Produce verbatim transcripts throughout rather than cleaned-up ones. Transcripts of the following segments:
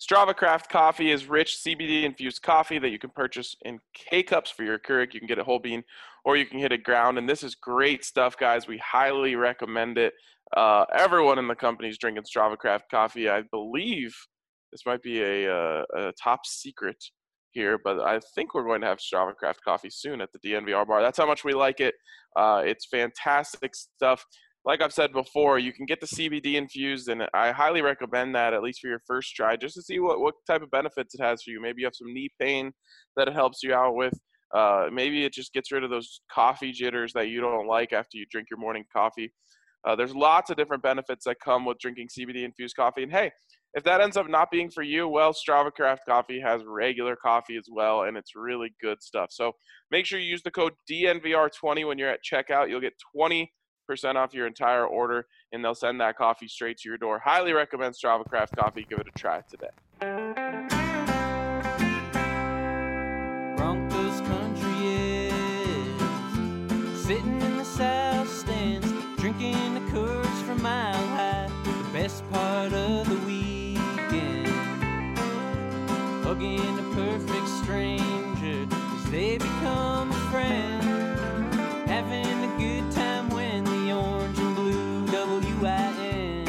Strava Craft Coffee is rich C B D-infused coffee that you can purchase in K-Cups for your Keurig. You can get it whole bean, or you can hit it ground. And this is great stuff, guys. We highly recommend it. Uh, everyone in the company is drinking Strava Craft Coffee. I believe this might be a, a, a top secret here, but I think we're going to have Strava Craft Coffee soon at the D N V R bar. That's how much we like it. Uh, it's fantastic stuff. Like I've said before, you can get the C B D infused, and I highly recommend that, at least for your first try, just to see what, what type of benefits it has for you. Maybe you have some knee pain that it helps you out with. Uh, maybe it just gets rid of those coffee jitters that you don't like after you drink your morning coffee. Uh, there's lots of different benefits that come with drinking C B D-infused coffee. And, hey, if that ends up not being for you, well, Strava Craft Coffee has regular coffee as well, and it's really good stuff. So make sure you use the code D N V R twenty when you're at checkout. You'll get twenty percent off your entire order, and they'll send that coffee straight to your door. Highly recommend Strava Craft Coffee. Give it a try today. Broncos country is sitting in the south stands, drinking the Coors from Mile High. The best part of the weekend, hugging a perfect stranger as they become a friend, having a good time when the orange and blue W I N,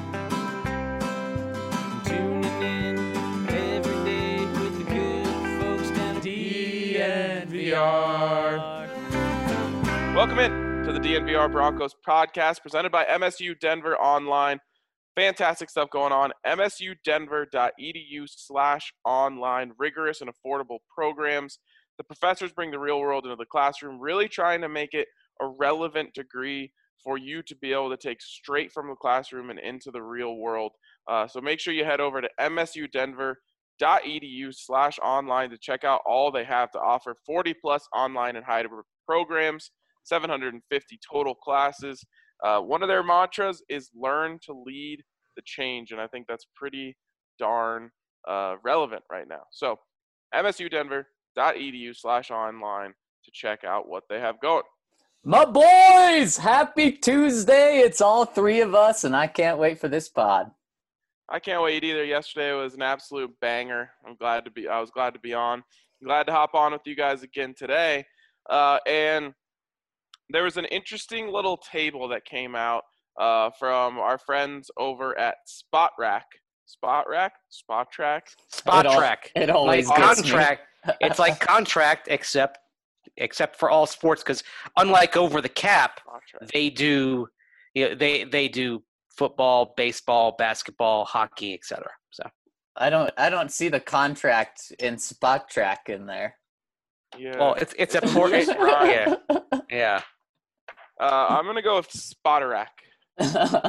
tuning in every day with the good folks down at D N V R. Welcome in to the D N V R Broncos podcast presented by M S U Denver Online. Fantastic stuff going on. msudenver.edu slash online. Rigorous and affordable programs. The professors bring the real world into the classroom, really trying to make it a relevant degree for you to be able to take straight from the classroom and into the real world. Uh, so make sure you head over to msudenver.edu slash online to check out all they have to offer. forty plus online and hybrid programs, seven hundred fifty total classes. Uh, one of their mantras is learn to lead the change, and I think that's pretty darn uh, relevant right now. So msudenver.edu slash online to check out what they have going. My boys, happy Tuesday. It's all three of us, and I can't wait for this pod. I can't wait either. Yesterday was an absolute banger. I'm glad to be, I was glad to be on. I'm glad to hop on with you guys again today. Uh, and there was an interesting little table that came out uh, from our friends over at Spot Rack. Spot Rack? Spot Track? Spot It al- track. it always like gets me. contract. It's like contract, except except for all sports, because unlike Over the Cap, Spot Track. they do you know, they they do football, baseball, basketball, hockey, et cetera. So I don't I don't see the contract in Spot Track in there. Yeah. well, it's it's a port. Just it- rhyme. yeah, yeah. Uh, I'm going to go with Spotter Rack. I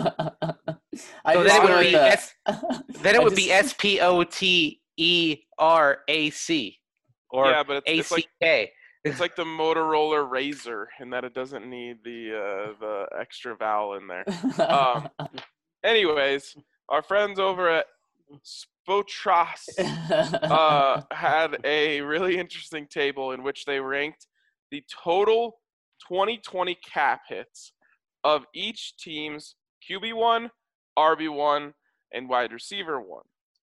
So just then it go would with be the- S, then it I would be just- S P O T E R A C or Yeah, but it's, A it's C like K. it's like the Motorola Razor in that it doesn't need the uh, the extra vowel in there. Um, anyways, our friends over at Spotras uh, had a really interesting table in which they ranked the total twenty twenty cap hits of each team's Q B one, R B one, and wide receiver one.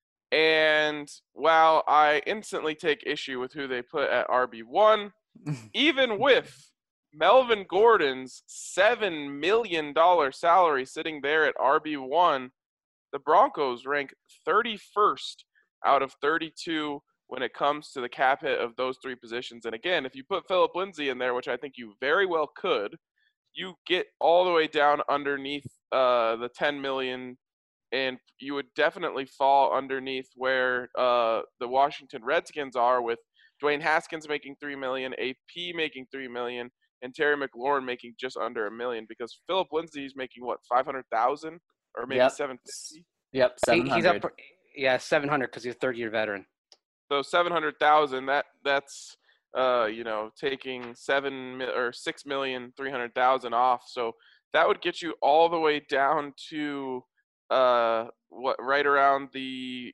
And while I instantly take issue with who they put at R B one, even with Melvin Gordon's seven million dollars salary sitting there at R B one, the Broncos rank thirty-first out of thirty-two when it comes to the cap hit of those three positions. And again, if you put Philip Lindsay in there, which I think you very well could, you get all the way down underneath uh, the ten million dollars, and you would definitely fall underneath where uh, the Washington Redskins are, with Dwayne Haskins making three million dollars, A P making three million dollars, and Terry McLaurin making just under a million, because Philip Lindsay is making, what, five hundred thousand dollars or maybe Yep. seven hundred fifty thousand dollars? Yep, He- seven he's hundred. up, for, yeah, seven hundred because he's a third-year veteran. So seven hundred thousand, that that's uh you know taking seven mi- or six million three hundred thousand off. So that would get you all the way down to uh what right around the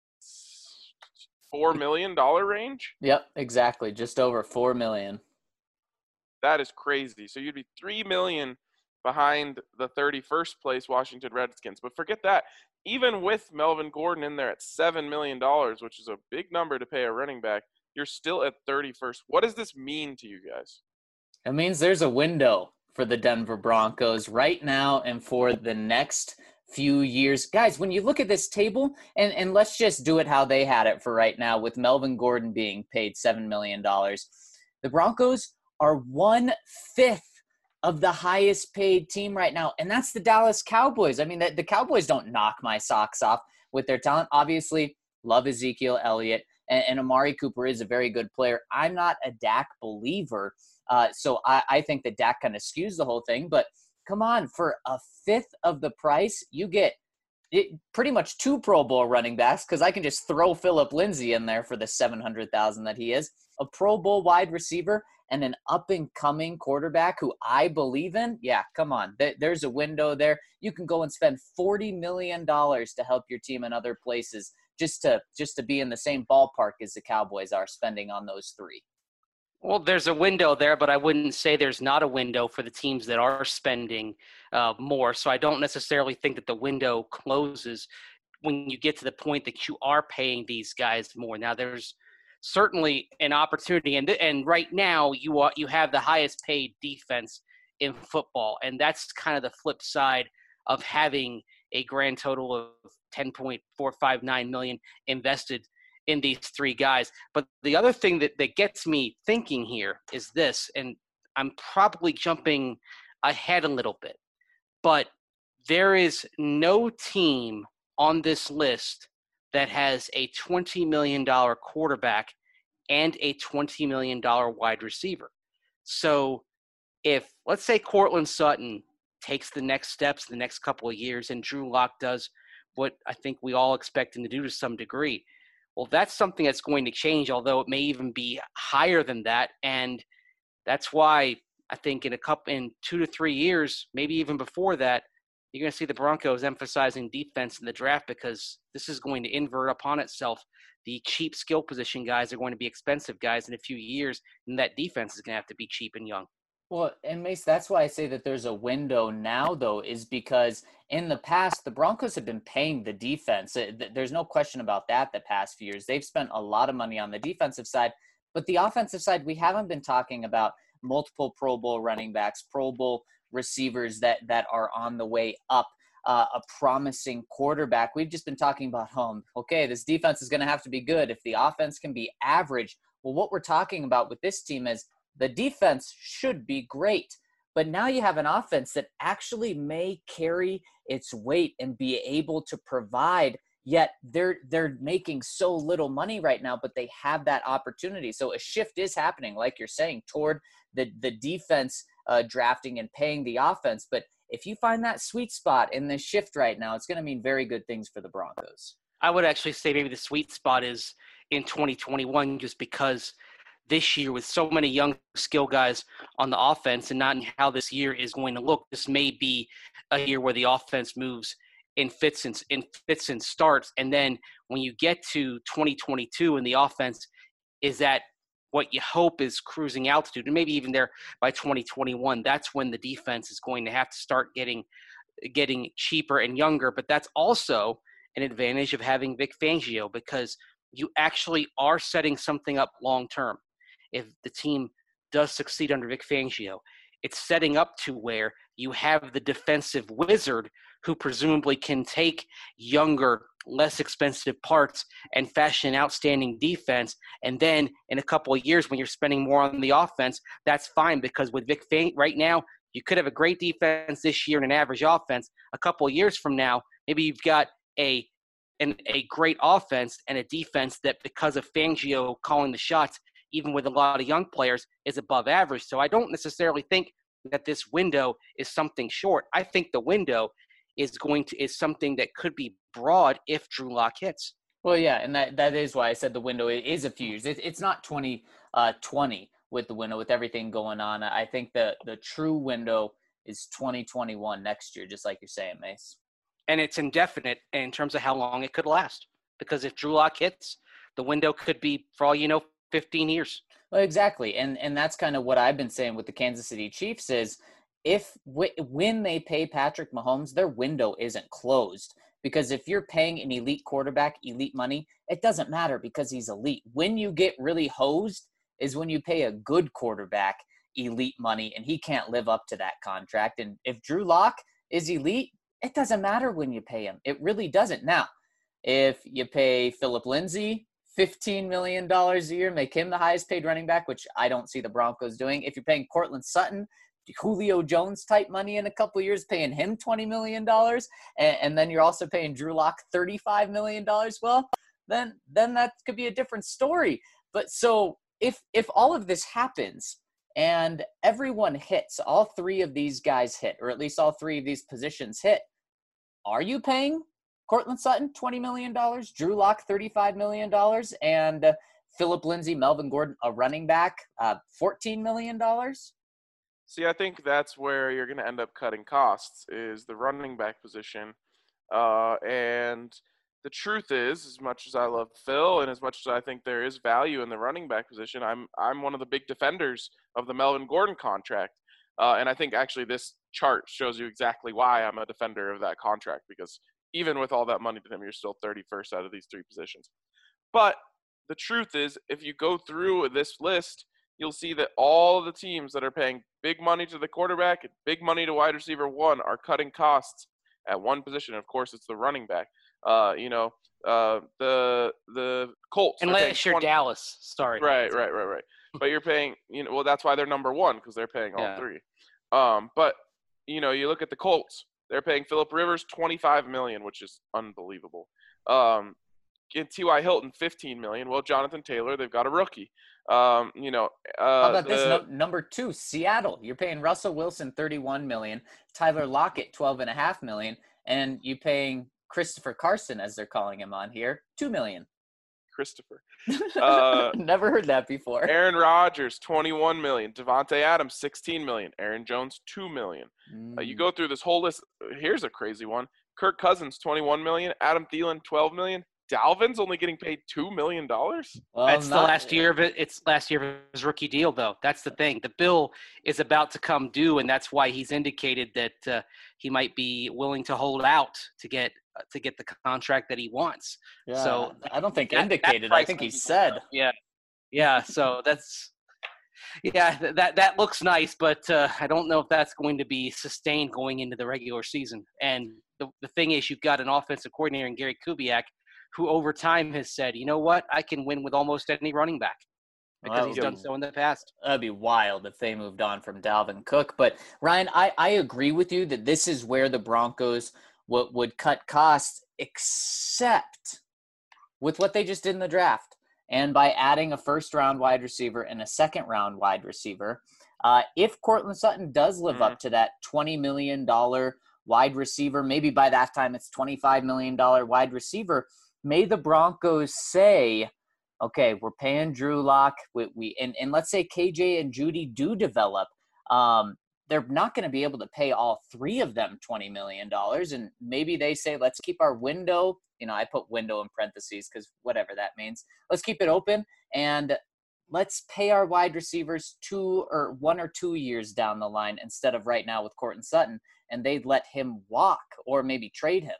four million dollar range. Yep, exactly. Just over four million. That is crazy. So you'd be three million behind the thirty-first place Washington Redskins. But forget that. Even with Melvin Gordon in there at seven million dollars, which is a big number to pay a running back, you're still at thirty-first. What does this mean to you guys? It means there's a window for the Denver Broncos right now and for the next few years. Guys, when you look at this table, and, and let's just do it how they had it for right now with Melvin Gordon being paid seven million dollars. The Broncos are one-fifth of the highest paid team right now, and that's the Dallas Cowboys. I mean, the, the Cowboys don't knock my socks off with their talent. Obviously, love Ezekiel Elliott, and, and Amari Cooper is a very good player. I'm not a Dak believer, uh, so I, I think that Dak kind of skews the whole thing, but come on, for a fifth of the price, you get it, pretty much two Pro Bowl running backs, because I can just throw Phillip Lindsay in there for the seven hundred thousand dollars that he is, a Pro Bowl wide receiver, and an up-and-coming quarterback who I believe in. Yeah, come on. There's a window there. You can go and spend forty million dollars to help your team in other places just to just to be in the same ballpark as the Cowboys are spending on those three. Well, there's a window there, but I wouldn't say there's not a window for the teams that are spending uh, more. So I don't necessarily think that the window closes when you get to the point that you are paying these guys more. Now, there's certainly an opportunity, and and right now you are you have the highest paid defense in football, and that's kind of the flip side of having a grand total of ten point four five nine million invested in these three guys. But the other thing that, that gets me thinking here is this, and I'm probably jumping ahead a little bit, but there is no team on this list that has a twenty million dollars quarterback and a twenty million dollars wide receiver. So if, let's say, Courtland Sutton takes the next steps the next couple of years and Drew Lock does what I think we all expect him to do to some degree, well, that's something that's going to change, although it may even be higher than that. And that's why I think in a couple, in two to three years, maybe even before that, you're going to see the Broncos emphasizing defense in the draft, because this is going to invert upon itself. The cheap skill position guys are going to be expensive guys in a few years, and that defense is going to have to be cheap and young. Well, and Mace, that's why I say that there's a window now, though, is because in the past, the Broncos have been paying the defense. There's no question about that the past few years. They've spent a lot of money on the defensive side, but the offensive side, we haven't been talking about multiple Pro Bowl running backs, Pro Bowl receivers that, that are on the way up, uh, a promising quarterback. We've just been talking about, home. okay, this defense is going to have to be good. If the offense can be average, well, what we're talking about with this team is the defense should be great, but now you have an offense that actually may carry its weight and be able to provide, yet they're they're making so little money right now, but they have that opportunity. So a shift is happening, like you're saying, toward the, the defense uh, drafting and paying the offense. But if you find that sweet spot in this shift right now, it's going to mean very good things for the Broncos. I would actually say maybe the sweet spot is in twenty twenty-one, just because this year with so many young skill guys on the offense and not in how this year is going to look, this may be a year where the offense moves in fits and, in fits and starts. And then when you get to twenty twenty-two and the offense is at what you hope is cruising altitude, and maybe even there by twenty twenty-one, that's when the defense is going to have to start getting getting cheaper and younger. But that's also an advantage of having Vic Fangio, because you actually are setting something up long term. If the team does succeed under Vic Fangio, it's setting up to where you have the defensive wizard who presumably can take younger, less expensive parts and fashion an outstanding defense. And then in a couple of years, when you're spending more on the offense, that's fine, because with Vic Fangio right now, you could have a great defense this year and an average offense. A couple of years from now, maybe you've got a an, a great offense and a defense that, because of Fangio calling the shots, even with a lot of young players, is above average. So I don't necessarily think that this window is something short. I think the window is going to is something that could be broad if Drew Lock hits. Well, yeah, and that, that is why I said the window is a few years. It, it's not twenty twenty with the window, with everything going on. I think the, the true window is twenty twenty-one, next year, just like you're saying, Mace. And it's indefinite in terms of how long it could last. Because if Drew Lock hits, the window could be, for all you know, fifteen years. Well, exactly. And and that's kind of what I've been saying with the Kansas City Chiefs is, if w- when they pay Patrick Mahomes, their window isn't closed. Because if you're paying an elite quarterback elite money, it doesn't matter because he's elite. When you get really hosed is when you pay a good quarterback elite money and he can't live up to that contract. And if Drew Lock is elite, it doesn't matter when you pay him. It really doesn't. Now, if you pay Philip Lindsay fifteen million dollars a year, make him the highest paid running back, which I don't see the Broncos doing. If you're paying Cortland Sutton Julio Jones type money in a couple of years, paying him twenty million dollars, and, and then you're also paying Drew Lock thirty-five million dollars, well, then then that could be a different story. But so if if all of this happens and everyone hits, all three of these guys hit, or at least all three of these positions hit, are you paying Cortland Sutton twenty million dollars, Drew Lock thirty-five million dollars, and uh, Philip Lindsay, Melvin Gordon, a running back, uh, fourteen million dollars? See, I think that's where you're going to end up cutting costs is the running back position. Uh, and the truth is, as much as I love Phil and as much as I think there is value in the running back position, I'm I'm one of the big defenders of the Melvin Gordon contract. Uh, and I think actually this chart shows you exactly why I'm a defender of that contract, because even with all that money to him, you're still thirty-first out of these three positions. But the truth is, if you go through this list, you'll see that all the teams that are paying big money to the quarterback and big money to wide receiver one are cutting costs at one position. Of course, it's the running back. Uh, you know, uh, the the Colts. Unless you're twenty Dallas. Sorry. Right, right, right, right. But you're paying, you know, well, that's why they're number one, because they're paying all Yeah. three. Um, but, you know, you look at the Colts. They're paying Phillip Rivers twenty-five million dollars, which is unbelievable. Um, and T Y. Hilton fifteen million dollars. Well, Jonathan Taylor, they've got a rookie. Um, you know, uh, How about the, this no, number two, Seattle? You're paying Russell Wilson thirty-one million dollars, Tyler Lockett twelve and a half million dollars, and you paying Christopher Carson, as they're calling him on here, two million dollars. Christopher. Uh, Never heard that before. Aaron Rodgers, twenty-one million dollars. Devontae Adams, sixteen million dollars. Aaron Jones, two million dollars. Mm. Uh, you go through this whole list. Here's a crazy one. Kirk Cousins, twenty-one million dollars. Adam Thielen, twelve million dollars. Dalvin's only getting paid two million dollars. Well, That's the not- last year of it. It's last year of his rookie deal, though. That's the thing. The bill is about to come due, and that's why he's indicated that uh, he might be willing to hold out to get uh, to get the contract that he wants. Yeah, So I don't think that- that indicated. I price think he might be said. going up. Yeah, yeah. So that's yeah. th- That that looks nice, but uh, I don't know if that's going to be sustained going into the regular season. And the the thing is, you've got an offensive coordinator in Gary Kubiak, who over time has said, you know what, I can win with almost any running back because Well, he's that done would be- so in the past. That'd be wild if they moved on from Dalvin Cook. But Ryan, I, I agree with you that this is where the Broncos would would cut costs, except with what they just did in the draft. And by adding a first round wide receiver and a second round wide receiver, uh, if Cortland Sutton does live Mhm. up to that twenty million dollars wide receiver, maybe by that time it's twenty-five million dollars wide receiver, may the Broncos say, okay, we're paying Drew Lock, we, we and, and let's say K J and Judy do develop, um, they're not going to be able to pay all three of them twenty million dollars. And maybe they say, let's keep our window, you know, I put window in parentheses because whatever that means. Let's keep it open and let's pay our wide receivers two or one or two years down the line instead of right now with Cortland Sutton, and they'd let him walk or maybe trade him.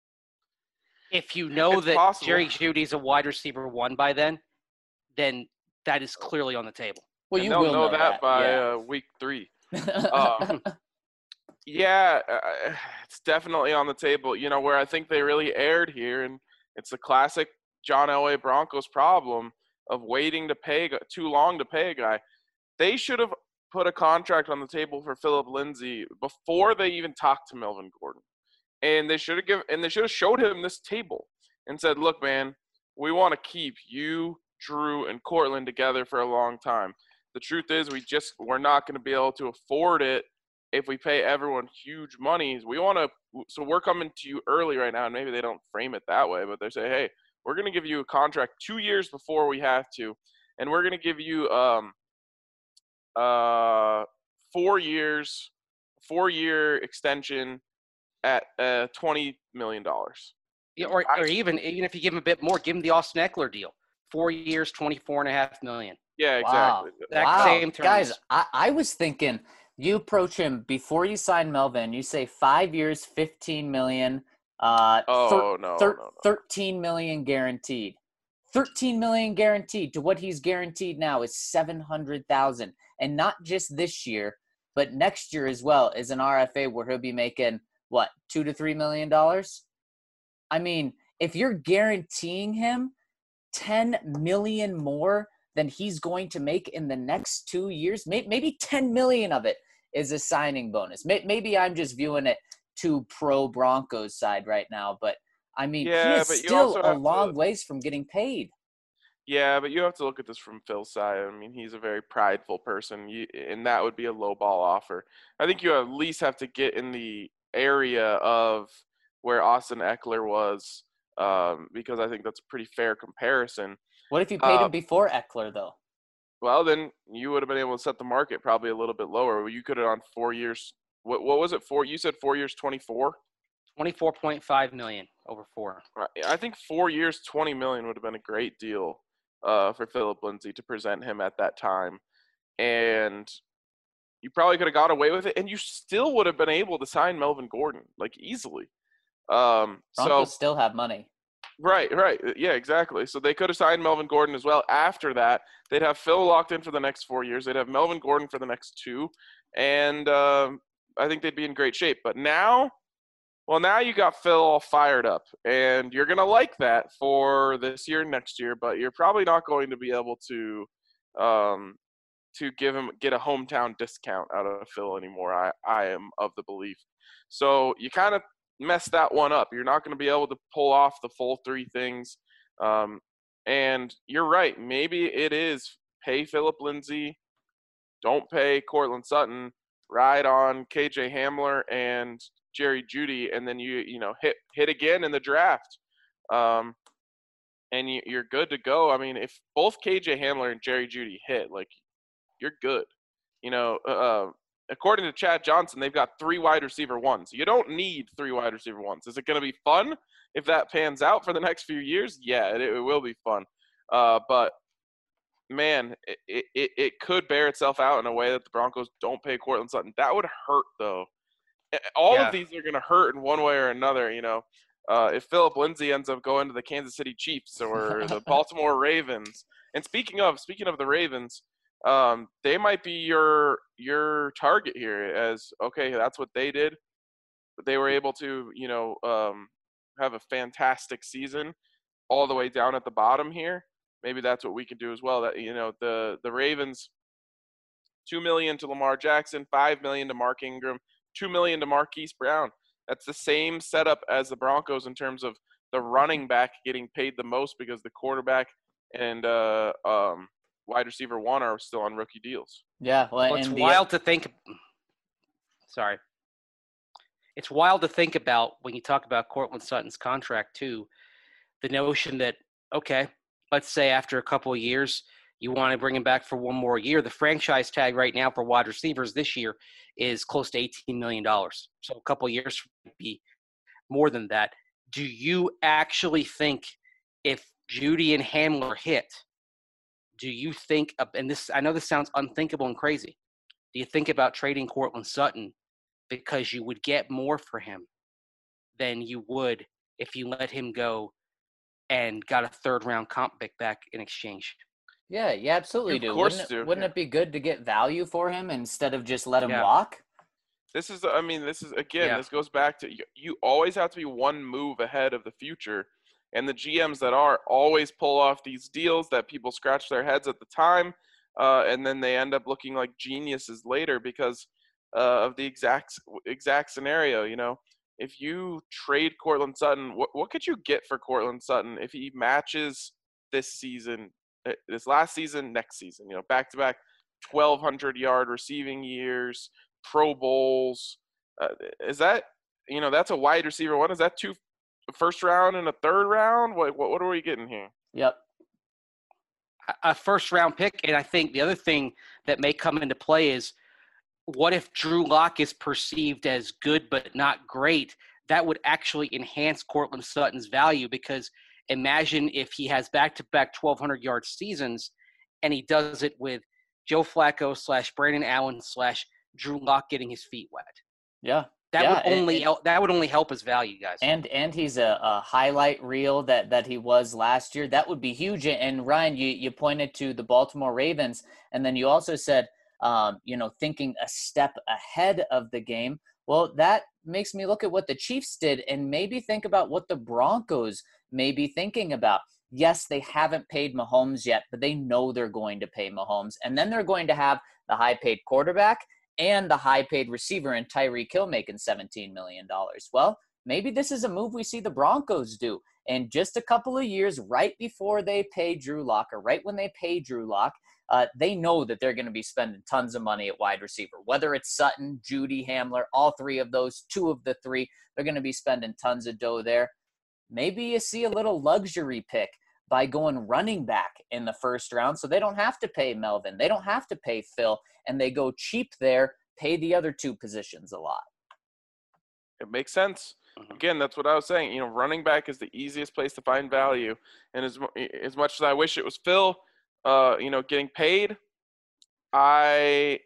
If you know It's that possible. Jerry Judy's a wide receiver one by then, then that is clearly on the table. Well, And you they'll will know, that, by yeah. uh, week three. Um, Yeah, uh, it's definitely on the table. You know, where I think they really erred here, and it's the classic John Elway Broncos problem of waiting to pay a gu- too long to pay a guy. They should have put a contract on the table for Philip Lindsay before they even talked to Melvin Gordon, and they should have given and they should have showed him this table and said, "Look, man, we want to keep you, Drew, and Cortland together for a long time. The truth is, we just we're not going to be able to afford it." If we pay everyone huge monies, we want to, so we're coming to you early right now, and maybe they don't frame it that way, but they say, hey, we're going to give you a contract two years before we have to, and we're going to give you um, uh, four years, four-year extension at uh, twenty million dollars. Yeah, or, or even even if you give him a bit more, give him the Austin Eckler deal. Four years, twenty-four and a half million. Yeah, Wow. exactly. Exact Wow. same terms. Guys, I, I was thinking You approach him before you sign Melvin. You say five years, fifteen million. Uh, Oh, thir- no, thir- no, no. thirteen million guaranteed. thirteen million guaranteed. To what he's guaranteed now is seven hundred thousand, and not just this year, but next year as well is an R F A where he'll be making what two to three million dollars. I mean, if you're guaranteeing him ten million more than he's going to make in the next two years, maybe ten million of it is a signing bonus. Maybe I'm just viewing it too pro Broncos side right now, but I mean, Yeah, he is but you still also a have long to- ways from getting paid. Yeah, but you have to look at this from Phil's side. I mean, he's a very prideful person, you, and that would be a low ball offer. I think you at least have to get in the area of where Austin Eckler was, um, because I think that's a pretty fair comparison. What if you paid Uh, him before Eckler, though? Well, then you would have been able to set the market probably a little bit lower. You could have on four years. What what was it for? You said four years, twenty-four. twenty-four point five million over four. Right. I think four years, twenty million would have been a great deal uh, for Philip Lindsay to present him at that time, and you probably could have got away with it, and you still would have been able to sign Melvin Gordon like easily. Um, Broncos so still have money. right, right, yeah, exactly. So they could have signed Melvin Gordon as well. After that, they'd have Phil locked in for the next four years. They'd have Melvin Gordon for the next two, and um, I think they'd be in great shape. But now. Well, now you got Phil all fired up, and you're going to like that for this year and next year, but you're probably not going to be able to um, to give him get a hometown discount out of Phil anymore. I, I am of the belief. So you kind of messed that one up. You're not going to be able to pull off the full three things. Um, and you're right. Maybe it is pay Philip Lindsay, don't pay Courtland Sutton, ride on K J Hamler and Jerry Jeudy, and then you you know hit hit again in the draft, um, and you, you're good to go. I mean, if both K J Hamler and Jerry Jeudy hit, like you're good. You know, uh, according to Chad Johnson, they've got three wide receiver ones. You don't need three wide receiver ones. Is it going to be fun if that pans out for the next few years? Yeah, it, it will be fun. Uh, but man, it, it it could bear itself out in a way that the Broncos don't pay Courtland Sutton. That would hurt though. All Yeah. of these are going to hurt in one way or another, you know. Uh, if Philip Lindsay ends up going to the Kansas City Chiefs or the Baltimore Ravens, and speaking of speaking of the Ravens, um, they might be your your target here. As okay, that's what they did. They were able to, you know, um, have a fantastic season, all the way down at the bottom here. Maybe that's what we can do as well. That you know, the the Ravens, two million to Lamar Jackson, five million to Mark Ingram. Two million to Marquise Brown. That's the same setup as the Broncos in terms of the running back getting paid the most because the quarterback and uh, um, wide receiver one are still on rookie deals. Yeah, well, Well, it's and the- wild to think. Sorry, it's wild to think about when you talk about Courtland Sutton's contract too. The notion that okay, let's say after a couple of years, you want to bring him back for one more year. The franchise tag right now for wide receivers this year is close to eighteen million dollars. So a couple of years would be more than that. Do you actually think if Jeudy and Hamler hit, do you think, and this, I know this sounds unthinkable and crazy, do you think about trading Courtland Sutton because you would get more for him than you would if you let him go and got a third round comp pick back in exchange? yeah, you absolutely Of do. course Wouldn't, do, it, wouldn't yeah. it be good to get value for him instead of just let him Yeah. walk? This is, I mean, this is, again, Yeah. this goes back to you, you always have to be one move ahead of the future. And the G Ms that are always pull off these deals that people scratch their heads at the time, uh, and then they end up looking like geniuses later because uh, of the exact exact scenario. You know, if you trade Courtland Sutton, what what could you get for Courtland Sutton if he matches this season, uh, this last season, next season? You know, back to back, twelve hundred yard receiving years, Pro Bowls. Uh, is that, you know, that's a wide receiver one? Is that two first round and a third round? What what, what are we getting here? Yep. A first round pick. And I think the other thing that may come into play is what if Drew Lock is perceived as good but not great? That would actually enhance Courtland Sutton's value, because imagine if he has back-to-back twelve hundred yard seasons and he does it with Joe Flacco slash Brandon Allen slash Drew Lock getting his feet wet. Yeah. That yeah, would only and, help, that would only help his value, guys. And and he's a, a highlight reel that, that he was last year. That would be huge. And Ryan, you, you pointed to the Baltimore Ravens, and then you also said, um, you know, thinking a step ahead of the game. Well, that makes me look at what the Chiefs did and maybe think about what the Broncos may be thinking about. Yes, they haven't paid Mahomes yet, but they know they're going to pay Mahomes. And then they're going to have the high-paid quarterback and the high-paid receiver in Tyreek Hill making seventeen million dollars. Well, maybe this is a move we see the Broncos do. And just a couple of years right before they pay Drew Lock, or right when they pay Drew Lock, uh, they know that they're going to be spending tons of money at wide receiver. Whether it's Sutton, Judy, Hamler, all three of those, two of the three, they're going to be spending tons of dough there. Maybe you see a little luxury pick by going running back in the first round, so they don't have to pay Melvin. They don't have to pay Phil, and they go cheap there, pay the other two positions a lot. It makes sense. Again, that's what I was saying. You know, running back is the easiest place to find value. And as as much as I wish it was Phil, uh, you know, getting paid, I,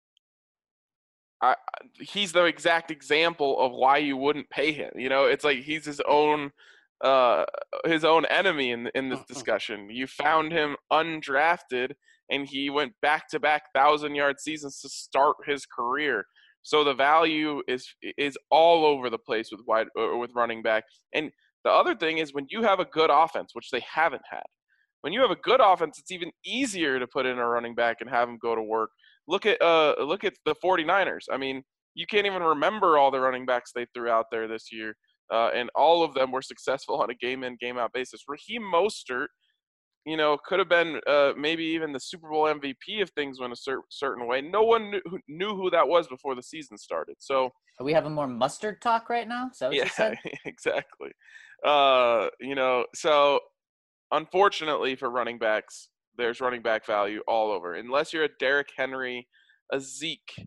I, he's the exact example of why you wouldn't pay him. You know, it's like he's his own, uh, his own enemy in in this discussion. You found him undrafted, and he went back to back thousand yard seasons to start his career. So the value is is all over the place with wide or with running back. And the other thing is, when you have a good offense, which they haven't had, when you have a good offense, it's even easier to put in a running back and have him go to work. Look at uh look at the 49ers. I mean, you can't even remember all the running backs they threw out there this year, uh, and all of them were successful on a game in, game out basis. Raheem Mostert, you know, could have been uh, maybe even the Super Bowl M V P if things went a cer- certain way. No one knew who, knew who that was before the season started. So are we having more mustard talk right now? Is that what yeah, you said? exactly. Uh, you know, so unfortunately for running backs, there's running back value all over. Unless you're a Derrick Henry, a Zeke,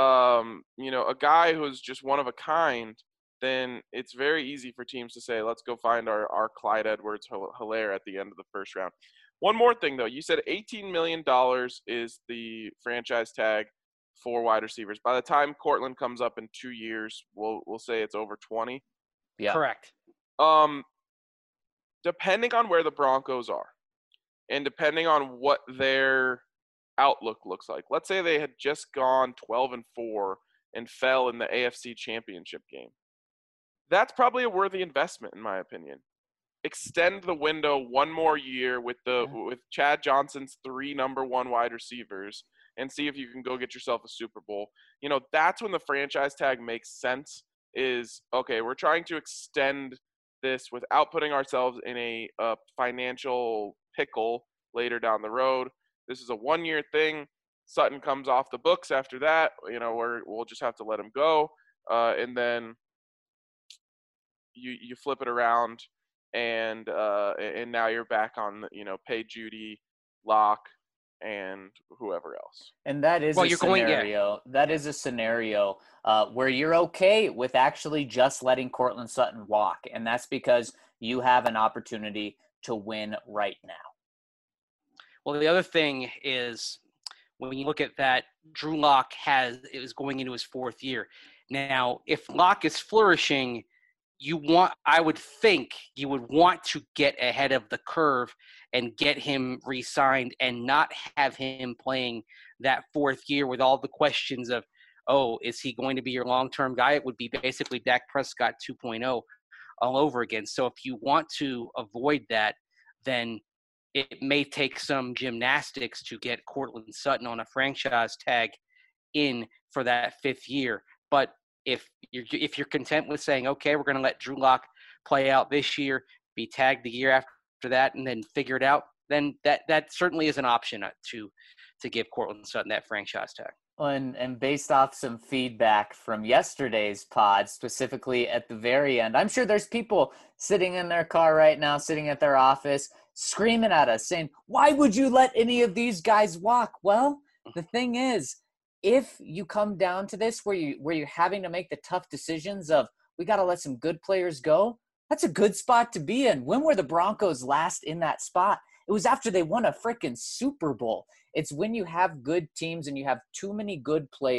um, you know, a guy who's just one of a kind, then it's very easy for teams to say, let's go find our, our Clyde Edwards-Helaire at the end of the first round. One more thing, though. You said eighteen million dollars is the franchise tag for wide receivers. By the time Cortland comes up in two years, we'll we'll say it's over twenty. Yeah. Correct. Um, depending on where the Broncos are and depending on what their outlook looks like. Let's say they had just gone twelve and four and fell in the A F C Championship game. That's probably a worthy investment, in my opinion. Extend the window one more year with the yeah. with Chad Johnson's three number one wide receivers and see if you can go get yourself a Super Bowl. You know, that's when the franchise tag makes sense is, okay, we're trying to extend this without putting ourselves in a, a financial pickle later down the road. This is a one-year thing. Sutton comes off the books after that. You know, we're, we'll just have to let him go. Uh, and then you you flip it around, and uh, and now you're back on, you know, pay Judy, Lock, and whoever else. And that is well, a you're scenario. Going, yeah. That is a scenario uh, where you're okay with actually just letting Cortland Sutton walk, and that's because you have an opportunity to win right now. Well, the other thing is, when you look at that, Drew Lock has it was going into his fourth year. Now, if Lock is flourishing, you want, I would think you would want to get ahead of the curve and get him re-signed and not have him playing that fourth year with all the questions of, oh, is he going to be your long-term guy? It would be basically Dak Prescott two point oh all over again. So if you want to avoid that, then it may take some gymnastics to get Cortland Sutton on a franchise tag in for that fifth year. But if you're if you're content with saying, okay, we're going to let Drew Lock play out this year, be tagged the year after that, and then figure it out, then that that certainly is an option to to give Cortland Sutton that franchise tag. And, and based off some feedback from yesterday's pod, specifically at the very end, I'm sure there's people sitting in their car right now, sitting at their office, screaming at us, saying, why would you let any of these guys walk? Well, the thing is, if you come down to this where, you, where you're having to make the tough decisions of, we got to let some good players go, that's a good spot to be in. When were the Broncos last in that spot? It was after they won a freaking Super Bowl. It's when you have good teams and you have too many good players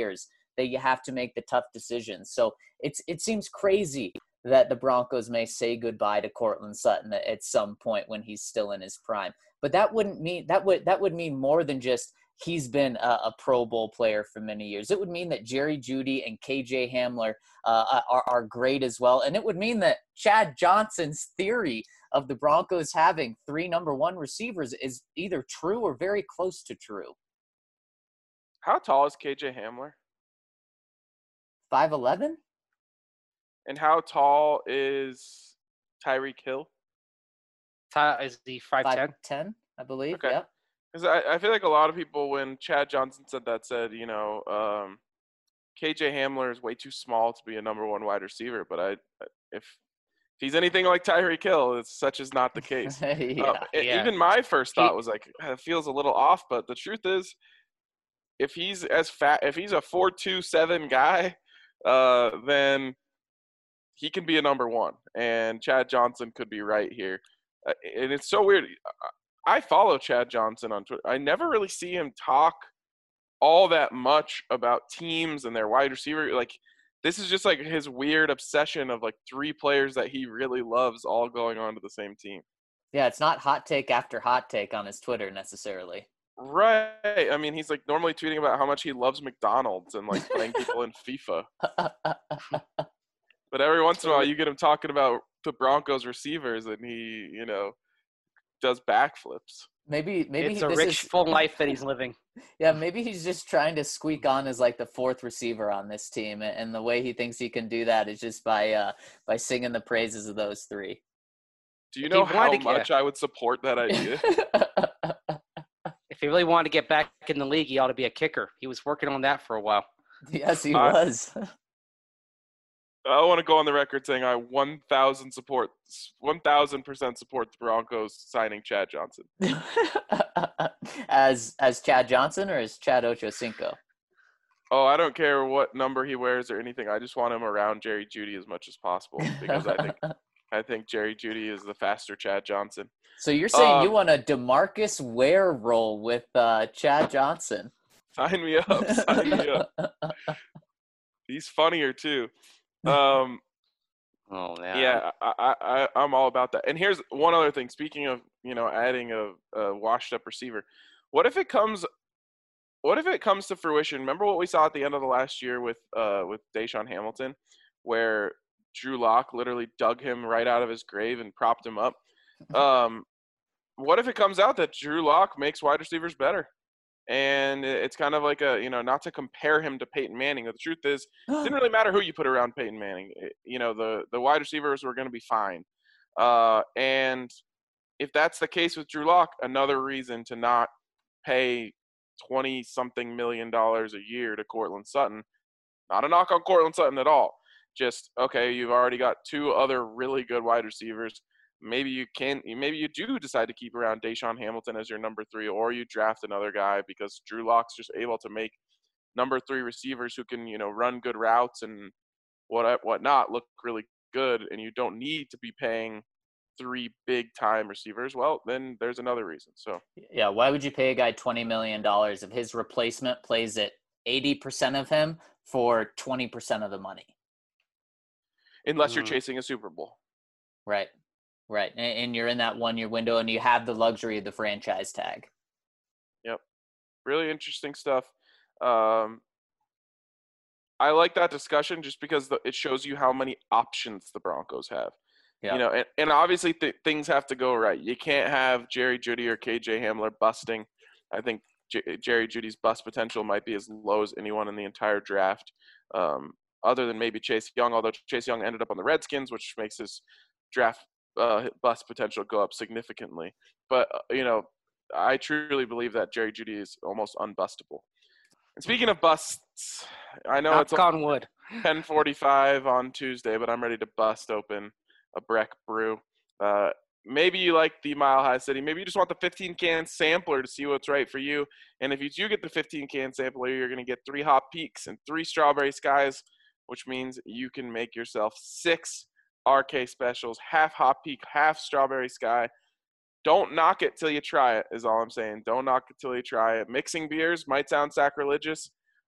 that you have to make the tough decisions. So it's it seems crazy that the Broncos may say goodbye to Courtland Sutton at, at some point when he's still in his prime. But that wouldn't mean that would that would mean more than just he's been a, a Pro Bowl player for many years. It would mean that Jerry Jeudy and K J Hamler uh, are, are great as well. And it would mean that Chad Johnson's theory of the Broncos having three number one receivers is either true or very close to true. How tall is K J Hamler? five eleven? And how tall is Tyreek Hill? Ty- Is he five ten? five ten, I believe. Okay. Yep. Because I, I feel like a lot of people, when Chad Johnson said that, said, you know, um, K J Hamler is way too small to be a number one wide receiver. But I, if he's anything like Tyreek Hill, it's such is not the case. yeah. Uh, e- Yeah. Even my first He- thought was like, it feels a little off. But the truth is, if he's as fat, if he's a four two seven guy, uh, then he can be a number one. And Chad Johnson could be right here. Uh, and it's so weird. I follow Chad Johnson on Twitter. I never really see him talk all that much about teams and their wide receiver. Like, this is just like his weird obsession of like three players that he really loves all going on to the same team. Yeah, it's not hot take after hot take on his Twitter necessarily. Right. I mean, he's like normally tweeting about how much he loves McDonald's and like playing people in FIFA. But every once in a while, you get him talking about the Broncos receivers, and he, you know, does backflips. Maybe maybe It's he, a this rich, is, full life that he's living. yeah, maybe he's just trying to squeak on as like the fourth receiver on this team, and, and the way he thinks he can do that is just by uh by singing the praises of those three. Do you If know he how wanted to get- much I would support that idea? If he really wanted to get back in the league, he ought to be a kicker. He was working on that for a while. Yes, he I- was. I want to go on the record saying I one thousand support, one thousand percent support the Broncos signing Chad Johnson. as as Chad Johnson or as Chad Ochocinco? Oh, I don't care what number he wears or anything. I just want him around Jerry Jeudy as much as possible because I think I think Jerry Jeudy is the faster Chad Johnson. So you're saying you Um, want a DeMarcus Ware role with uh, Chad Johnson? Sign me up. Sign me up. He's funnier too. Um, Oh, man. yeah, I, I, I, I'm all about that. And here's one other thing. Speaking of, you know, adding a, a washed-up receiver, what if it comes? What if it comes to fruition? Remember what we saw at the end of the last year with uh with Deshaun Hamilton, where Drew Lock literally dug him right out of his grave and propped him up. Um, what if it comes out that Drew Lock makes wide receivers better? And it's kind of like a, you know, not to compare him to Peyton Manning. But the truth is, it didn't really matter who you put around Peyton Manning. It- you know, the, the wide receivers were going to be fine. Uh, and if that's the case with Drew Lock, another reason to not pay twenty-something million dollars a year to Courtland Sutton. Not a knock on Courtland Sutton at all. Just, okay, you've already got two other really good wide receivers. Maybe you can, maybe you do decide to keep around Deshaun Hamilton as your number three, or you draft another guy because Drew Lock's just able to make number three receivers who can, you know, run good routes and what whatnot look really good, and you don't need to be paying three big time receivers. Well, then there's another reason. So Yeah, why would you pay a guy twenty million dollars if his replacement plays at eighty percent of him for twenty percent of the money? unless you're Mm. chasing a Super Bowl. Right, right. And, and you're in that one-year window and you have the luxury of the franchise tag. Really interesting stuff. Um, I like that discussion just because the, it shows you how many options the Broncos have. Yeah. You know, and, and obviously th- things have to go right. You can't have Jerry Jeudy or K J Hamler busting. I think J- Jerry Judy's bust potential might be as low as anyone in the entire draft, um, other than maybe Chase Young, although Chase Young ended up on the Redskins, which makes his draft uh, bust potential go up significantly. But, uh, you know, I truly believe that Jerry Jeudy is almost unbustable. And speaking of busts, I know it's Knock on wood. ten forty-five on Tuesday, but I'm ready to bust open a Breck Brew. Uh, maybe you like the Mile High City. Maybe you just want the fifteen-can sampler to see what's right for you. And if you do get the fifteen-can sampler, you're going to get three Hop Peaks and three Strawberry Skies, which means you can make yourself six R K specials, half Hop Peak, half Strawberry Sky. Don't knock it till you try it, is all I'm saying. Don't knock it till you try it. Mixing beers might sound sacrilegious,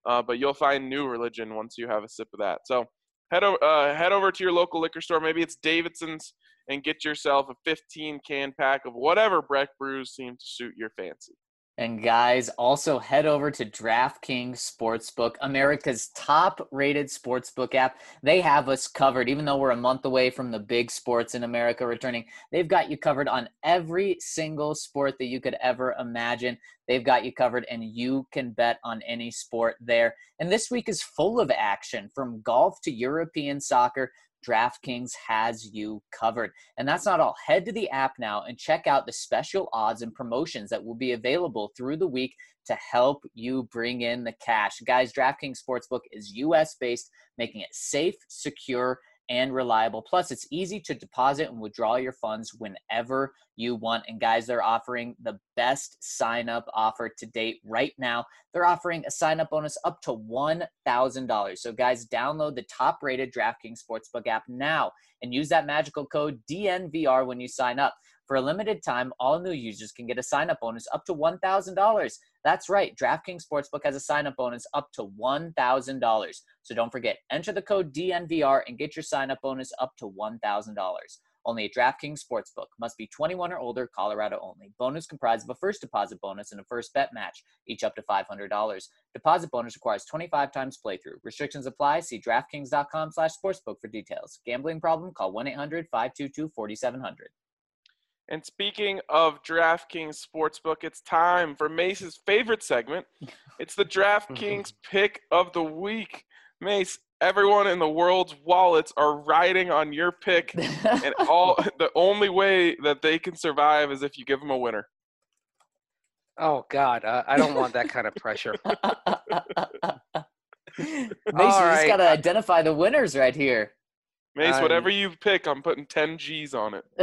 uh, but you'll find new religion once you have a sip of that. So head over, uh, head over to your local liquor store. Maybe it's Davidson's, and get yourself a fifteen can pack of whatever Breck brews seem to suit your fancy. And guys, also head over to DraftKings Sportsbook, America's top-rated sportsbook app. They have us covered. Even though we're a month away from the big sports in America returning, they've got you covered on every single sport that you could ever imagine. They've got you covered, and you can bet on any sport there. And this week is full of action, from golf to European soccer. DraftKings has you covered. And that's not all. Head to the app now and check out the special odds and promotions that will be available through the week to help you bring in the cash. Guys, DraftKings Sportsbook is U S based, making it safe, secure, and reliable. Plus, it's easy to deposit and withdraw your funds whenever you want. And guys, they're offering the best sign-up offer to date right now. They're offering a sign-up bonus up to one thousand dollars. So guys, download the top-rated DraftKings Sportsbook app now and use that magical code D N V R when you sign up. For a limited time, all new users can get a sign-up bonus up to one thousand dollars. That's right. DraftKings Sportsbook has a sign-up bonus up to one thousand dollars. So don't forget, enter the code D N V R and get your sign-up bonus up to one thousand dollars. Only at DraftKings Sportsbook. Must be twenty-one or older, Colorado only. Bonus comprised of a first deposit bonus and a first bet match, each up to five hundred dollars. Deposit bonus requires twenty-five times playthrough. Restrictions apply. See DraftKings.com slash sportsbook for details. Gambling problem? Call one eight hundred five two two four seven zero zero. And speaking of DraftKings Sportsbook, it's time for Mace's favorite segment. It's the DraftKings Pick of the Week. Mace, everyone in the world's wallets are riding on your pick, and all the only way that they can survive is if you give them a winner. Oh, God. Uh, I don't want that kind of pressure. Mace, you right. just got to identify the winners right here. Mace, Um, whatever you pick, I'm putting ten G's on it.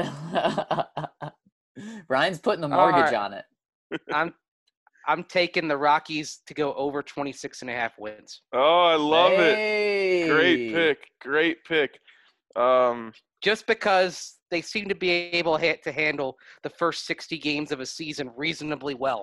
Brian's putting the All mortgage right. on it. I'm I'm taking the Rockies to go over twenty-six and a half wins. Oh, I love it. Hey. Great pick. Great pick. Um, Just because they seem to be able ha- to handle the first sixty games of a season reasonably well.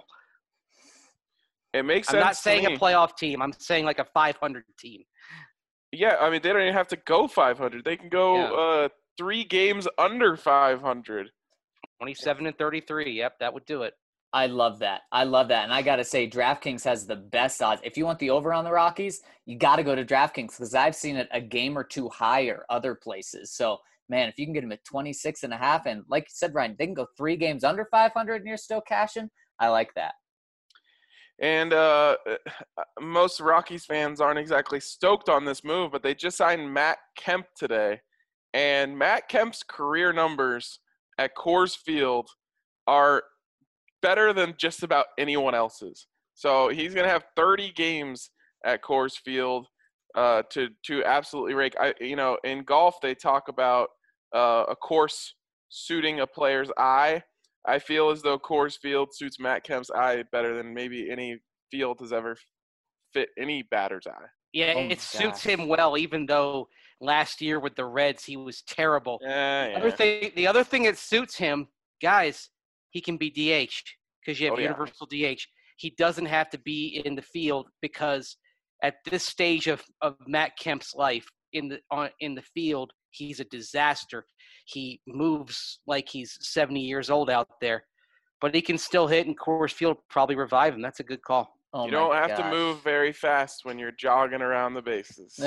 it makes I'm sense. not to saying a me. playoff team. I'm saying like a five hundred team. Yeah, I mean, they don't even have to go five hundred. They can go Yeah. uh, three games under five hundred. twenty-seven and thirty-three. Yep, that would do it. I love that. I love that. And I got to say, DraftKings has the best odds. If you want the over on the Rockies, you got to go to DraftKings because I've seen it a game or two higher other places. So, man, if you can get them at twenty-six and a half, and like you said, Ryan, they can go three games under five hundred and you're still cashing. I like that. And uh, most Rockies fans aren't exactly stoked on this move, but they just signed Matt Kemp today. And Matt Kemp's career numbers at Coors Field are better than just about anyone else's. So he's going to have thirty games at Coors Field uh, to to absolutely rake. I, you know, in golf, they talk about uh, a course suiting a player's eye. I feel as though Coors Field suits Matt Kemp's eye better than maybe any field has ever fit any batter's eye. Yeah, Oh my it suits gosh. him well, even though last year with the Reds he was terrible. Yeah, Other yeah. thing, the other thing that suits him, guys, he can be D H because you have Oh, yeah. universal D H. He doesn't have to be in the field because at this stage of, of Matt Kemp's life in the on in the field, he's a disaster. He moves like he's seventy years old out there, but he can still hit, and Coors Field probably revive him. That's a good call. Oh You my don't have to gosh. move very fast when you're jogging around the bases.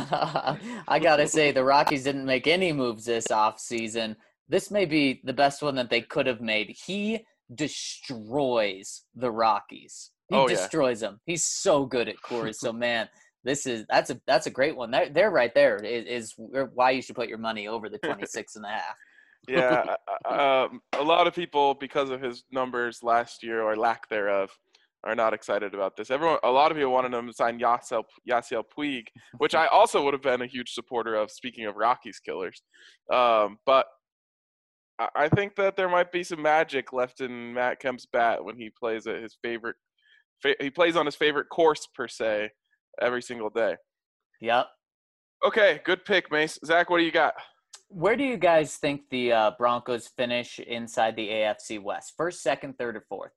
I got to say, the Rockies didn't make any moves this offseason. This may be the best one that they could have made. He destroys the Rockies. He Oh, yeah. destroys them. He's so good at Coors. So, man, this is that's a that's a great one. They're, they're right there is, is why you should put your money over the twenty-six and a half. Yeah, uh, um, a lot of people, because of his numbers last year or lack thereof, are not excited about this. Everyone, a lot of people wanted him to sign Yasiel, Yasiel Puig, which I also would have been a huge supporter of. Speaking of Rockies killers, um, but I, I think that there might be some magic left in Matt Kemp's bat when he plays at his favorite. Fa- he plays on his favorite course per se every single day. Yep. Okay, good pick, Mace. Zach, what do you got? Where do you guys think the uh, Broncos finish inside the A F C West? First, second, third, or fourth?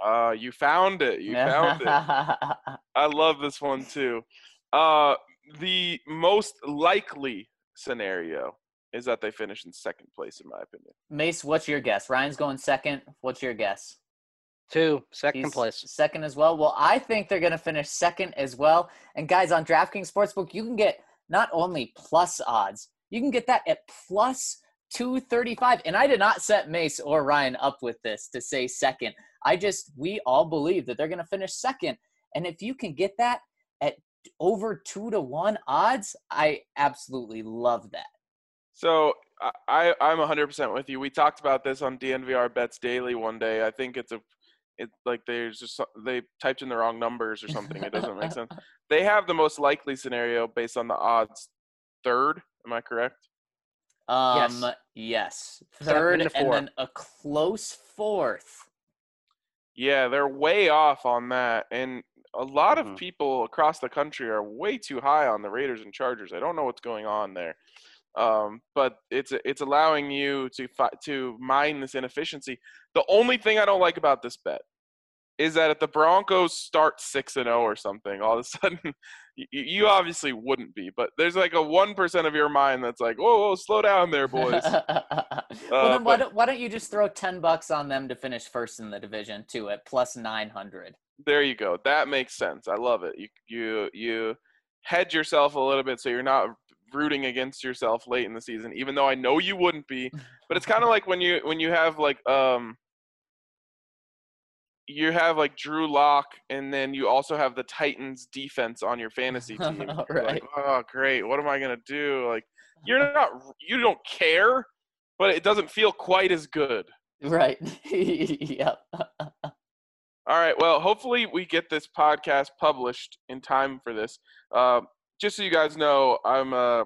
Uh, you found it. You found it. I love this one too. Uh, the most likely scenario is that they finish in second place, in my opinion. Mace, what's your guess? Ryan's going second. What's your guess? Two, second He's place. second as well. Well, I think they're going to finish second as well. And guys, on DraftKings Sportsbook, you can get not only plus odds, you can get that at plus two thirty-five. And I did not set Mace or Ryan up with this to say second. I just, we all believe that they're going to finish second. And if you can get that at over two to one odds, I absolutely love that. So I, I'm one hundred percent with you. We talked about this on D N V R Bets Daily one day. I think it's a, it like there's just they typed in the wrong numbers or something. It doesn't make sense. They have the most likely scenario based on the odds. Third, am I correct? Um, Yes. yes. Seven Third to and four. then a close fourth. Yeah, they're way off on that, and a lot of Mhm. people across the country are way too high on the Raiders and Chargers. I don't know what's going on there, um, but it's it's allowing you to fi- to mine this inefficiency. The only thing I don't like about this bet is that if the Broncos start six and zero or something, all of a sudden you, you obviously wouldn't be, but there's like a one percent of your mind that's like, whoa, whoa, slow down there, boys. well, Uh, then why but- don't, why don't you just throw ten bucks on them to finish first in the division too at plus nine hundred? There you go. That makes sense. I love it. You you you hedge yourself a little bit so you're not rooting against yourself late in the season, even though I know you wouldn't be. But it's kind of like when you when you have like um you have like Drew Lock, and then you also have the Titans defense on your fantasy team. You're Right. Like, oh great, what am I gonna do? Like you're not you don't care, but it doesn't feel quite as good. Right. Yep. All right. Well, hopefully we get this podcast published in time for this. Uh, just so you guys know, I'm uh,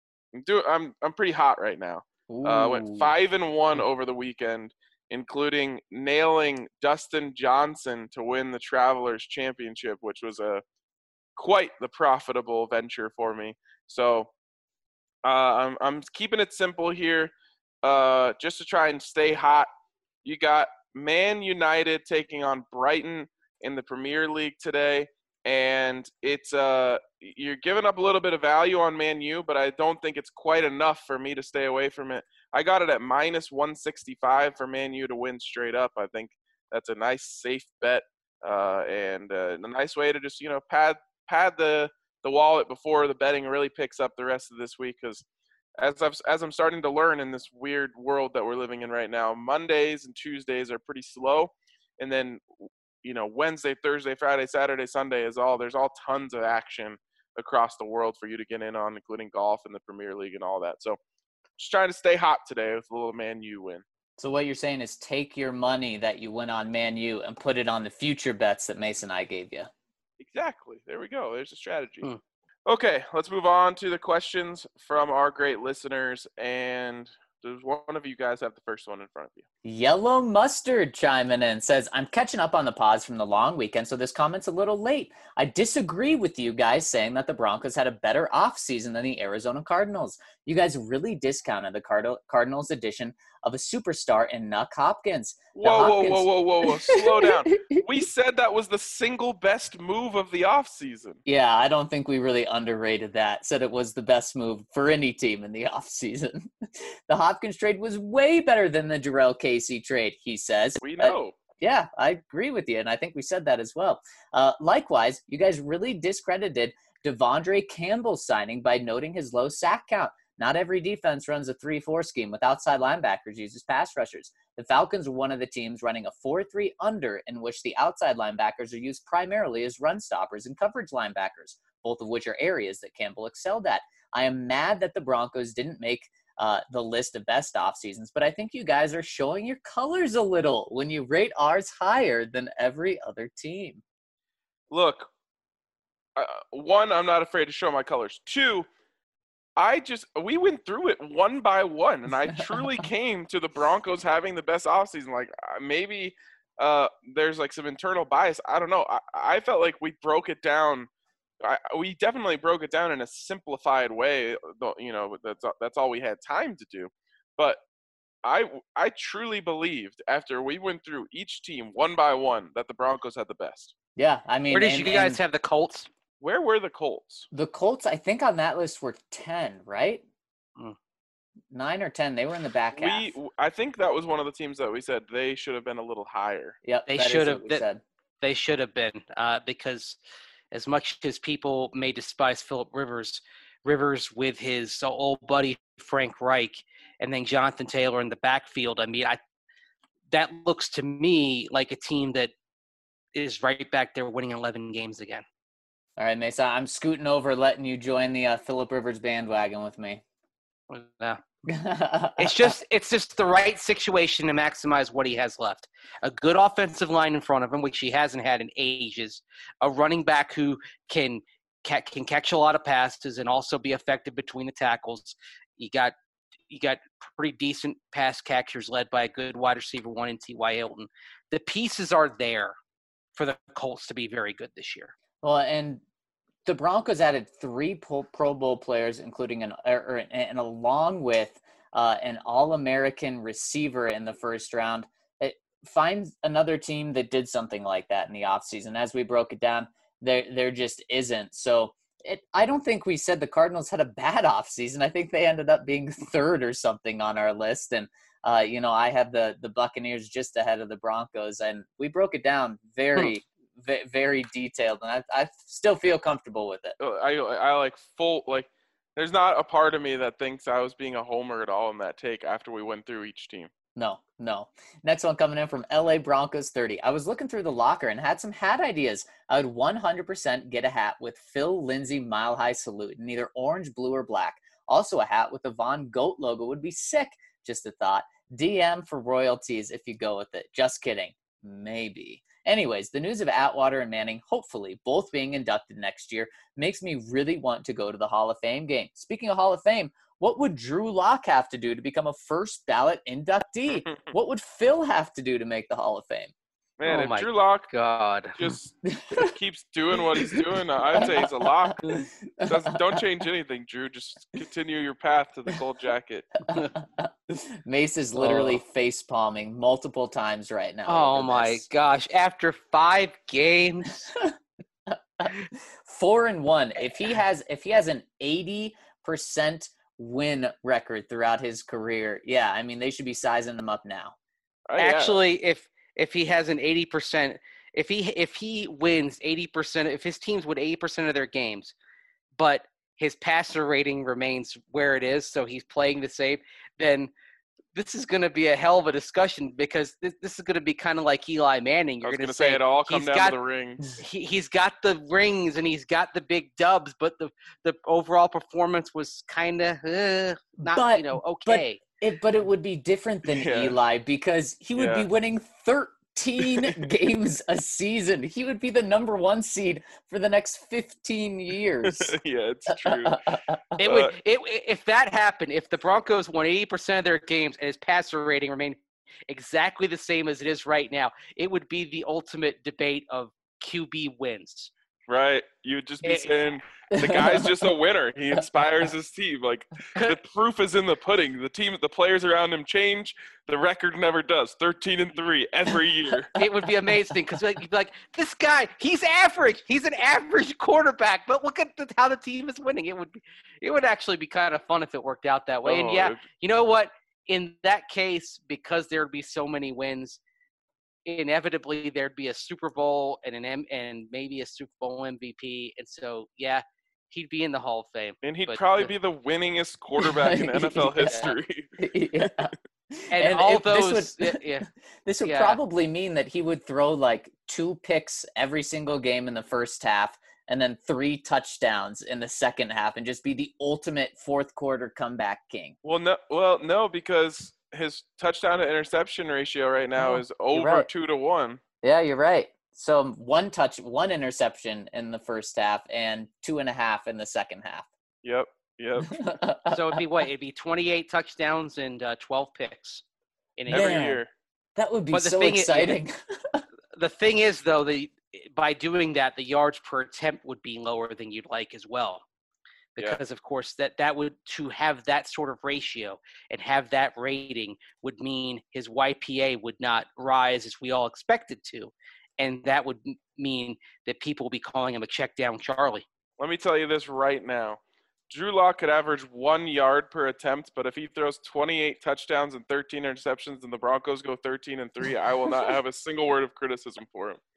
do I'm I'm pretty hot right now. Uh, went Ooh. five and one over the weekend, including nailing Dustin Johnson to win the Travelers Championship, which was a quite the profitable venture for me. So uh, I'm I'm keeping it simple here, uh, just to try and stay hot. You got Man United taking on Brighton in the Premier League today, and it's uh you're giving up a little bit of value on Man U, but I don't think it's quite enough for me to stay away from it. I got it at minus one sixty-five for Man U to win straight up. I think that's a nice safe bet, uh, and uh, a nice way to just you know pad pad the the wallet before the betting really picks up the rest of this week, because as I've, as I'm starting to learn in this weird world that we're living in right now, Mondays and Tuesdays are pretty slow, and then you know Wednesday, Thursday, Friday, Saturday, Sunday is all there's all tons of action across the world for you to get in on, including golf and the Premier League and all that. So just trying to stay hot today with a little Man U win. So what you're saying is take your money that you win on Man U and put it on the future bets that Mason and I gave you. Exactly. There we go. There's a strategy. Hmm. Okay, let's move on to the questions from our great listeners. And does one of you guys have the first one in front of you? Yellow Mustard chiming in says, I'm catching up on the pods from the long weekend, so this comment's a little late. I disagree with you guys saying that the Broncos had a better offseason than the Arizona Cardinals. You guys really discounted the Card- Cardinals' addition of a superstar in Nuck Hopkins. The Whoa, Hopkins- whoa, whoa, whoa, whoa, whoa. Slow down. We said that was the single best move of the offseason. Yeah, I don't think we really underrated that. Said it was the best move for any team in the offseason. The Hopkins trade was way better than the Jarrell Casey trade, he says. We Uh, know. yeah, I agree with you, and I think we said that as well. Uh, likewise, you guys really discredited Devondre Campbell's signing by noting his low sack count. Not every defense runs a three four scheme with outside linebackers uses pass rushers. The Falcons are one of the teams running a four three under in which the outside linebackers are used primarily as run stoppers and coverage linebackers, both of which are areas that Campbell excelled at. I am mad that the Broncos didn't make uh, the list of best off seasons, but I think you guys are showing your colors a little when you rate ours higher than every other team. Look, uh, one, I'm not afraid to show my colors. Two, I just we went through it one by one, and I truly came to the Broncos having the best offseason. Like uh, maybe uh, there's like some internal bias. I don't know. I, I felt like we broke it down. I, we definitely broke it down in a simplified way. though, You know, that's that's all we had time to do. But I I truly believed after we went through each team one by one that the Broncos had the best. Yeah, I mean, Where did and, you guys and have the Colts? Where were the Colts? the Colts? I think on that list were ten, right? Mm. Nine or ten. They were in the back half. We I think that was one of the teams that we said they should have been a little higher. Yep, They that is should what have- we that- said. They should have been, uh, because as much as people may despise Phillip Rivers, Rivers with his old buddy Frank Reich, and then Jonathan Taylor in the backfield. I mean, I that looks to me like a team that is right back there winning eleven games again. All right, Mesa, I'm scooting over, letting you join the uh, Phillip Rivers bandwagon with me. Yeah. It's just it's just the right situation to maximize what he has left. A good offensive line in front of him, which he hasn't had in ages. A running back who can can catch a lot of passes and also be effective between the tackles. You got you got pretty decent pass catchers led by a good wide receiver one in T Y. Hilton. The pieces are there for the Colts to be very good this year. Well, and the Broncos added three Pro Bowl players, including an or, and along with uh, an All-American receiver in the first round. It, find another team that did something like that in the offseason. As we broke it down, there there just isn't. So it, I don't think we said the Cardinals had a bad offseason. I think they ended up being third or something on our list. And, uh, you know, I have the, the Buccaneers just ahead of the Broncos. And we broke it down very – very detailed, and I, I still feel comfortable with it. I I like full like. There's not a part of me that thinks I was being a homer at all in that take after we went through each team. No, no. Next one coming in from L A Broncos thirty. I was looking through the locker and had some hat ideas. I would one hundred percent get a hat with Phil Lindsay Mile High Salute in either orange, blue, or black. Also a hat with the Von Goat logo would be sick. Just a thought. D M for royalties if you go with it. Just kidding. Maybe. Anyways, the news of Atwater and Manning, hopefully both being inducted next year, makes me really want to go to the Hall of Fame game. Speaking of Hall of Fame, what would Drew Lock have to do to become a first ballot inductee? What would Phil have to do to make the Hall of Fame? Man, Oh if my Drew Lock God. just keeps doing what he's doing, I'd say he's a lock. Doesn't, don't change anything, Drew. Just continue your path to the gold jacket. Mace is literally Oh. face palming multiple times right now. Oh over my this. gosh! After five games, Four and one. If he has, if he has an eighty percent win record throughout his career, yeah, I mean they should be sizing him up now. Oh, yeah. actually, if if he has an eighty percent, if he if he wins eighty percent, if his teams win eighty percent of their games, but his passer rating remains where it is, so he's playing the same, then this is going to be a hell of a discussion because this, this is going to be kind of like Eli Manning. I You're was going gonna to say say it all come he's down got- to the ring. he, he's got the rings and he's got the big dubs, but the the overall performance was kind of uh, not, But- you know, but- okay. It, but it would be different than Yeah. Eli because he would be Yeah. winning thirteen games a season. He would be the number one seed for the next fifteen years. Yeah, it's true. It Uh, would it, if that happened, if the Broncos won eighty percent of their games and his passer rating remained exactly the same as it is right now, it would be the ultimate debate of Q B wins. Right. You would just be It- saying the guy's just a winner. He inspires his team. Like the proof is in the pudding. The team, the players around him change. The record never does. Thirteen and three every year. It would be amazing because like, you'd be like, this guy, he's average. He's an average quarterback, but look at the, how the team is winning. It would be, it would actually be kind of fun if it worked out that way. And Oh, yeah, it- you know what? In that case, because there would be so many wins, inevitably there'd be a Super Bowl and an M and maybe a Super Bowl M V P. And so, yeah, he'd be in the Hall of Fame. and he'd but probably the- be the winningest quarterback in N F L Yeah. history. Yeah. And, And all if this those, would- yeah, This would Yeah. probably mean that he would throw like two picks every single game in the first half and then three touchdowns in the second half and just be the ultimate fourth quarter comeback king. Well, no, well, no, because his touchdown to interception ratio right now Oh, is over right. two to one. Yeah, you're right. So one touch, one interception in the first half and two and a half in the second half. Yep, yep. so it'd be what? It'd be twenty-eight touchdowns and uh, twelve picks in a Every Man. year. That would be But the so thing is- exciting. The thing is, though, the by doing that, the yards per attempt would be lower than you'd like as well. Yeah. because of course that that would to have that sort of ratio and have that rating would mean his Y P A would not rise as we all expect it to, and that would m- mean that people will be calling him a check down Charlie. Let me tell you this right now. Drew Lock could average one yard per attempt, but if he throws twenty-eight touchdowns and thirteen interceptions and the Broncos go thirteen and three, I will not have a single word of criticism for him.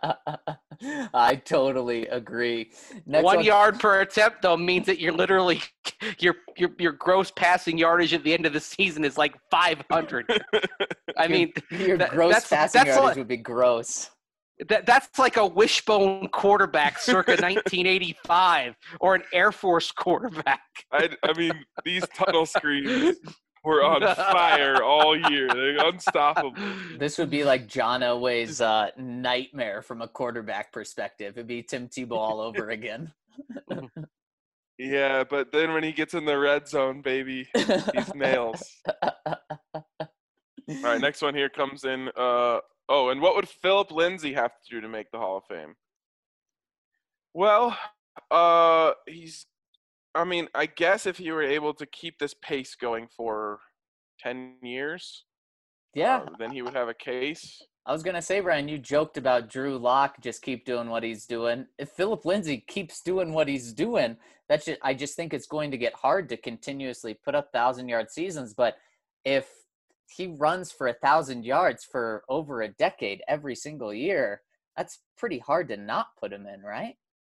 I totally agree. Next One yard per attempt though means that you're literally your your your gross passing yardage at the end of the season is like five hundred. I mean, your that- gross that's, passing that's yardage like, would be gross. that, that's like a wishbone quarterback circa nineteen eighty-five or an Air Force quarterback. I, I mean, these tunnel screens were on fire all year. They're unstoppable. This would be like John Elway's uh, nightmare from a quarterback perspective. It'd be Tim Tebow all over again. Yeah, but then when he gets in the red zone, baby, he's nails. All right, next one here comes in. Uh, oh, and what would Philip Lindsay have to do to make the Hall of Fame? Well, uh, he's. I mean, I guess if he were able to keep this pace going for ten years, Yeah, uh, then he would have a case. I was gonna say, Brian, you joked about Drew Lock just keep doing what he's doing. If Philip Lindsay keeps doing what he's doing, that's just, I just think it's going to get hard to continuously put up thousand yard seasons. But if he runs for a thousand yards for over a decade every single year, that's pretty hard to not put him in, right?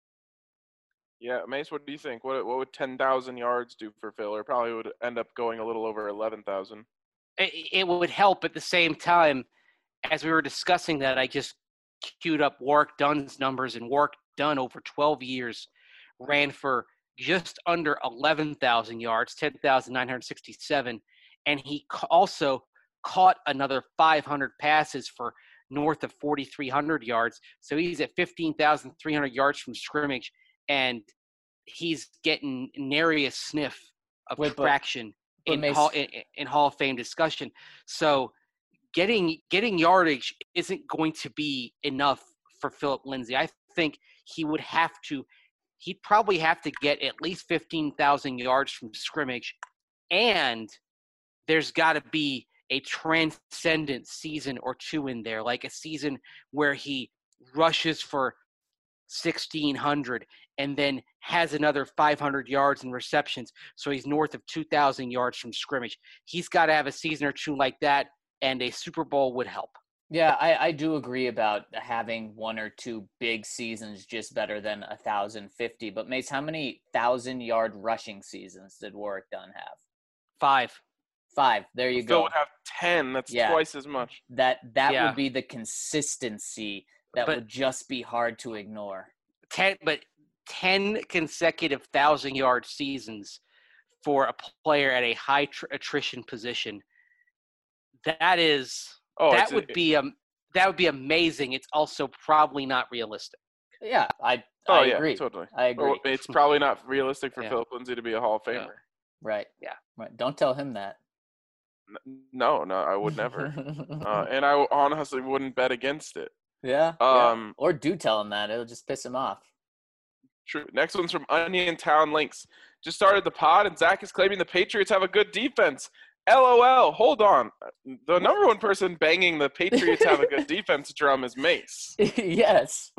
Yeah, Mace, what do you think? What what would ten thousand yards do for Phil? Or probably would end up going a little over eleven thousand. It, it would help at the same time. As we were discussing that, I just queued up Warwick Dunn's numbers, and Warwick Dunn over twelve years ran for just under eleven thousand yards, ten thousand nine hundred sixty-seven, and he ca- also caught another five hundred passes for north of forty-three hundred yards. So he's at fifteen thousand three hundred yards from scrimmage, and he's getting nary a sniff of Wait, but- traction but in, Mace- hall, in, in Hall of Fame discussion. So getting getting yardage isn't going to be enough for Philip Lindsay. I think he would have to – he'd probably have to get at least fifteen thousand yards from scrimmage, and there's got to be a transcendent season or two in there, like a season where he rushes for sixteen hundred and then has another five hundred yards in receptions, so he's north of two thousand yards from scrimmage. He's got to have a season or two like that, and a Super Bowl would help. Yeah, I, I do agree about having one or two big seasons just better than a thousand fifty. But Mace, how many thousand yard rushing seasons did Warwick Dunn have? Five. Five. There you Phil go. would have ten. That's Yeah. twice as much. That that Yeah. would be the consistency that But- would just be hard to ignore. Ten, but ten consecutive thousand-yard seasons for a player at a high tr- attrition position. That is Oh, that it's- would be um that would be amazing. It's also probably not realistic. Yeah, I Oh, I yeah, agree. totally. I agree. Well, it's probably not realistic for Yeah. Philip Lindsay to be a Hall of Yeah. Famer. Right. Yeah. Right. Don't tell him that. N- No, no, I would never. uh, and I honestly wouldn't bet against it. yeah, yeah. Um, Or do tell him that. It'll just piss him off. True. Next one's from Onion Town Links. Just started the pod, and Zach is claiming the Patriots have a good defense. LOL. Hold on. The number one person banging the Patriots have a good defense drum is Mace. Yes.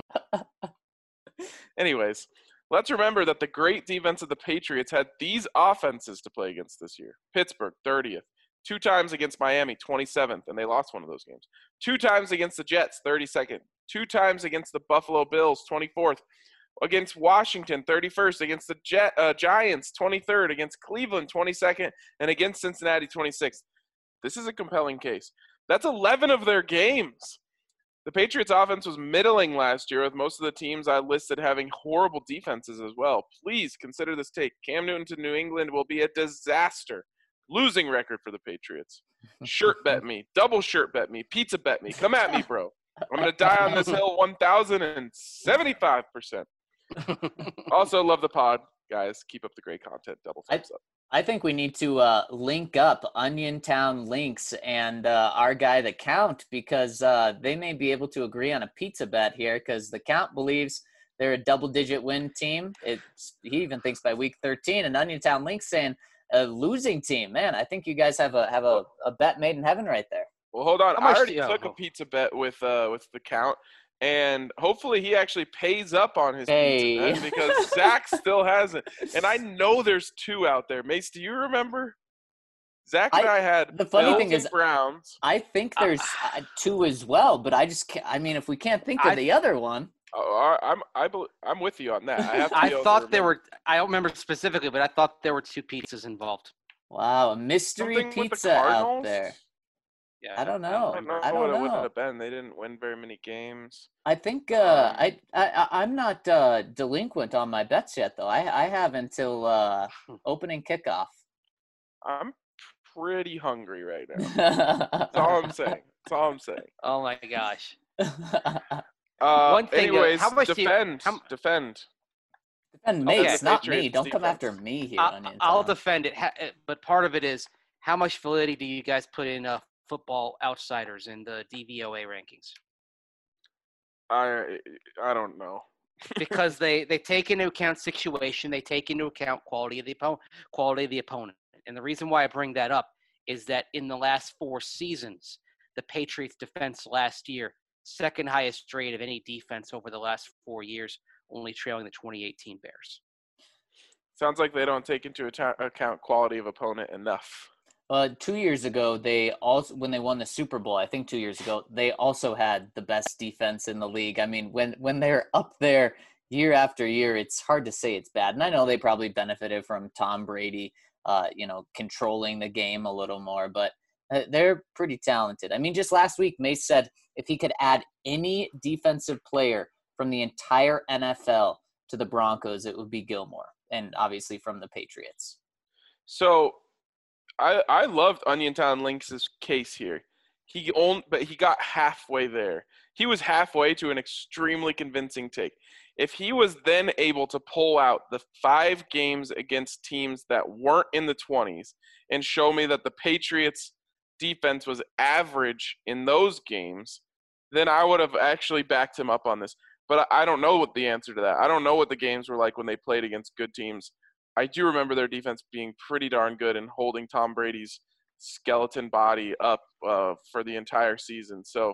Anyways, let's remember that the great defense of the Patriots had these offenses to play against this year. Pittsburgh, thirtieth. Two times against Miami, twenty-seventh, and they lost one of those games. Two times against the Jets, thirty-second. Two times against the Buffalo Bills, twenty-fourth. Against Washington, thirty-first. Against the Jet, uh, Giants, twenty-third. Against Cleveland, twenty-second. And against Cincinnati, twenty-sixth. This is a compelling case. That's eleven of their games. The Patriots offense was middling last year, with most of the teams I listed having horrible defenses as well. Please consider this take. Cam Newton to New England will be a disaster. Losing record for the Patriots. Shirt bet me. Double shirt bet me. Pizza bet me. Come at me, bro. I'm going to die on this hill one thousand seventy-five percent. Also, love the pod. Guys, keep up the great content. Double thumbs up. I think we need to uh, link up Onion Town Links and uh, our guy, the Count, because uh, they may be able to agree on a pizza bet here, because the Count believes they're a double-digit win team. It's, he even thinks by week thirteen. And Oniontown Link's saying a losing team. Man, I think you guys have a have a, a bet made in heaven right there. Well, hold on. How I much already do you- took a oh. pizza bet with uh with the count, and hopefully he actually pays up on his Hey. pizza bet because Zach still hasn't. And I know there's two out there. Mace, do you remember? Zach and I, I- had the funny Bills thing and is- Browns. I think there's uh, two as well, but I just can't. I mean, if we can't think of I- the other one. Oh, I- I'm I bel- I'm with you on that. I have to I be able to thought there remember. were. I don't remember specifically, but I thought there were two pizzas involved. Wow, a mystery Something with the pizza out Cardinals? there. Yeah, I don't I know. don't know I don't what it would know. have been. They didn't win very many games. I think uh, Um, I, I I- I'm not uh, delinquent on my bets yet, though. I I have until uh, opening kickoff. I'm pretty hungry right now. That's all I'm saying. That's all I'm saying. Oh my gosh. Uh, One thing, uh, anyways, how much do you- defend, how- defend. Defend me, Okay. it's not me. Patriots Don't come defense. after me here. I, Onion I'll Town. defend it, ha- uh, but part of it is how much validity do you guys put in uh, Football Outsiders in the D V O A rankings? I I don't know. Because they, they take into account situation, they take into account quality of the opponent, quality of the opponent. And the reason why I bring that up is that in the last four seasons, the Patriots defense last year, second highest rate of any defense over the last four years, only trailing the twenty eighteen Bears. Sounds like they don't take into account account quality of opponent enough. Uh, two years ago, they also when they won the Super Bowl, I think two years ago, they also had the best defense in the league. I mean, when when they're up there year after year, it's hard to say it's bad. And I know they probably benefited from Tom Brady, uh, you know, controlling the game a little more, but uh, they're pretty talented. I mean, just last week, Mace said if he could add any defensive player from the entire N F L to the Broncos, it would be Gilmore, and obviously from the Patriots. So, I I loved Oniontown Lynx's case here. He owned, but he got halfway there. He was halfway to an extremely convincing take. If he was then able to pull out the five games against teams that weren't in the twenties and show me that the Patriots defense was average in those games, then I would have actually backed him up on this. But I don't know what the answer to that. I don't know what the games were like when they played against good teams. I do remember their defense being pretty darn good and holding Tom Brady's skeleton body up uh, for the entire season. So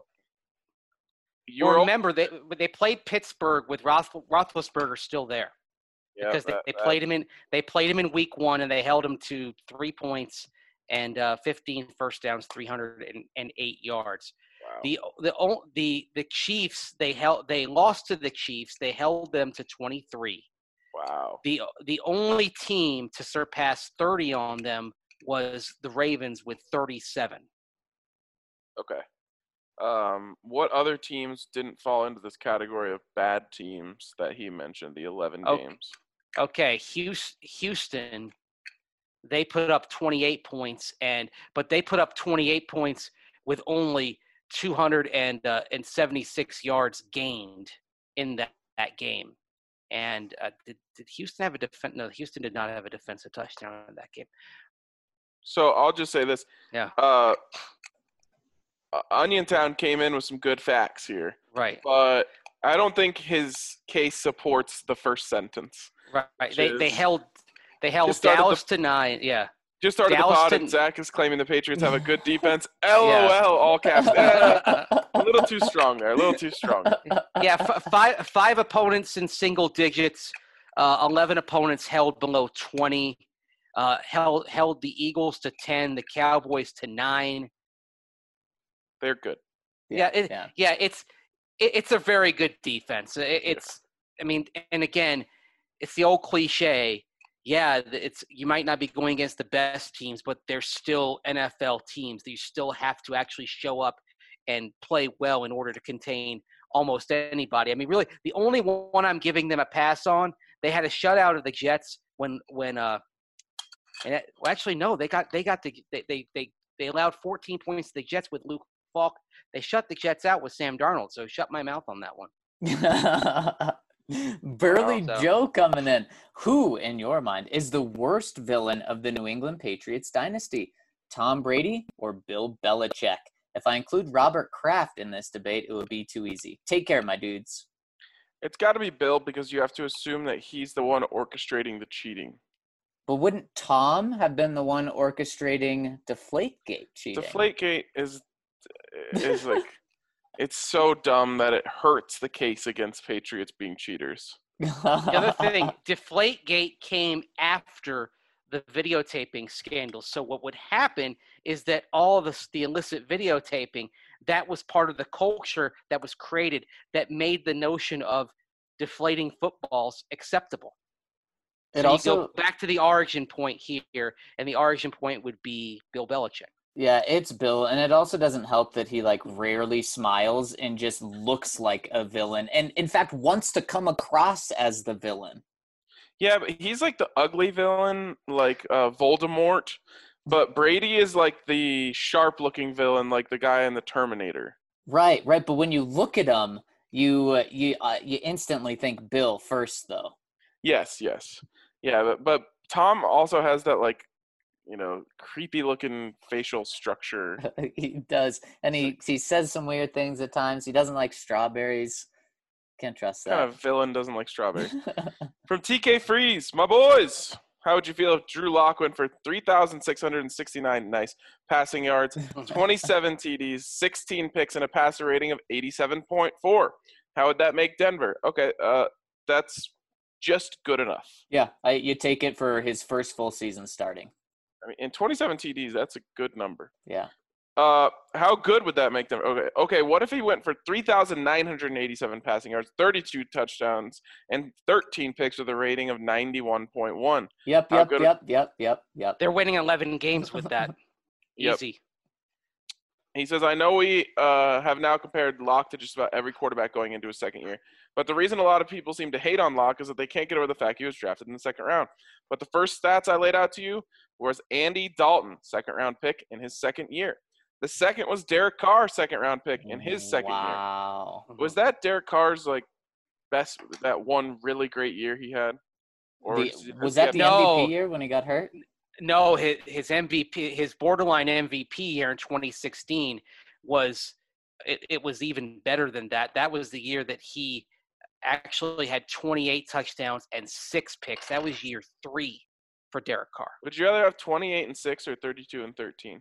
you Or remember, they they played Pittsburgh with Roth, Roethlisberger still there. yeah, because they, that- they that- played him in they played him in week one and they held him to three points and uh, fifteen first downs, three hundred eight yards. wow. The the o- the the Chiefs they held they lost to the Chiefs. They held them to twenty-three. wow. The the only team to surpass thirty on them was the Ravens with thirty-seven. Okay. Um, what other teams didn't fall into this category of bad teams that he mentioned, the eleven Okay. games? Okay, Houston, Houston, they put up twenty-eight points, and but they put up twenty-eight points with only two hundred seventy-six yards gained in that, that game. And uh, did, did Houston have a defense? No, Houston did not have a defensive touchdown in that game. So I'll just say this. Yeah. Uh, uh, Oniontown came in with some good facts here, Right, but I don't think his case supports the first sentence. right. Which They they is- held they held Just started the- Dallas to nine. Yeah. Just started Dallas the pod, and didn't- Zach is claiming the Patriots have a good defense. LOL, all caps. Eh, a little too strong there. A little too strong. Yeah, f- five five opponents in single digits. Uh, Eleven opponents held below twenty. Uh, held held the Eagles to ten, the Cowboys to nine. They're good. Yeah, it, yeah. yeah, it's it, it's a very good defense. It, it's, I mean, and again, it's the old cliche. Yeah, it's you might not be going against the best teams, but they're still N F L teams. You still have to actually show up and play well in order to contain almost anybody. I mean, really, the only one I'm giving them a pass on, they had a shutout of the Jets when when uh, and it, well, actually no, they got they got the they they they, they allowed fourteen points to the Jets with Luke Falk. They shut the Jets out with Sam Darnold, so shut my mouth on that one. Burly Wow, so- Joe coming in. Who, in your mind, is the worst villain of the New England Patriots dynasty? Tom Brady or Bill Belichick? If I include Robert Kraft in this debate, it would be too easy. Take care, my dudes. It's got to be Bill because you have to assume that he's the one orchestrating the cheating. But wouldn't Tom have been the one orchestrating Deflategate cheating? Deflategate is is like it's so dumb that it hurts the case against Patriots being cheaters. The other thing, Deflategate came after the videotaping scandal. So what would happen is that all of this, the illicit videotaping, that was part of the culture that was created that made the notion of deflating footballs acceptable. It so also you go back to the origin point here, and the origin point would be Bill Belichick. Yeah, it's Bill, and it also doesn't help that he like rarely smiles and just looks like a villain, and in fact wants to come across as the villain. Yeah, but he's like the ugly villain, like uh, Voldemort. But Brady is like the sharp-looking villain, like the guy in the Terminator. Right, right. But when you look at him, you uh, you uh, you instantly think Bill first, though. Yes, yes, yeah. But, but Tom also has that like, you know, creepy-looking facial structure. He does, and he he says some weird things at times. He doesn't like strawberries. Can't trust that. What kind of villain doesn't like strawberries? From T K Freeze, my boys. How would you feel if Drew Lock went for three thousand six hundred sixty-nine nice passing yards, twenty-seven T Ds, sixteen picks, and a passer rating of eighty-seven point four? How would that make Denver? Okay, uh, that's just good enough. Yeah, I, you take it for his first full season starting. I mean, in twenty-seven T Ds, that's a good number. Yeah. Uh, how good would that make them? Okay, okay. What if he went for three thousand nine hundred eighty-seven passing yards, thirty-two touchdowns, and thirteen picks with a rating of ninety-one point one? Yep, How yep, good- yep, yep, yep, yep. They're winning eleven games with that. Yep. Easy. He says, I know we uh, have now compared Locke to just about every quarterback going into his second year, but the reason a lot of people seem to hate on Locke is that they can't get over the fact he was drafted in the second round. But the first stats I laid out to you was Andy Dalton, second round pick in his second year. The second was Derek Carr, second round pick in his second wow. year. Was that Derek Carr's like best, that one really great year he had? Or The, was, was that the No. M V P year when he got hurt? No, his, his M V P, his borderline M V P year in twenty sixteen was it, it was even better than that. That was the year that he actually had twenty-eight touchdowns and six picks. That was year three for Derek Carr. Would you rather have twenty-eight and six or thirty-two and thirteen?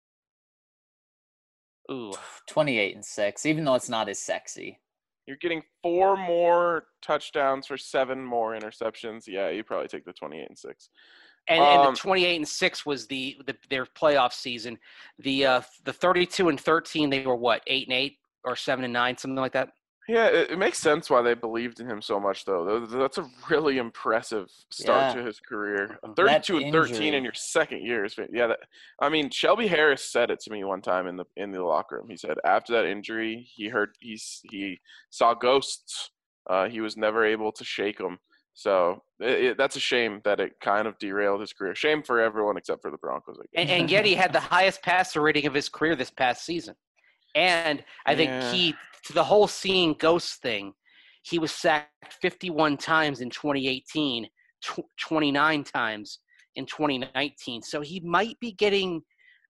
Ooh, twenty-eight and six, even though it's not as sexy. You're getting four more touchdowns for seven more interceptions. Yeah, you probably take the twenty-eight and six. and, and Um, the twenty-eight and six was the, the their playoff season. The uh, the thirty-two and thirteen, they were what, eight and eight or seven and nine, something like that. Yeah, it, it makes sense why they believed in him so much, though. Th- That's a really impressive start Yeah. to his career. That thirty-two and thirteen injury. in your second year is, yeah. That, I mean, Shelby Harris said it to me one time in the in the locker room. He said after that injury, he heard he's he saw ghosts. Uh, he was never able to shake them. So it, it, that's a shame that it kind of derailed his career. Shame for everyone except for the Broncos, I guess. And, and yet he had the highest passer rating of his career this past season. And I think Yeah. key to the whole seeing ghosts thing, he was sacked fifty-one times in twenty eighteen, tw- twenty-nine times in twenty nineteen. So he might be getting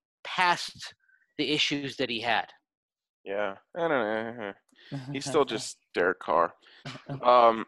past the issues that he had. Yeah, I don't know. He's still just Derek Carr. Um,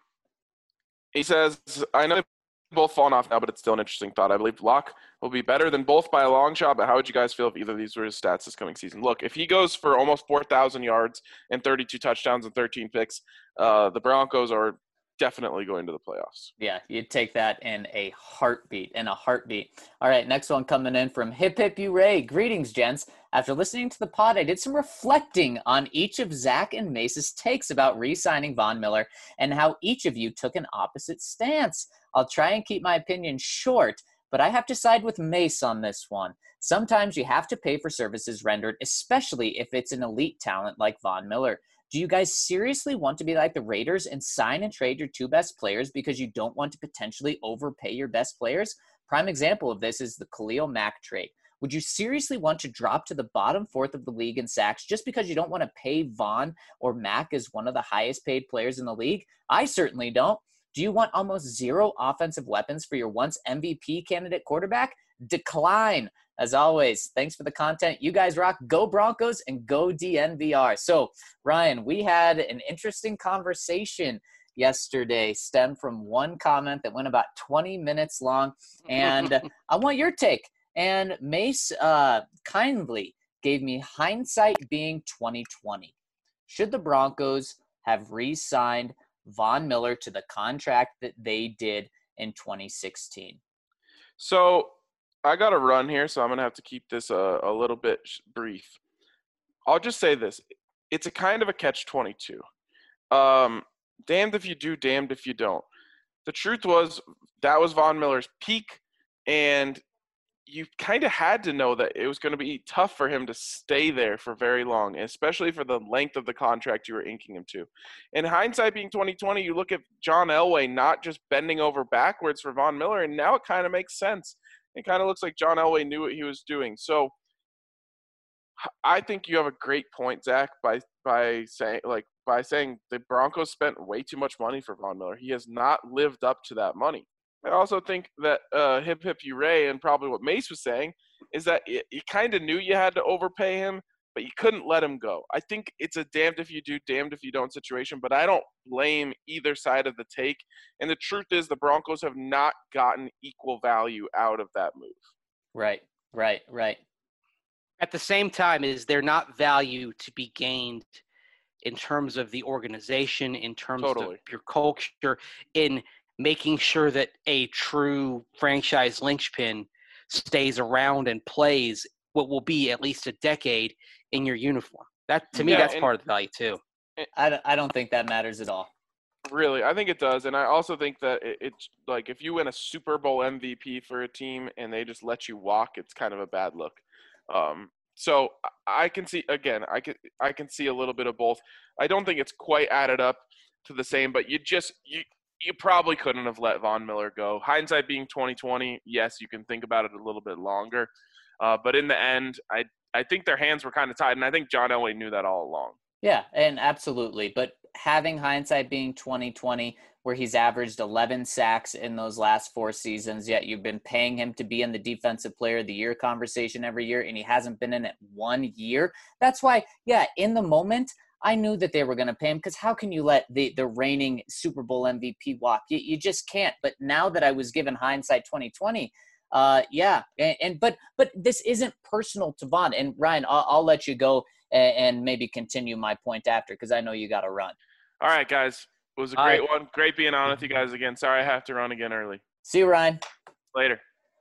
he says, I know they've both fallen off now, but it's still an interesting thought. I believe Locke will be better than both by a long shot, but how would you guys feel if either of these were his stats this coming season? Look, if he goes for almost four thousand yards and thirty-two touchdowns and thirteen picks, uh, the Broncos are definitely going to the playoffs. Yeah, you'd take that in a heartbeat, in a heartbeat. All right, next one coming in from Hip Hip You Ray. Greetings, gents. After listening to the pod, I did some reflecting on each of Zach and Mace's takes about re-signing Von Miller and how each of you took an opposite stance. I'll try and keep my opinion short, but I have to side with Mace on this one. Sometimes you have to pay for services rendered, especially if it's an elite talent like Von Miller. Do you guys seriously want to be like the Raiders and sign and trade your two best players because you don't want to potentially overpay your best players? Prime example of this is the Khalil Mack trade. Would you seriously want to drop to the bottom fourth of the league in sacks just because you don't want to pay Von or Mack as one of the highest paid players in the league? I certainly don't. Do you want almost zero offensive weapons for your once M V P candidate quarterback? Decline. As always, thanks for the content. You guys rock. Go Broncos and go D N V R. So, Ryan, we had an interesting conversation yesterday stemmed from one comment that went about twenty minutes long, and I want your take. And Mace uh, kindly gave me hindsight being twenty twenty. Should the Broncos have re-signed Von Miller to the contract that they did in twenty sixteen? So I got to run here, so I'm going to have to keep this a, a little bit brief. I'll just say this. It's a kind of a catch twenty-two. Um, damned if you do, damned if you don't. The truth was that was Von Miller's peak, and you kind of had to know that it was going to be tough for him to stay there for very long, especially for the length of the contract you were inking him to. In hindsight being twenty twenty, you look at John Elway not just bending over backwards for Von Miller, and now it kind of makes sense. It kind of looks like John Elway knew what he was doing. So I think you have a great point, Zach, by by saying like by saying the Broncos spent way too much money for Von Miller. He has not lived up to that money. I also think that uh, hip hip hooray, and probably what Mace was saying, is that it, you kind of knew you had to overpay him, but you couldn't let him go. I think it's a damned if you do, damned if you don't situation, but I don't blame either side of the take. And the truth is the Broncos have not gotten equal value out of that move. Right, right, right. At the same time, is there not value to be gained in terms of the organization, in terms Totally. of your culture, in making sure that a true franchise linchpin stays around and plays what will be at least a decade in your uniform? That to me, Yeah, that's and- part of the value too. I don't, I don't think that matters at all. Really, I think it does, and I also think that it, it's like if you win a Super Bowl M V P for a team and they just let you walk, it's kind of a bad look. Um, so I can see again, I can I can see a little bit of both. I don't think it's quite added up to the same, but you just you you probably couldn't have let Von Miller go. Hindsight being twenty twenty, yes, you can think about it a little bit longer, uh, but in the end, I I think their hands were kind of tied, and I think John Elway knew that all along. Yeah, and absolutely. But having hindsight being twenty twenty, where he's averaged eleven sacks in those last four seasons, yet you've been paying him to be in the defensive player of the year conversation every year, and he hasn't been in it one year. That's why, yeah, in the moment, I knew that they were going to pay him, because how can you let the, the reigning Super Bowl M V P walk? You, you just can't. But now that I was given hindsight twenty twenty, uh, yeah, and, and but but this isn't personal to Von. And Ryan, I'll, I'll let you go and, and maybe continue my point after, because I know you got to run. All right, guys. It was a All great right. one. Great being on with you guys again. Sorry I have to run again early. See you, Ryan. Later.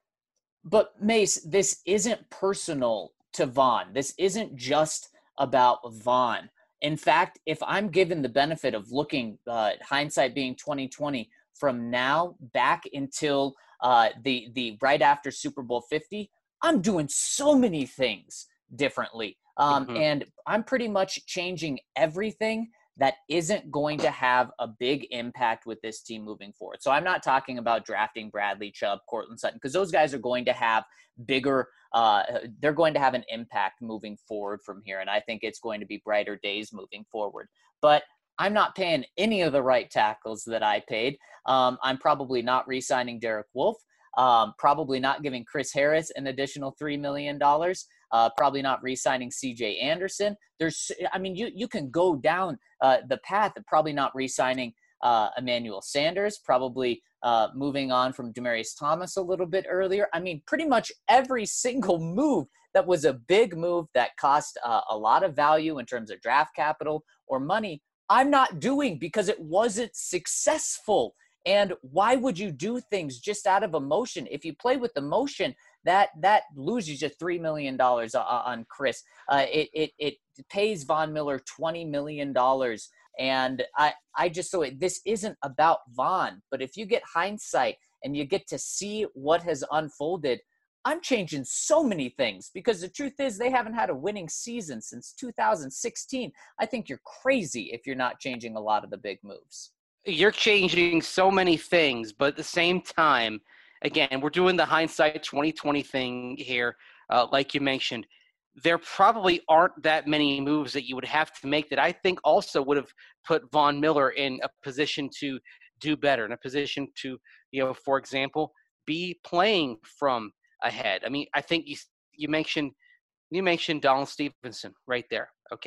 But Mace, this isn't personal to Von. This isn't just about Von. In fact, if I'm given the benefit of looking, uh, hindsight being twenty twenty, from now back until uh, the the right after Super Bowl fifty, I'm doing so many things differently. Um, Mhm. And I'm pretty much changing everything that isn't going to have a big impact with this team moving forward. So I'm not talking about drafting Bradley Chubb, Cortland Sutton, because those guys are going to have bigger, uh, they're going to have an impact moving forward from here. And I think it's going to be brighter days moving forward. But I'm not paying any of the right tackles that I paid. Um, I'm probably not re-signing Derek Wolfe. Um, probably not giving Chris Harris an additional three million dollars. Uh, probably not re-signing C J Anderson. There's, I mean, you you can go down uh, the path of probably not re-signing uh, Emmanuel Sanders, probably uh, moving on from Demaryius Thomas a little bit earlier. I mean, pretty much every single move that was a big move that cost uh, a lot of value in terms of draft capital or money, I'm not doing because it wasn't successful. And why would you do things just out of emotion? If you play with emotion, that that loses you three million dollars on Chris. Uh, it, it it pays Von Miller twenty million dollars. And I, I just so it, this isn't about Von. But if you get hindsight and you get to see what has unfolded, I'm changing so many things, because the truth is they haven't had a winning season since two thousand sixteen. I think you're crazy if you're not changing a lot of the big moves. You're changing so many things, but at the same time, again, we're doing the hindsight twenty twenty thing here. Uh, like you mentioned, there probably aren't that many moves that you would have to make that I think also would have put Von Miller in a position to do better, in a position to, you know, for example, be playing from ahead. I mean, I think you you mentioned you mentioned Donald Stevenson right there. Okay,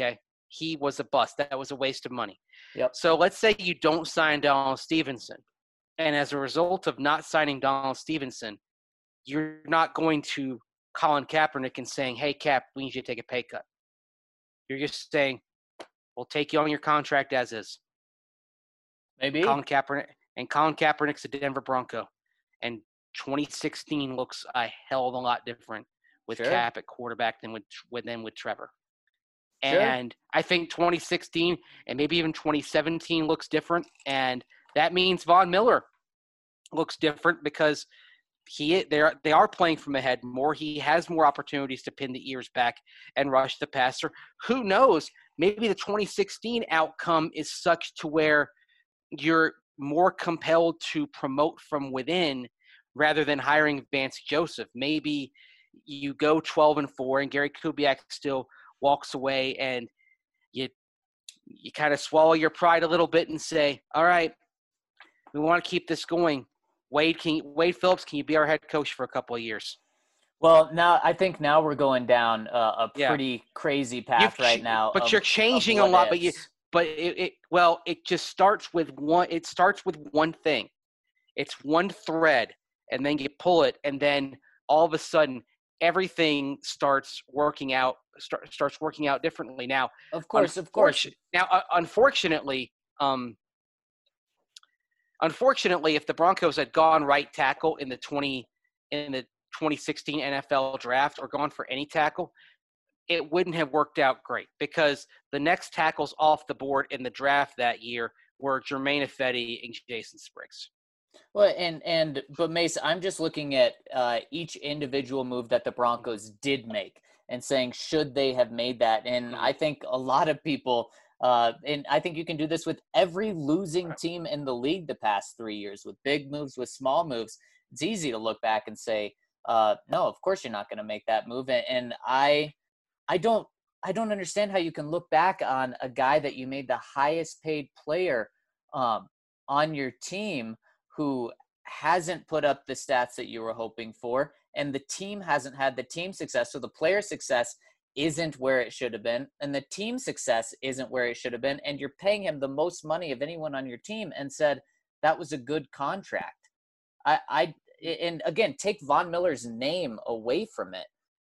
he was a bust. That was a waste of money. Yep. So let's say you don't sign Donald Stevenson. And as a result of not signing Donald Stevenson, you're not going to Colin Kaepernick and saying, hey, Cap, we need you to take a pay cut. You're just saying, we'll take you on your contract as is. Maybe. Colin Kaepernick, and Colin Kaepernick's a Denver Bronco. And twenty sixteen looks a hell of a lot different with Sure. Cap at quarterback than with, with, than with Trevor. Sure. And I think twenty sixteen and maybe even twenty seventeen looks different. And that means Von Miller looks different because he they are they are playing from ahead more. He has more opportunities to pin the ears back and rush the passer. Who knows? Maybe the twenty sixteen outcome is such to where you're more compelled to promote from within rather than hiring Vance Joseph. Maybe you go twelve and four and Gary Kubiak still walks away and you you kind of swallow your pride a little bit and say, all right, we want to keep this going. Wade, can you, Wade Phillips, can you be our head coach for a couple of years? Well, now I think now we're going down uh, a Yeah. pretty crazy path You've right ch- now. But of- you're of changing a what lot. But you, ifs. but it, it, well, it just starts with one. It starts with one thing. It's one thread, and then you pull it, and then all of a sudden, everything starts working out. Start, starts working out differently. Now, Of course, of course. unfortu- Now, uh, unfortunately, um, unfortunately, if the Broncos had gone right tackle in the twenty in the twenty sixteen N F L draft or gone for any tackle, it wouldn't have worked out great because the next tackles off the board in the draft that year were Jermaine Ifedi and Jason Spriggs. Well, and and but Mace, I'm just looking at uh, each individual move that the Broncos did make and saying should they have made that. And Mhm. I think a lot of people, uh, and I think you can do this with every losing team in the league the past three years, with big moves, with small moves. It's easy to look back and say, uh, no, of course you're not going to make that move. And, and I, I don't, I don't understand how you can look back on a guy that you made the highest paid player um, on your team who hasn't put up the stats that you were hoping for, and the team hasn't had the team success. So the player success isn't where it should have been, and the team success isn't where it should have been, and you're paying him the most money of anyone on your team and said that was a good contract. I, I and again, take Von Miller's name away from it.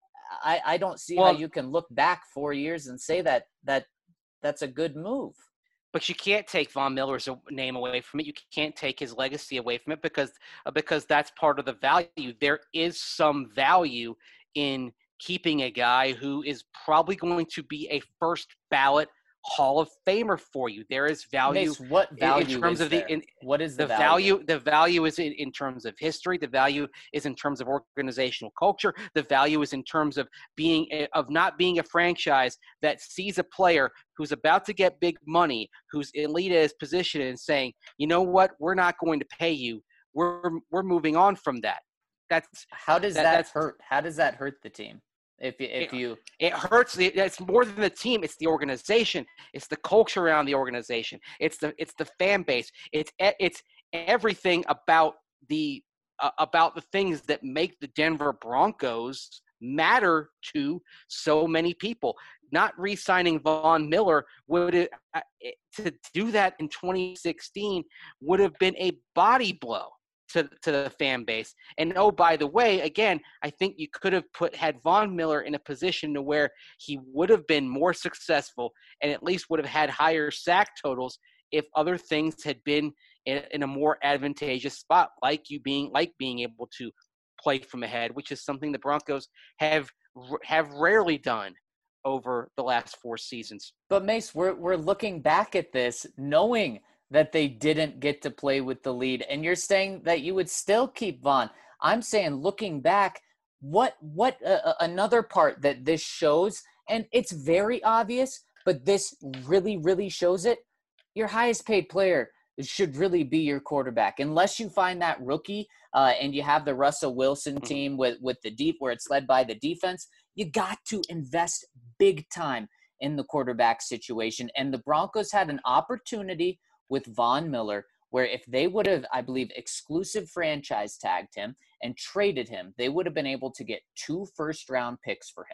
I, I don't see Well- how you can look back four years and say that that that's a good move. But you can't take Von Miller's name away from it. You can't take his legacy away from it because uh, because that's part of the value. There is some value in keeping a guy who is probably going to be a first ballot Hall of Famer for you. There is value Mace, what in- value in terms is of the there? in, what is the, the value. The value is in, in terms of history. The value is in terms of organizational culture. The value is in terms of being a, of not being a franchise that sees a player who's about to get big money, who's elite at his position, and saying, you know what, we're not going to pay you. We're we're moving on from that. That's How does that- that, that's- hurt? How does that hurt the team? If you, if It- you It hurts. The, it's more than the team. It's the organization. It's the culture around the organization. It's the it's the fan base. It's e- it's everything about the uh, about the things that make the Denver Broncos matter to so many people. Not re-signing Von Miller would have, uh, to do that in twenty sixteen would have been a body blow to to the fan base. And oh, by the way, again, I think you could have put had Von Miller in a position to where he would have been more successful and at least would have had higher sack totals if other things had been in, in a more advantageous spot, like you being like being able to play from ahead, which is something the Broncos have have rarely done over the last four seasons. But Mace, we're we're looking back at this knowing that they didn't get to play with the lead, and you're saying that you would still keep Von. I'm saying, looking back, what what uh, another part that this shows, and it's very obvious, but this really really shows it. Your highest paid player should really be your quarterback, unless you find that rookie uh, and you have the Russell Wilson team with with the deep where it's led by the defense. You got to invest big time in the quarterback situation, and the Broncos had an opportunity with Von Miller, where if they would have, I believe, exclusive franchise tagged him and traded him, they would have been able to get two first-round picks for him.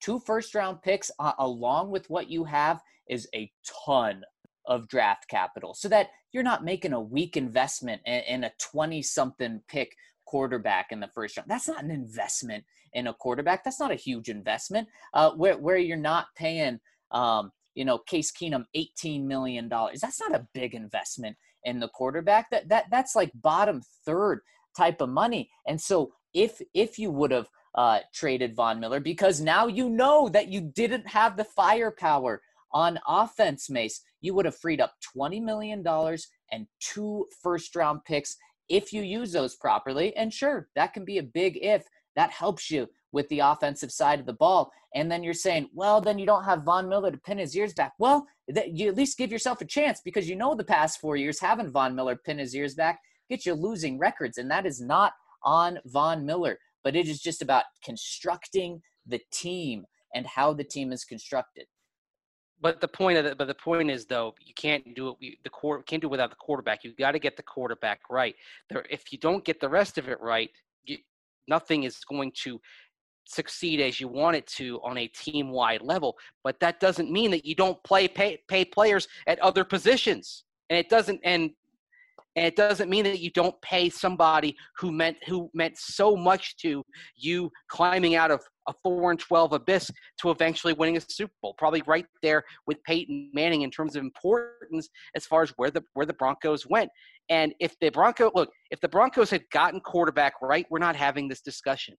two first-round picks uh, along with what you have is a ton of draft capital so that you're not making a weak investment in, in a twenty-something pick quarterback in the first round. That's not an investment in a quarterback. That's not a huge investment uh, where, where you're not paying, um, you know, Case Keenum eighteen million dollars. That's not a big investment in the quarterback. That that That's like bottom third type of money. And so if if you would have uh, traded Von Miller, because now you know that you didn't have the firepower on offense, Mace, you would have freed up twenty million dollars and two first-round picks if you use those properly. And sure, that can be a big if. That helps you with the offensive side of the ball. And then you're saying, well, then you don't have Von Miller to pin his ears back. Well, that you at least give yourself a chance, because you know the past four years having Von Miller pin his ears back get you losing records, and that is not on Von Miller. But it is just about constructing the team and how the team is constructed. But the point of the, but the point is, though, you can't do it. The core can't do it without the quarterback. You got to get the quarterback right. There, if you don't get the rest of it right, you, nothing is going to succeed as you want it to on a team-wide level. But that doesn't mean that you don't play pay, pay players at other positions, and it doesn't and and it doesn't mean that you don't pay somebody who meant who meant so much to you climbing out of a four and twelve abyss to eventually winning a Super Bowl. Probably right there with Peyton Manning in terms of importance as far as where the where the Broncos went. And if the Broncos look, if the Broncos had gotten quarterback right, we're not having this discussion.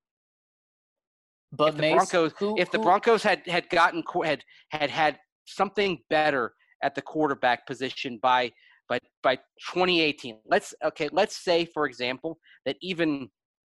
But if the Mace, Broncos, who, if the who, Broncos had had gotten had had had something better at the quarterback position by by by twenty eighteen, let's okay, let's say for example that even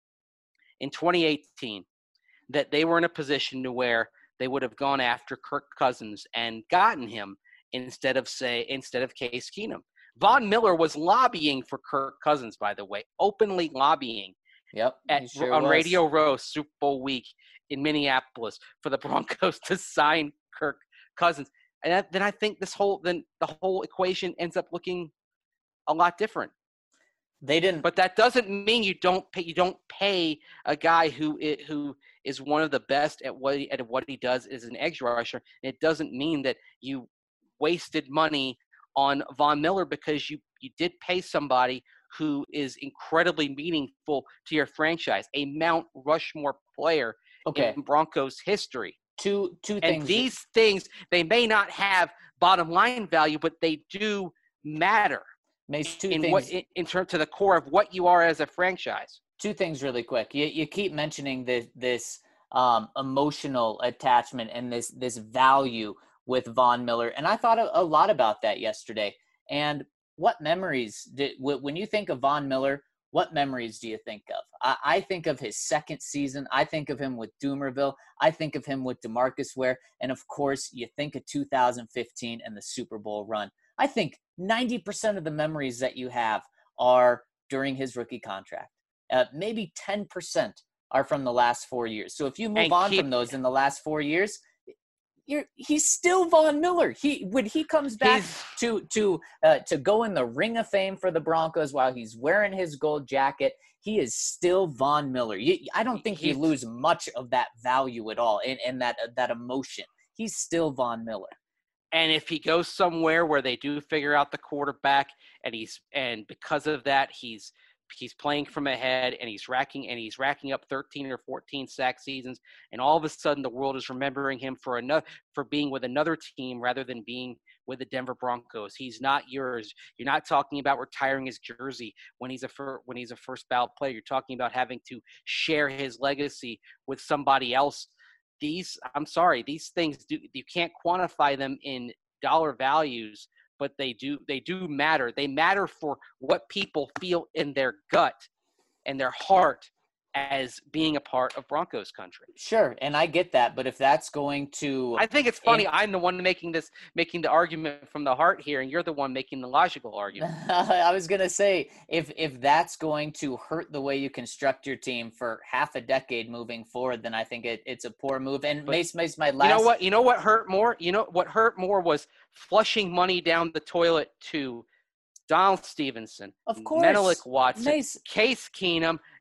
in twenty eighteen that they were in a position to where they would have gone after Kirk Cousins and gotten him instead of say instead of Case Keenum. Von Miller was lobbying for Kirk Cousins, by the way, openly lobbying. Yep, at, sure on was. Radio Row Super Bowl week in Minneapolis for the Broncos to sign Kirk Cousins. And that, then I think this whole then the whole equation ends up looking a lot different. They didn't, but that doesn't mean you don't pay. You don't pay a guy who it, who is one of the best at what he, at what he does is an edge rusher. It doesn't mean that you wasted money on Von Miller because you you did pay somebody who is incredibly meaningful to your franchise, a Mount Rushmore player okay. in Broncos history. Two two and things. These things, they may not have bottom line value, but they do matter. Mace, two in things. What, in, in terms to the core of what you are as a franchise. Two things really quick. You you keep mentioning this this um, emotional attachment and this this value with Von Miller, and I thought a, a lot about that yesterday. And what memories did when you think of Von Miller? What memories do you think of? I, I think of his second season. I think of him with Doomerville. I think of him with DeMarcus Ware, and of course, you think of two thousand fifteen and the Super Bowl run. I think ninety percent of the memories that you have are during his rookie contract. Uh, maybe ten percent are from the last four years. So if you move and on keep, from those in the last four years, you're, he's still Von Miller. He when he comes back to to uh, to go in the Ring of Fame for the Broncos while he's wearing his gold jacket, he is still Von Miller. You, I don't think you lose much of that value at all and, and that uh, that emotion. He's still Von Miller. And if he goes somewhere where they do figure out the quarterback, and he's and because of that he's he's playing from ahead and he's racking and he's racking up thirteen or fourteen sack seasons, and all of a sudden the world is remembering him for another for being with another team rather than being with the Denver Broncos. He's not yours. You're not talking about retiring his jersey when he's a fir- when he's a first ballot player. You're talking about having to share his legacy with somebody else. These, I'm sorry, these things do you can't quantify them in dollar values, but they do they do matter. They matter for what people feel in their gut and their heart as being a part of Broncos country. Sure, and I get that, but if that's going to I think it's funny. in, I'm the one making this making the argument from the heart here, and you're the one making the logical argument. I was going to say, if if that's going to hurt the way you construct your team for half a decade moving forward, then I think it, it's a poor move. And But Mace, Mace, my last You know what? You know what hurt more? You know what hurt more was flushing money down the toilet to Donald Stevenson, Of course. Menelik Watson, Mace. Case Keenum,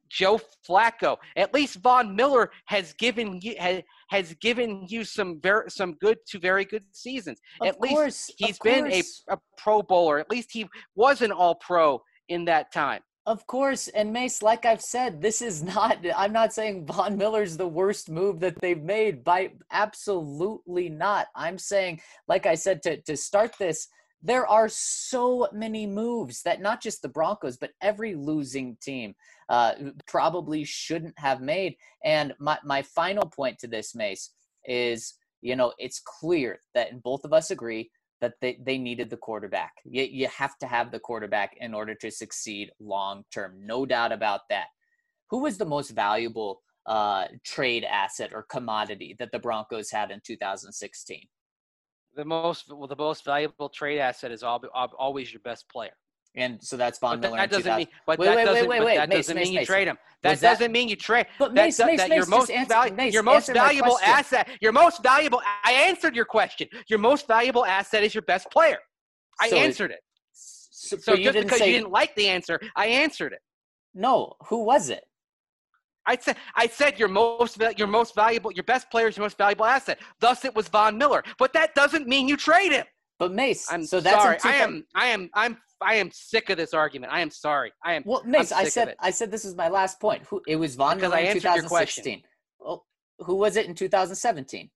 Joe Flacco. At least Von Miller has given you has, has given you some very some good to very good seasons. Of At course, least he's of been a, course. a Pro Bowler. At least he was an All Pro in that time. Of course, and Mace, like I've said, this is not, I'm not saying Von Miller's the worst move that they've made. By absolutely not. I'm saying, like I said, to, to start this, there are so many moves that not just the Broncos, but every losing team uh, probably shouldn't have made. And my, my final point to this, Mace, is, you know, it's clear that both of us agree that they, they needed the quarterback. You, you have to have the quarterback in order to succeed long-term. No doubt about that. Who was the most valuable uh, trade asset or commodity that the Broncos had in two thousand sixteen? The most well, the most valuable trade asset is al- al- always your best player. And so that's Von But Miller. that in doesn't mean. But Wait, that wait, wait, doesn't. wait, but wait. that Mace, doesn't Mace, mean you Mace. trade him. That Was that- doesn't mean you trade. But that, Mace, that, Mace, that Mace, your just most answer- valuable, Mace, your most answer my valuable question. asset, your most valuable. I answered your question. Your most valuable asset is your best player. I So it- answered it. So, So but you just didn't because say you didn't like the answer, I answered it. no. Who was it? I said, I said your most, va- your most valuable, your best player is your most valuable asset. Thus, it was Von Miller. But that doesn't mean you trade him. But Mace. I'm so that's sorry. in two I thou- am, I am, I'm, I am sick of this argument. I am sorry. I am. Well, Mace, I'm I sick of said it. I said this is my last point. Who it was Von Because Miller I in answered your question. two thousand sixteen. Well, who was it in two thousand seventeen?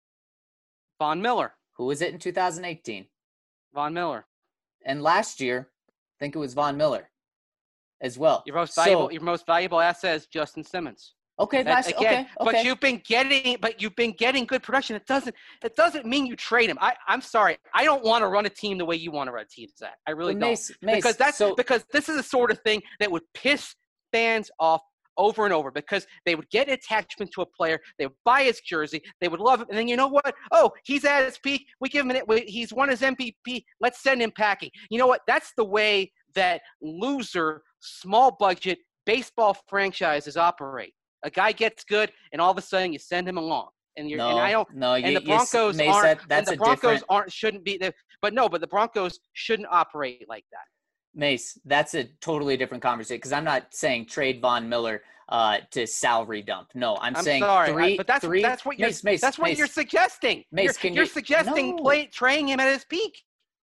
Von Miller. Who was it in two thousand eighteen? Von Miller. And last year, I think it was Von Miller as well. Your most So- valuable, your most valuable asset is Justin Simmons. Okay, That- last, again, okay, okay. But you've been getting, but you've been getting good production. It doesn't, it doesn't mean you trade him. I, I'm sorry. I don't want to run a team the way you want to run a team, Zach. I really But don't. Mace, Mace, because that's so, because this is the sort of thing that would piss fans off over and over because they would get attachment to a player, they would buy his jersey, they would love him, and then you know what? Oh, he's at his peak. We give him an, we, he's won his M V P. Let's send him packing. You know what? That's the way that loser, small budget baseball franchises operate. A guy gets good, and all of a sudden you send him along. And you're no, and I don't. no, And you, the you s- Broncos Mace, aren't. that, and that's the a Broncos different. aren't. Shouldn't be. The, but no. But the Broncos shouldn't operate like that. Mace, that's a totally different conversation because I'm not saying trade Von Miller uh, to salary dump. No, I'm, I'm saying sorry, I- three. but that's three, that's what you're Mace, Mace, that's what Mace, you're suggesting. Mace, you're, can you're you- suggesting no. play, traying him at his peak.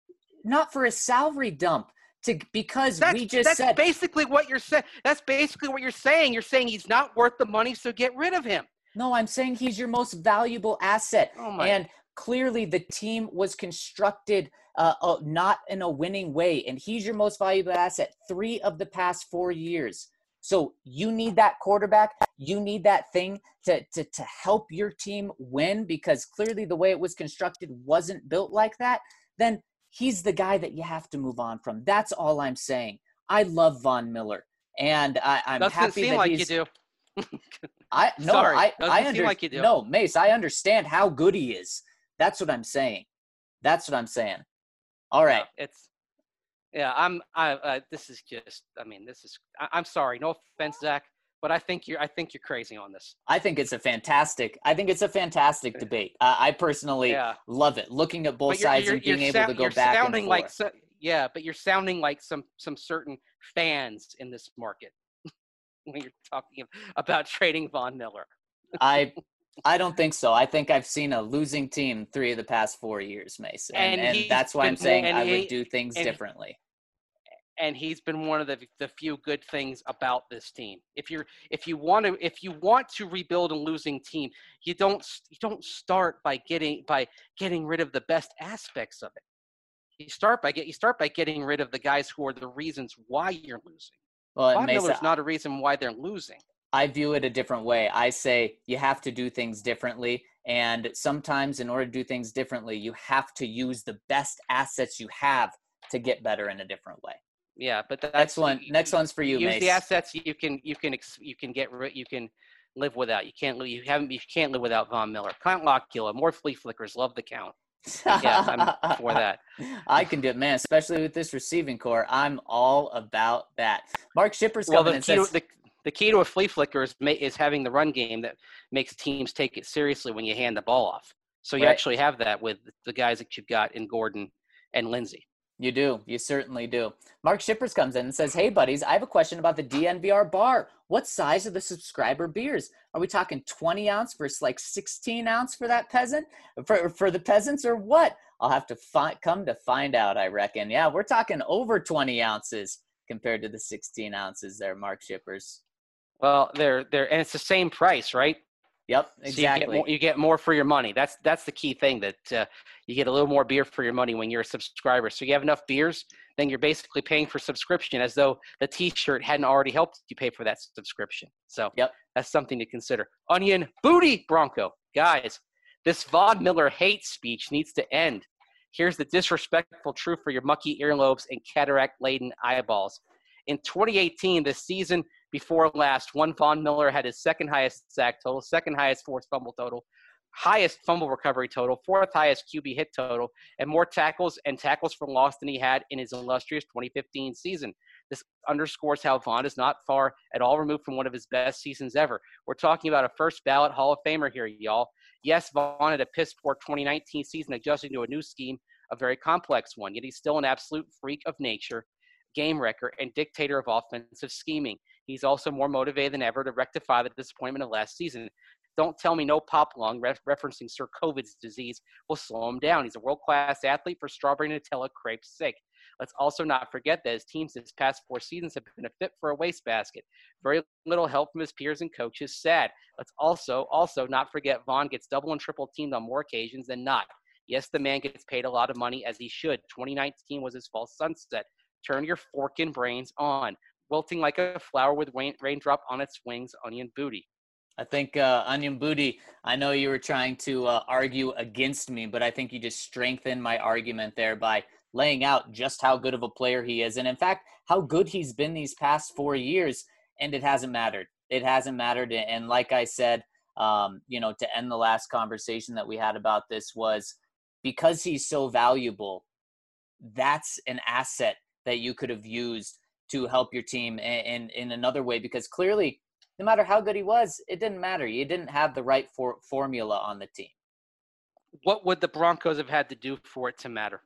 not for a salary dump. To because That's we just that's said basically what you're saying. That's basically what you're saying. You're saying he's not worth the money, so get rid of him. no. I'm saying he's your most valuable asset, Oh my! and clearly the team was constructed uh, uh, not in a winning way, and he's your most valuable asset. Three of the past four years. So you need that quarterback. You need that thing to, to, to help your team win because clearly the way it was constructed wasn't built like that. Then he's the guy that you have to move on from. That's all I'm saying. I love Von Miller, and I, I'm Doesn't happy seem that like he's. you do. I no, Sorry, I doesn't I seem under, like you do. No, Mace, I understand how good he is. That's what I'm saying. That's what I'm saying. All right. Yeah, it's yeah. I'm. I. Uh, this is just. I mean, this is. I, I'm sorry. No offense, Zach, but I think you're. I think you're crazy on this. I think it's a fantastic. I think it's a fantastic debate. Uh, I personally Yeah. love it. Looking at both But you're, sides you're, and being you're able sou- to go you're back and sounding forth. like so, yeah, but you're sounding like some some certain fans in this market when you're talking about trading Von Miller. I I don't think so. I think I've seen a losing team three of the past four years, Mace, and, And and, he's that's why I'm been- saying and I he- would do things and- differently. And he's been one of the the few good things about this team. If you're if you want to if you want to rebuild a losing team, you don't you don't start by getting by getting rid of the best aspects of it. You start by get you start by getting rid of the guys who are the reasons why you're losing. Well, Von Mace, Miller's not a reason why they're losing. I view it a different way. I say you have to do things differently. And sometimes in order to do things differently, you have to use the best assets you have to get better in a different way. Yeah, but that's Next one, next one's for you, use Mace. the assets you can you can ex- you can get rid you can live without. You can't live you haven't you can't live without Von Miller. Count Lockgilla, more flea flickers, love the count. Yeah, I'm for that. I can do it, man, especially with this receiving core. I'm all about that. Mark Schipper's Well, coming the and key, to, says, the, the key to a flea flicker is, ma- is having the run game that makes teams take it seriously when you hand the ball off. So you Right. actually have that with the guys that you've got in Gordon and Lindsey. You do. You certainly do. Mark Shippers comes in and says, hey, buddies, I have a question about the D N V R bar. What size are the subscriber beers? Are we talking twenty ounce versus like sixteen ounce for that peasant? For, for the peasants or what? I'll have to fi- come to find out, I reckon. Yeah, we're talking over twenty ounces compared to the sixteen ounces there, Mark Shippers. Well, they're, they're, and it's the same price, right? Yep, So exactly. you, get more, you get more for your money. That's that's the key thing, that uh, you get a little more beer for your money when you're a subscriber. So you have enough beers, then you're basically paying for subscription as though the T-shirt hadn't already helped you pay for that subscription. So yep. That's something to consider. Onion Booty Bronco. Guys, this Von Miller hate speech needs to end. Here's the disrespectful truth for your mucky earlobes and cataract-laden eyeballs. In twenty eighteen, the season before last, one Von Miller had his second highest sack total, second highest forced fumble total, highest fumble recovery total, fourth highest Q B hit total, and more tackles and tackles for loss than he had in his illustrious twenty fifteen season. This underscores how Von is not far at all removed from one of his best seasons ever. We're talking about a first ballot Hall of Famer here, y'all. Yes, Von had a piss poor twenty nineteen season adjusting to a new scheme, a very complex one, yet he's still an absolute freak of nature, game wrecker, and dictator of offensive scheming. He's also more motivated than ever to rectify the disappointment of last season. Don't tell me no pop lung, ref- referencing Sir COVID's disease, will slow him down. He's a world-class athlete for strawberry Nutella crepe's sake. Let's also not forget that his teams this past four seasons have been a fit for a wastebasket. Very little help from his peers and coaches. Sad. Let's also, also not forget Von gets double and triple teamed on more occasions than not. Yes, the man gets paid a lot of money, as he should. twenty nineteen was his false sunset. Turn your forkin' brains on. Wilting like a flower with rain, raindrop on its wings, Onion Booty. I think, uh, Onion Booty, I know you were trying to uh, argue against me, but I think you just strengthened my argument there by laying out just how good of a player he is. And in fact, how good he's been these past four years. And it hasn't mattered. It hasn't mattered. And like I said, um, you know, to end the last conversation that we had about this, was because he's so valuable, that's an asset that you could have used to help your team in, in, in another way, because clearly, no matter how good he was, it didn't matter. You didn't have the right for, formula on the team. What would the Broncos have had to do for it to matter?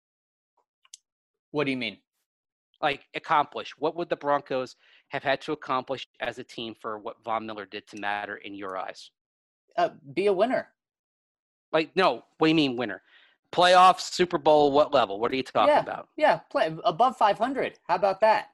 What do you mean? Like, accomplish. What would the Broncos have had to accomplish as a team for what Von Miller did to matter in your eyes? Uh, be a winner. Like, no, what do you mean winner? Playoffs, Super Bowl, what level? What are you talking yeah, about? Yeah, play above five hundred. How about that?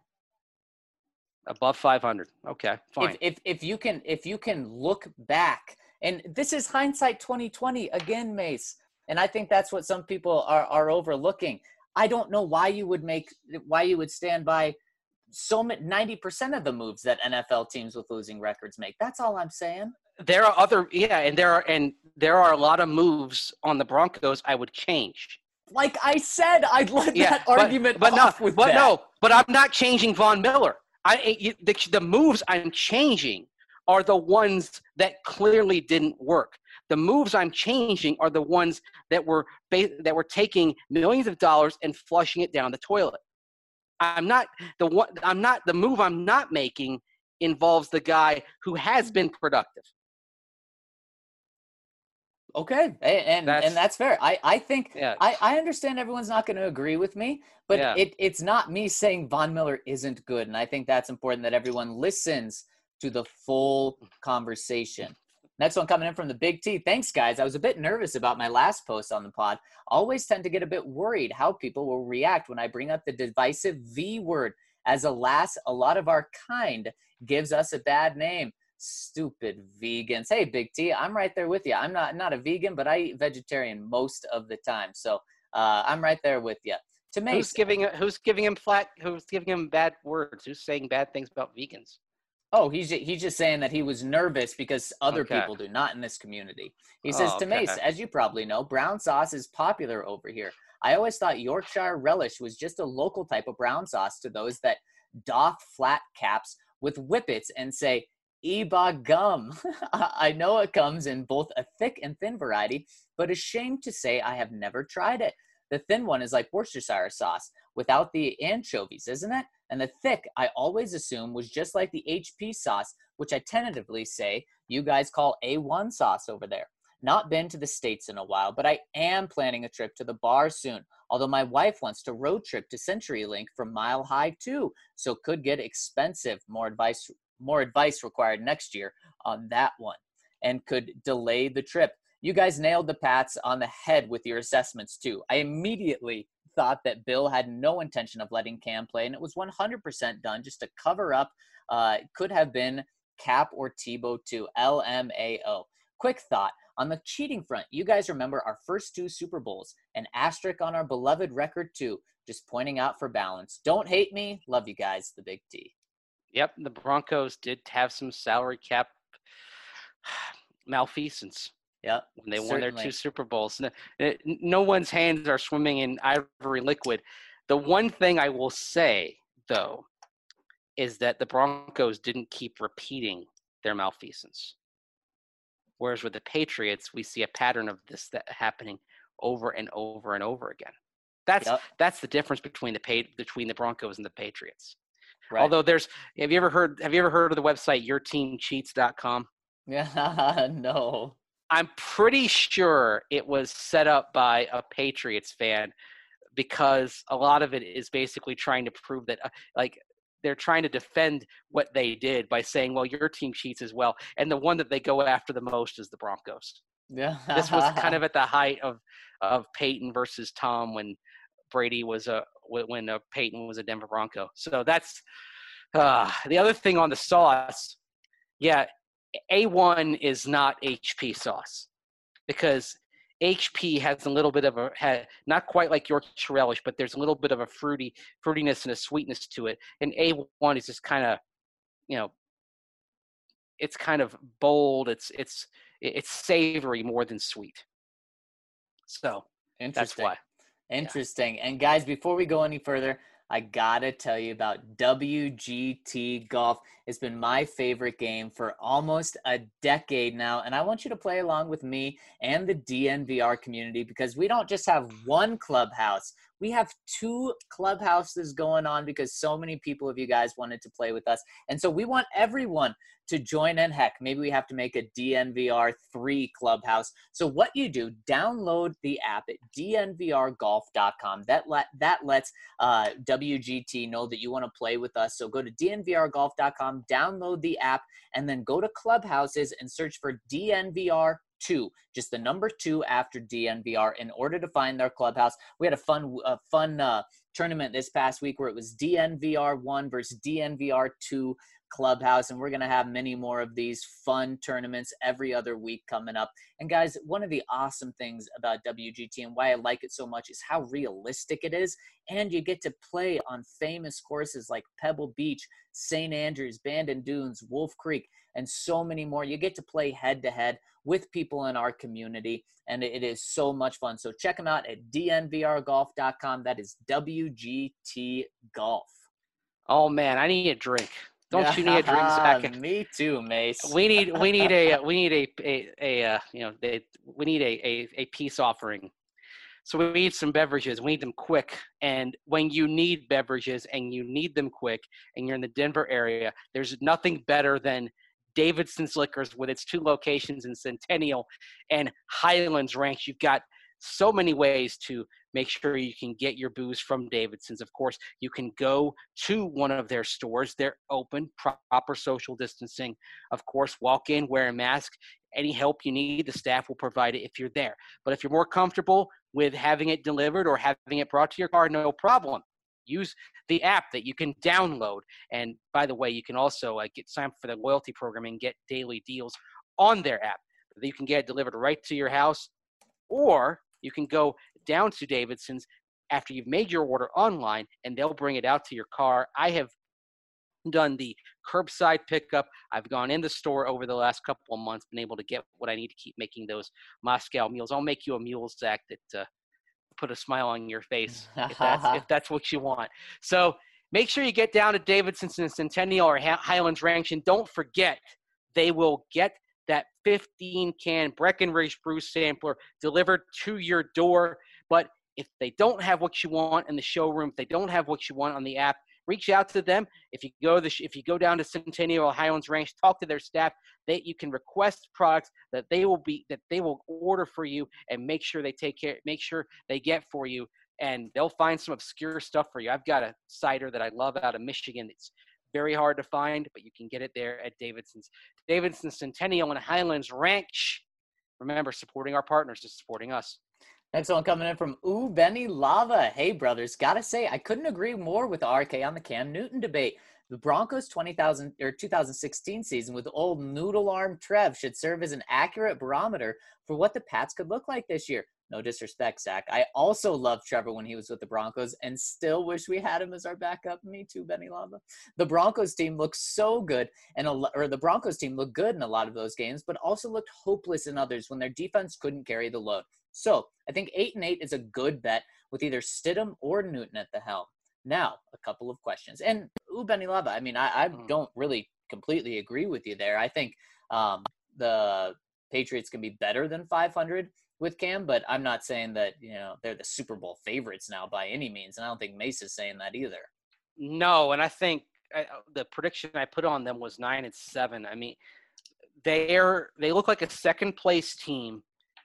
Above five hundred. Okay, fine. If, if if you can if you can look back, and this is hindsight twenty twenty again, Mace, and I think that's what some people are are overlooking. I don't know why you would make why you would stand by so many ninety percent of the moves that N F L teams with losing records make. That's all I'm saying. There are other yeah, and there are and there are a lot of moves on the Broncos I would change. Like I said, I'd let yeah, that but, argument but off no, with but that. no, but I'm not changing Von Miller. I you, the, the moves I'm changing are the ones that clearly didn't work. The moves I'm changing are the ones that were that were taking millions of dollars and flushing it down the toilet. I'm not the one. I'm not the move I'm not making involves the guy who has been productive. Okay, and That's, and that's fair. I, I think yeah. I, I understand everyone's not going to agree with me, but yeah. it, it's not me saying Von Miller isn't good, and I think that's important that everyone listens to the full conversation. Next one coming in from the Big T. Thanks, guys. I was a bit nervous about my last post on the pod. Always tend to get a bit worried how people will react when I bring up the divisive V word. As alas, a lot of our kind gives us a bad name. Stupid vegans. Hey, Big T, I'm right there with you. I'm not not a vegan, but I eat vegetarian most of the time. So uh, I'm right there with you. To Mace, who's giving who's giving him flat? Who's giving him bad words? Who's saying bad things about vegans? Oh, he's just, he's just saying that he was nervous because other okay. people do, not in this community. He oh, says to okay. Mace, as you probably know, brown sauce is popular over here. I always thought Yorkshire relish was just a local type of brown sauce to those that doff flat caps with whippets and say, Eba gum. I know it comes in both a thick and thin variety, but ashamed to say I have never tried it. The thin one is like Worcestershire sauce without the anchovies, isn't it? And the thick, I always assume, was just like the H P sauce, which I tentatively say you guys call A one sauce over there. Not been to the States in a while, but I am planning a trip to the bar soon. Although my wife wants to road trip to CenturyLink from Mile High too, so could get expensive. More advice, more advice required next year on that one, and could delay the trip. You guys nailed the Pats on the head with your assessments too. I immediately thought that Bill had no intention of letting Cam play, and it was one hundred percent done just to cover up. Uh, could have been Cap or Tebow too. L M A O. Quick thought. On the cheating front, you guys remember our first two Super Bowls, an asterisk on our beloved record too. Just pointing out for balance. Don't hate me. Love you guys, the Big T. Yep, the Broncos did have some salary cap malfeasance. Yep, when they certainly. won their two Super Bowls. No, no one's hands are swimming in ivory liquid. The one thing I will say, though, is that the Broncos didn't keep repeating their malfeasance. Whereas with the Patriots, we see a pattern of this that happening over and over and over again. That's Yep. that's the difference between the between the Broncos and the Patriots. Right. Although there's, have you ever heard have you ever heard of the website your team cheats dot com? Yeah, no. I'm pretty sure it was set up by a Patriots fan because a lot of it is basically trying to prove that, uh, like, they're trying to defend what they did by saying, well, your team cheats as well. And the one that they go after the most is the Broncos. Yeah. This was kind of at the height of, of Peyton versus Tom when Brady was a, when uh, Peyton was a Denver Bronco. So that's uh, the other thing on the sauce. Yeah. A one is not H P sauce because H P has a little bit of a, had, not quite like Yorkshire relish, but there's a little bit of a fruity fruitiness and a sweetness to it. And A one is just kind of, you know, it's kind of bold. It's, it's, it's savory more than sweet. So that's why. Interesting. Yeah. And guys, before we go any further, I gotta tell you about W G T Golf. It's been my favorite game for almost a decade now, and I want you to play along with me and the D N V R community because we don't just have one clubhouse. We have two clubhouses going on because so many people of you guys wanted to play with us. And so we want everyone to join in. Heck, maybe we have to make a D N V R three clubhouse. So what you do, download the app at D N V R golf dot com. That, let, that lets uh, W G T know that you want to play with us. So go to D N V R golf dot com, download the app, and then go to clubhouses and search for D N V R two, just the number two after D N V R in order to find their clubhouse. We had a fun, a fun uh, tournament this past week where it was D N V R one versus D N V R two clubhouse, and we're going to have many more of these fun tournaments every other week coming up. And guys, one of the awesome things about W G T and why I like it so much is how realistic it is, and you get to play on famous courses like Pebble Beach, Saint Andrews, Bandon Dunes, Wolf Creek, and so many more. You get to play head-to-head with people in our community, and it is so much fun. So check them out at D N V R golf dot com. That is W G T Golf. Oh, man, I need a drink. Don't you need a drink, Zach? Me too, Mace. We need we need a we need a a, a uh, you know they, we need a, a a peace offering. So we need some beverages. We need them quick. And when you need beverages and you need them quick, and you're in the Denver area, there's nothing better than Davidson's Liquors with its two locations in Centennial and Highlands Ranch. You've got so many ways to make sure you can get your booze from Davidson's. Of course, you can go to one of their stores. They're open, proper social distancing. Of course, walk in, wear a mask. Any help you need, the staff will provide it if you're there. But if you're more comfortable with having it delivered or having it brought to your car, no problem. Use the app that you can download. And by the way, you can also uh, get signed up for the loyalty program and get daily deals on their app. You can get it delivered right to your house, or you can go down to Davidson's after you've made your order online, and they'll bring it out to your car. I have done the curbside pickup. I've gone in the store over the last couple of months, been able to get what I need to keep making those Moscow meals. I'll make you a mule, Zach, that uh, put a smile on your face if that's, if that's what you want. So make sure you get down to Davidson's in Centennial or Highlands Ranch, and don't forget, they will get that fifteen can Breckenridge Brew sampler delivered to your door. But if they don't have what you want in the showroom, if they don't have what you want on the app, reach out to them. If you go the if you go down to Centennial Highlands Ranch, talk to their staff. They you can request products that they will be that they will order for you and make sure they take care, make sure they get for you, and they'll find some obscure stuff for you. I've got a cider that I love out of Michigan. It's very hard to find, but you can get it there at Davidson's. Davidson's Centennial and Highlands Ranch. Remember, supporting our partners is supporting us. Next one coming in from Ooh Benny Lava. Hey, brothers. Gotta say, I couldn't agree more with R K on the Cam Newton debate. The Broncos twenty thousand or two thousand sixteen season with old noodle arm Trev should serve as an accurate barometer for what the Pats could look like this year. No disrespect, Zach. I also loved Trevor when he was with the Broncos and still wish we had him as our backup. Me too, Benny Lava. The Broncos team looked so good, and a, or the Broncos team looked good in a lot of those games, but also looked hopeless in others when their defense couldn't carry the load. So I think eight and eight is a good bet with either Stidham or Newton at the helm. Now, a couple of questions. And, ooh, Benny Lava, I mean, I, I don't really completely agree with you there. I think um, the Patriots can be better than five hundred with Cam, but I'm not saying that, you know, they're the Super Bowl favorites now by any means, and I don't think Mace is saying that either. No, and I think I, the prediction I put on them was nine and seven. I mean, they're they look like a second place team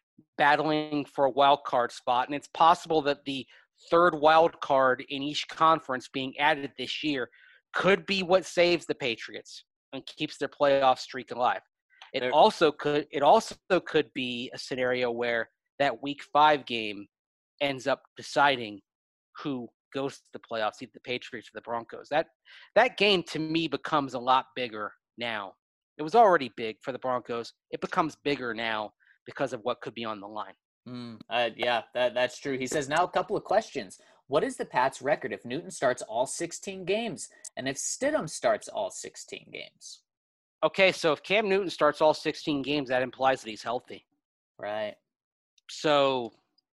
battling for a wild card spot, and it's possible that the third wild card in each conference being added this year could be what saves the Patriots and keeps their playoff streak alive. It They're, also could it also could be a scenario where that week five game ends up deciding who goes to the playoffs, either the Patriots or the Broncos. That that game to me becomes a lot bigger now. It was already big for the Broncos. It becomes bigger now because of what could be on the line. Mm, uh, yeah, that, that's true. He says, now a couple of questions. What is the Pats' record if Newton starts all sixteen games and if Stidham starts all sixteen games? Okay, so if Cam Newton starts all sixteen games, that implies that he's healthy. Right. So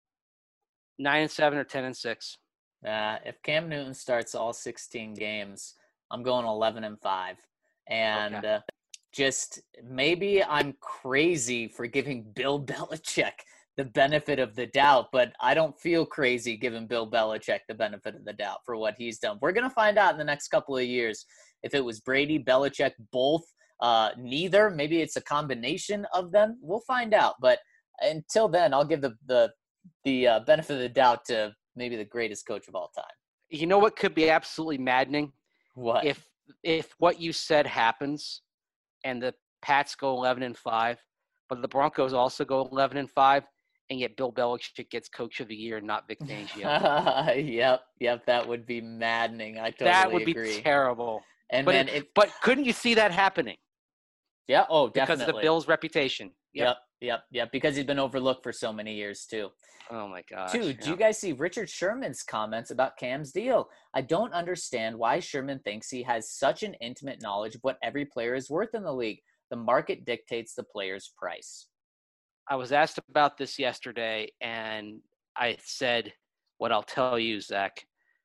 nine and seven or ten and six. Uh, if Cam Newton starts all sixteen games, I'm going eleven and five. And okay. uh, just maybe I'm crazy for giving Bill Belichick the benefit of the doubt, but I don't feel crazy giving Bill Belichick the benefit of the doubt for what he's done. We're going to find out in the next couple of years if it was Brady, Belichick, both, uh, neither. Maybe it's a combination of them. We'll find out. But until then, I'll give the the, the uh, benefit of the doubt to maybe the greatest coach of all time. You know what could be absolutely maddening? What? If if what you said happens and the Pats go eleven and five, but the Broncos also go eleven and five, and yet Bill Belichick gets Coach of the Year and not Vic Fangio. yep, yep, that would be maddening. I totally that would agree. be terrible. And but man, it, if, but couldn't you see that happening? Yeah, oh, definitely. Because of the Bills' reputation. Yep. yep, yep, yep. Because he's been overlooked for so many years too. Oh my gosh. Two, yeah. do you guys see Richard Sherman's comments about Cam's deal? I don't understand why Sherman thinks he has such an intimate knowledge of what every player is worth in the league. The market dictates the player's price. I was asked about this yesterday, and I said what I'll tell you, Zach.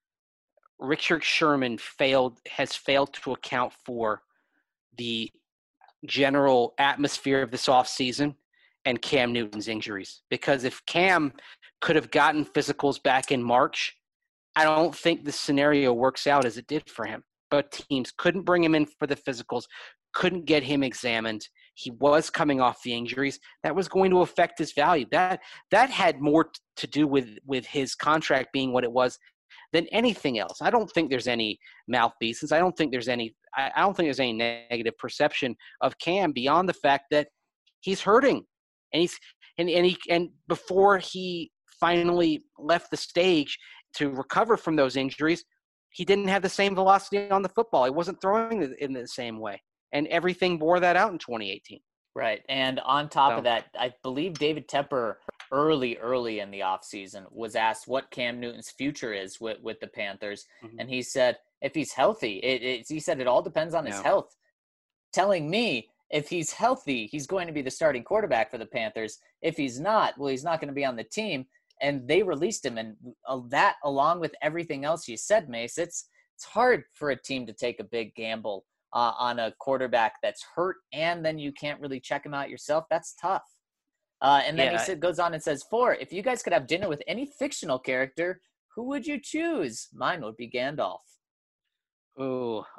Richard Sherman failed has failed to account for the general atmosphere of this offseason and Cam Newton's injuries. Because if Cam could have gotten physicals back in March, I don't think the scenario works out as it did for him. But teams couldn't bring him in for the physicals, couldn't get him examined. He was coming off the injuries. That was going to affect his value. That that had more to do with, with his contract being what it was than anything else. I don't think there's any malfeasance. I don't think there's any I, I don't think there's any negative perception of Cam beyond the fact that he's hurting. And he's and, and he and before he finally left the stage to recover from those injuries, he didn't have the same velocity on the football. He wasn't throwing it in the same way. And everything bore that out in twenty eighteen. Right. And on top so. of that, I believe David Tepper early, early in the offseason was asked what Cam Newton's future is with, with the Panthers. Mm-hmm. And he said, if he's healthy, it, it, he said it all depends on his yeah. health. Telling me if he's healthy, he's going to be the starting quarterback for the Panthers. If he's not, well, he's not going to be on the team. And they released him. And uh, that, along with everything else you said, Mace, it's, it's hard for a team to take a big gamble Uh, on a quarterback that's hurt, and then you can't really check him out yourself. That's tough. Uh, and then yeah. he said, goes on and says, four, if you guys could have dinner with any fictional character, who would you choose? Mine would be Gandalf.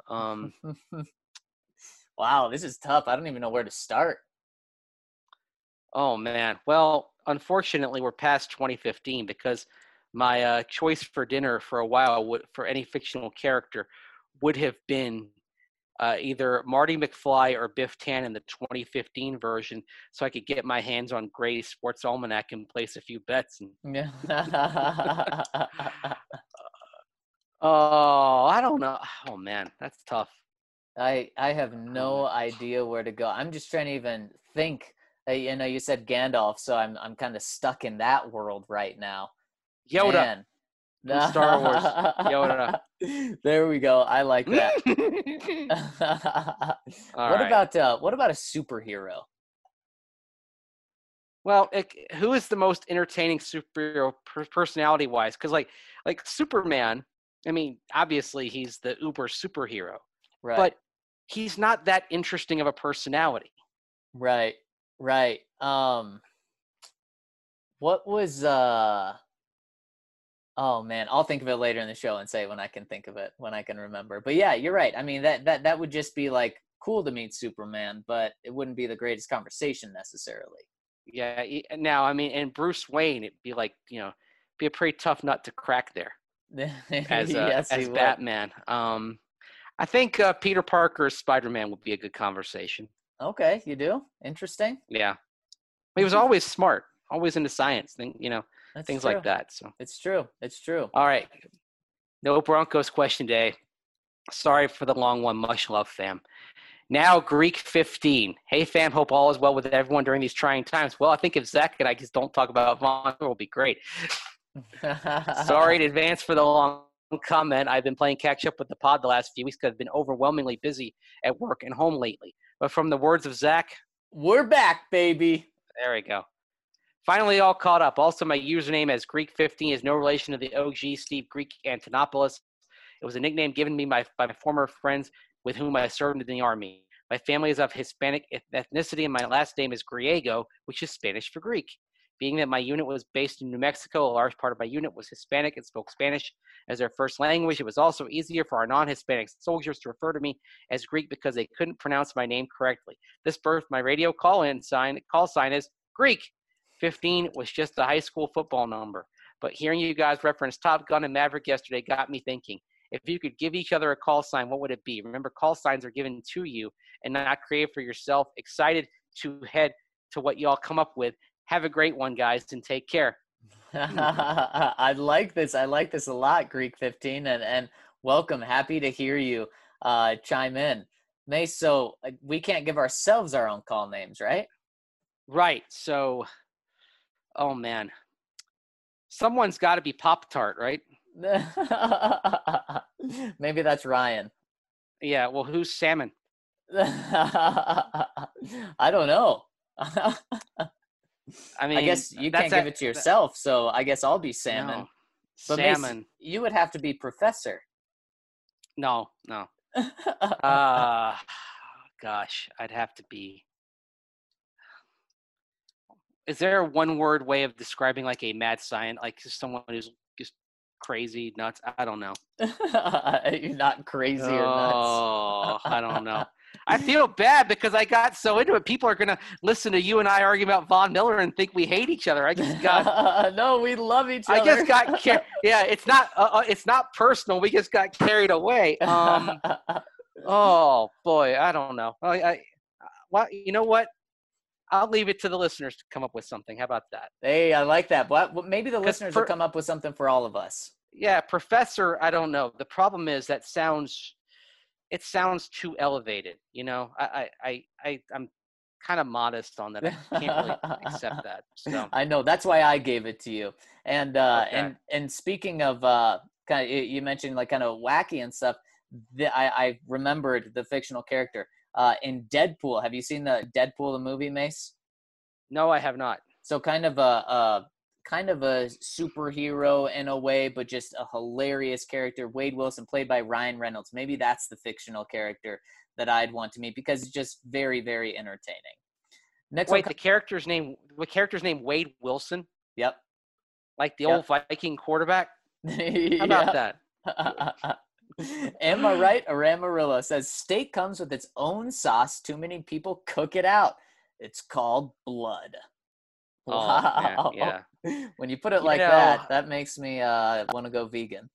Um, Wow, this is tough. I don't even know where to start. oh man. Well, unfortunately, we're past twenty fifteen because my uh, choice for dinner for a while would, for any fictional character would have been uh, either Marty McFly or Biff Tannen, the twenty fifteen version, so I could get my hands on Gray's Sports Almanac and place a few bets. And Yeah. oh, I don't know. Oh man, that's tough. I I have no idea where to go. I'm just trying to even think. Uh, you know, you said Gandalf, so I'm I'm kind of stuck in that world right now. Yoda Man. from Star Wars. Yoda. There we go. I like that. All what right. about uh what about a superhero? Well, it, who is the most entertaining superhero per- personality-wise? Because like like Superman, I mean, obviously he's the uber superhero, Right. but he's not that interesting of a personality. Right. Right. Um what was uh oh man, I'll think of it later in the show and say it when I can think of it, when I can remember. But yeah, you're right. I mean, that that that would just be like cool to meet Superman, but it wouldn't be the greatest conversation necessarily. Yeah. he- Now, I mean, and Bruce Wayne, it'd be like, you know, be a pretty tough nut to crack there as uh, Yes, he as would. Batman. Um, I think uh, Peter Parker's Spider-Man would be a good conversation. Okay, you do? Interesting. Yeah, he was always smart, always into science, thing, you know, That's things true. like that. So, It's true. It's true. all right, no Broncos question day. Sorry for the long one. Much love, fam. Now, Greek fifteen. Hey, fam. Hope all is well with everyone during these trying times. Well, I think if Zach and I just don't talk about Von, it will be great. Sorry in advance for the long comment. I've been playing catch up with the pod the last few weeks because I've been overwhelmingly busy at work and home lately. But from the words of Zach, We're back, baby. there we go. Finally, all caught up. Also, my username as Greek fifteen is no relation to the O G Steve Greek Antonopoulos. It was a nickname given me by, by my former friends with whom I served in the Army. My family is of Hispanic ethnicity, and my last name is Griego, which is Spanish for Greek. Being that my unit was based in New Mexico, a large part of my unit was Hispanic and spoke Spanish as their first language. It was also easier for our non-Hispanic soldiers to refer to me as Greek because they couldn't pronounce my name correctly. This birthed my radio call-in sign. Call sign is Greek. fifteen was just a high school football number. But hearing you guys reference Top Gun and Maverick yesterday got me thinking. If you could give each other a call sign, what would it be? Remember, call signs are given to you and not created for yourself. Excited to head to what y'all come up with. Have a great one, guys, and take care. I like this. I like this a lot, Greek fifteen, and, and welcome. Happy to hear you uh, chime in. Mace, so uh, we can't give ourselves our own call names, right? Right. So, oh, man. Someone's got to be Pop-Tart, right? Maybe that's Ryan. Yeah, well, who's Salmon? I don't know. I mean, I guess you that's can't give a- it to yourself, so I guess I'll be Salmon. No. But Mace, Salmon. you would have to be Professor. No, no. Uh, gosh, I'd have to be. Is there a one-word way of describing like a mad scientist, like just someone who's just crazy, nuts? I don't know. You're not crazy or nuts. Oh, I don't know. I feel bad because I got so into it. People are gonna listen to you and I argue about Von Miller and think we hate each other. I just got. No, we love each I other. just got. Car- yeah, it's not. Uh, uh, it's not personal. We just got carried away. Um. Oh boy, I don't know. I. I well, you know what? I'll leave it to the listeners to come up with something. How about that? Hey, I like that. But well, maybe the 'Cause listeners for- will come up with something for all of us. Yeah, professor. I don't know. The problem is that sounds. It sounds too elevated. You know, I, I, I, I I'm kind of modest on that. I can't really accept that. So I know that's why I gave it to you. And uh, Okay. and and speaking of uh, kind of, you mentioned like kind of wacky and stuff. The, I I remembered the fictional character uh, in Deadpool. Have you seen the Deadpool the movie, Mace? no, I have not. So kind of a, a kind of a superhero in a way, but just a hilarious character. Wade Wilson, played by Ryan Reynolds. Maybe that's the fictional character that I'd want to meet because it's just very, very entertaining. Next Wait, one. the character's name. The character's name Wade Wilson, Yep. like the Yep. old Viking quarterback. How How about that? Am I right? Or Amarillo says steak comes with its own sauce. Too many people cook it out. It's called blood. Oh, man, Wow. yeah. When you put it You like know, that, that makes me uh, want to go vegan.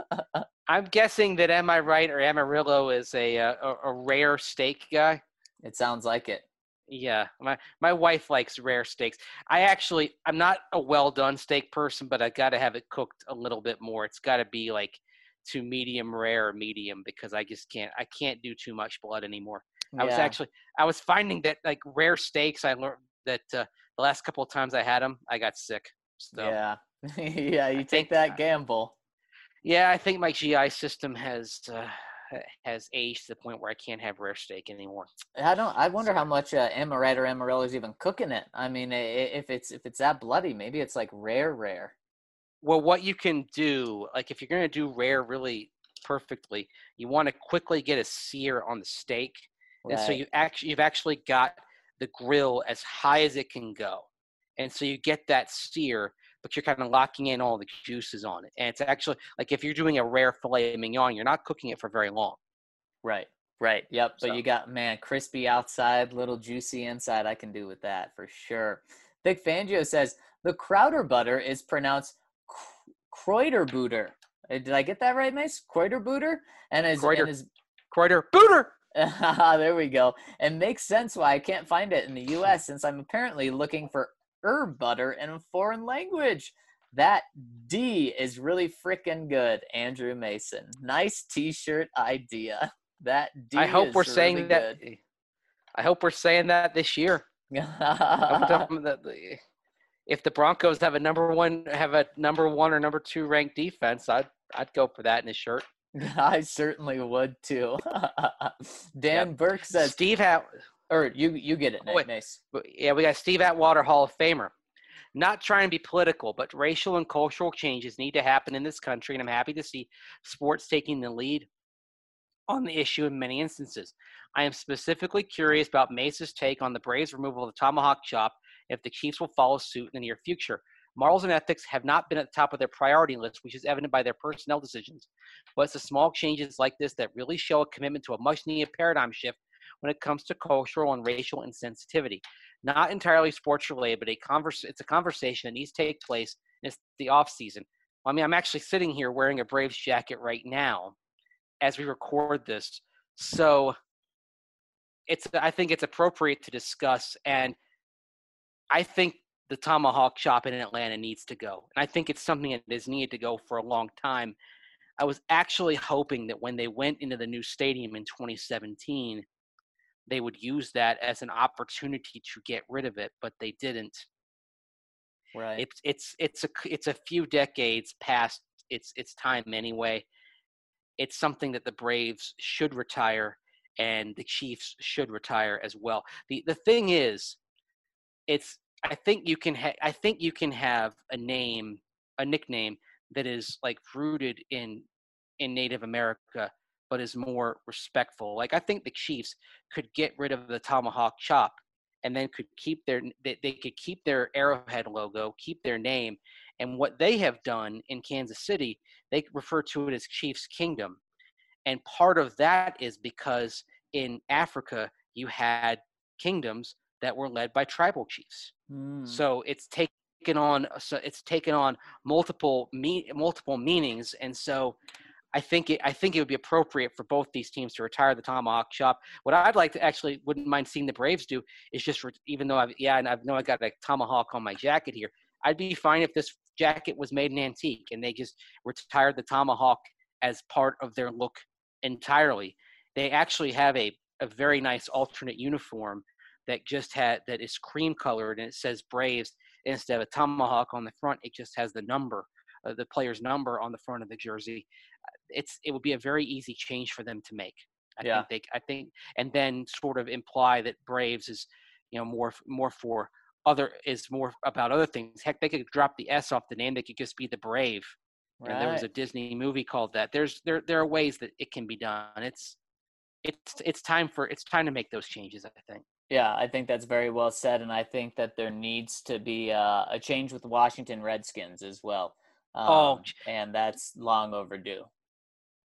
I'm guessing that Am I Right or Amarillo is a, uh, a a rare steak guy. It sounds like it. Yeah, my my wife likes rare steaks. I actually I'm not a well done steak person, but I got to have it cooked a little bit more. It's got to be like to medium rare or medium because I just can't I can't do too much blood anymore. I was Yeah. actually I was finding that like rare steaks I learned that uh, the last couple of times I had them I got sick. So Yeah. Yeah, you I take think that gamble. yeah, I think my G I system has uh, has aged to the point where I can't have rare steak anymore. I don't. I wonder how So, much uh, Amaret or Amarillo is even cooking it. I mean, i- i- if it's if it's that bloody, maybe it's like rare, rare. well, what you can do, like if you're going to do rare really perfectly, you want to quickly get a sear on the steak, and so Right. you actually you've actually got the grill as high as it can go, and so you get that sear, but you're kind of locking in all the juices on it, and it's actually like if you're doing a rare filet mignon, you're not cooking it for very long. Right. Right. Yep. But So you got, man, crispy outside, little juicy inside. I can do with that for sure. Thick Fangio says the Crowder butter is pronounced Kreuterbutter. Uh, Did I get that right, Mace? Kreuterbutter? And is Kreuter, and is Kreuter, Booter. there we go. It makes sense why I can't find it in the U S since I'm apparently looking for herb butter in a foreign language. That D is really freaking good, Andrew Mason. Nice t-shirt idea. That D I hope is we're really saying that. good. I hope we're saying that this year. I hope we're talking that the- if the Broncos have a number one have a number one or number two ranked defense, I'd I'd go for that in his shirt. I certainly would too. Dan Yep. Burke says, Steve Hat, or you you get it, oh, wait. Mace. yeah, we got Steve Atwater, Hall of Famer. Not trying to be political, but racial and cultural changes need to happen in this country, and I'm happy to see sports taking the lead on the issue in many instances. I am specifically curious about Mace's take on the Braves' removal of the tomahawk chop if the Chiefs will follow suit in the near future. Morals and ethics have not been at the top of their priority list, which is evident by their personnel decisions. But it's the small changes like this that really show a commitment to a much-needed paradigm shift when it comes to cultural and racial insensitivity. Not entirely sports-related, but a converse, it's a conversation that needs to take place, and it's the off-season. I mean, I'm actually sitting here wearing a Braves jacket right now as we record this. So it's I think it's appropriate to discuss, and I think the tomahawk chop in Atlanta needs to go. And I think it's something that is needed to go for a long time. I was actually hoping that when they went into the new stadium in twenty seventeen, they would use that as an opportunity to get rid of it, but they didn't. Right. It's it's it's a it's a few decades past its its time anyway. It's something that the Braves should retire and the Chiefs should retire as well. The the thing is, it's I think you can ha- I think you can have a name, a nickname that is like rooted in in Native America, but is more respectful. Like I think the Chiefs could get rid of the tomahawk chop and then could keep their they, they could keep their Arrowhead logo, keep their name, and what they have done in Kansas City, they refer to it as Chiefs Kingdom. And part of that is because in Africa you had kingdoms that were led by tribal chiefs. Mm. So it's taken on so it's taken on multiple me, multiple meanings, and so I think it I think it would be appropriate for both these teams to retire the tomahawk chop. What I'd like to actually wouldn't mind seeing the Braves do is just re- even though I've yeah and I know I got a tomahawk on my jacket here, I'd be fine if this jacket was made in antique and they just retired the tomahawk as part of their look entirely. They actually have a a very nice alternate uniform that just had that is cream colored and it says Braves instead of a tomahawk on the front. It just has the number, uh, the player's number on the front of the jersey. It's it would be a very easy change for them to make. I Yeah. think they I think and then sort of imply that Braves is you know more more for other is more about other things. Heck, they could drop the S off the name. They could just be the Brave. You know, there was a Right. Disney movie called that. There's there there are ways that it can be done. It's it's it's time for it's time to make those changes. I think. Yeah, I think that's very well said, and I think that there needs to be uh, a change with the Washington Redskins as well. Um, Oh, and that's long overdue.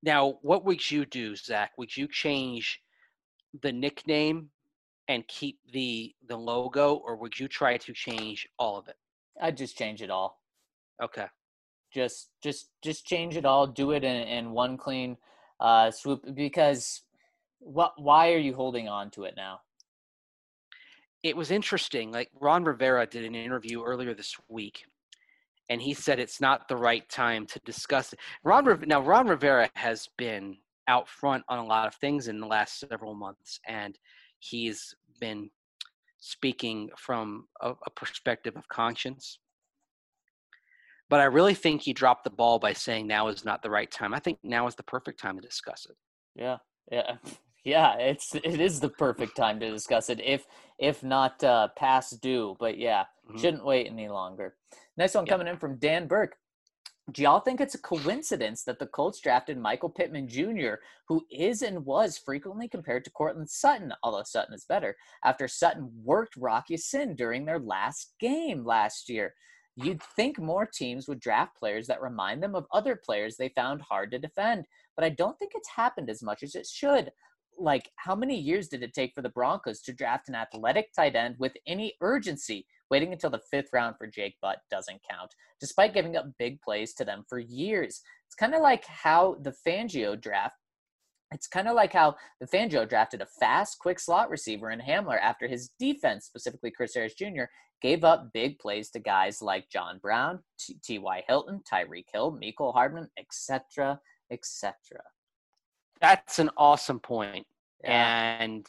Now, what would you do, Zach? Would you change the nickname and keep the the logo, or would you try to change all of it? I'd just change it all. Okay. Just just just change it all. Do it in, in one clean uh, swoop. Because what? Why are you holding on to it now? It was interesting. Like Ron Rivera did an interview earlier this week, and he said it's not the right time to discuss it. Ron now Ron Rivera has been out front on a lot of things in the last several months, and he's been speaking from a, a perspective of conscience. But I really think he dropped the ball by saying now is not the right time. I think now is the perfect time to discuss it. Yeah, yeah, yeah. It's it is the perfect time to discuss it, if if not uh, past due. But yeah, Mhm. shouldn't wait any longer. Next one Yeah. coming in from Dan Burke. Do y'all think it's a coincidence that the Colts drafted Michael Pittman Junior, who is and was frequently compared to Cortland Sutton, although Sutton is better, after Sutton worked Rocky Sin during their last game last year? You'd think more teams would draft players that remind them of other players they found hard to defend, but I don't think it's happened as much as it should. Like, how many years did it take for the Broncos to draft an athletic tight end with any urgency? Waiting until the fifth round for Jake Butt doesn't count, despite giving up big plays to them for years. It's kind of like how the Fangio draft It's kind of like how the Fangio drafted a fast, quick slot receiver in Hamler after his defense, specifically Chris Harris Junior, gave up big plays to guys like John Brown, T Y Hilton, Tyreek Hill, Mecole Hardman, et cetera, et cetera. That's an awesome point. Yeah. And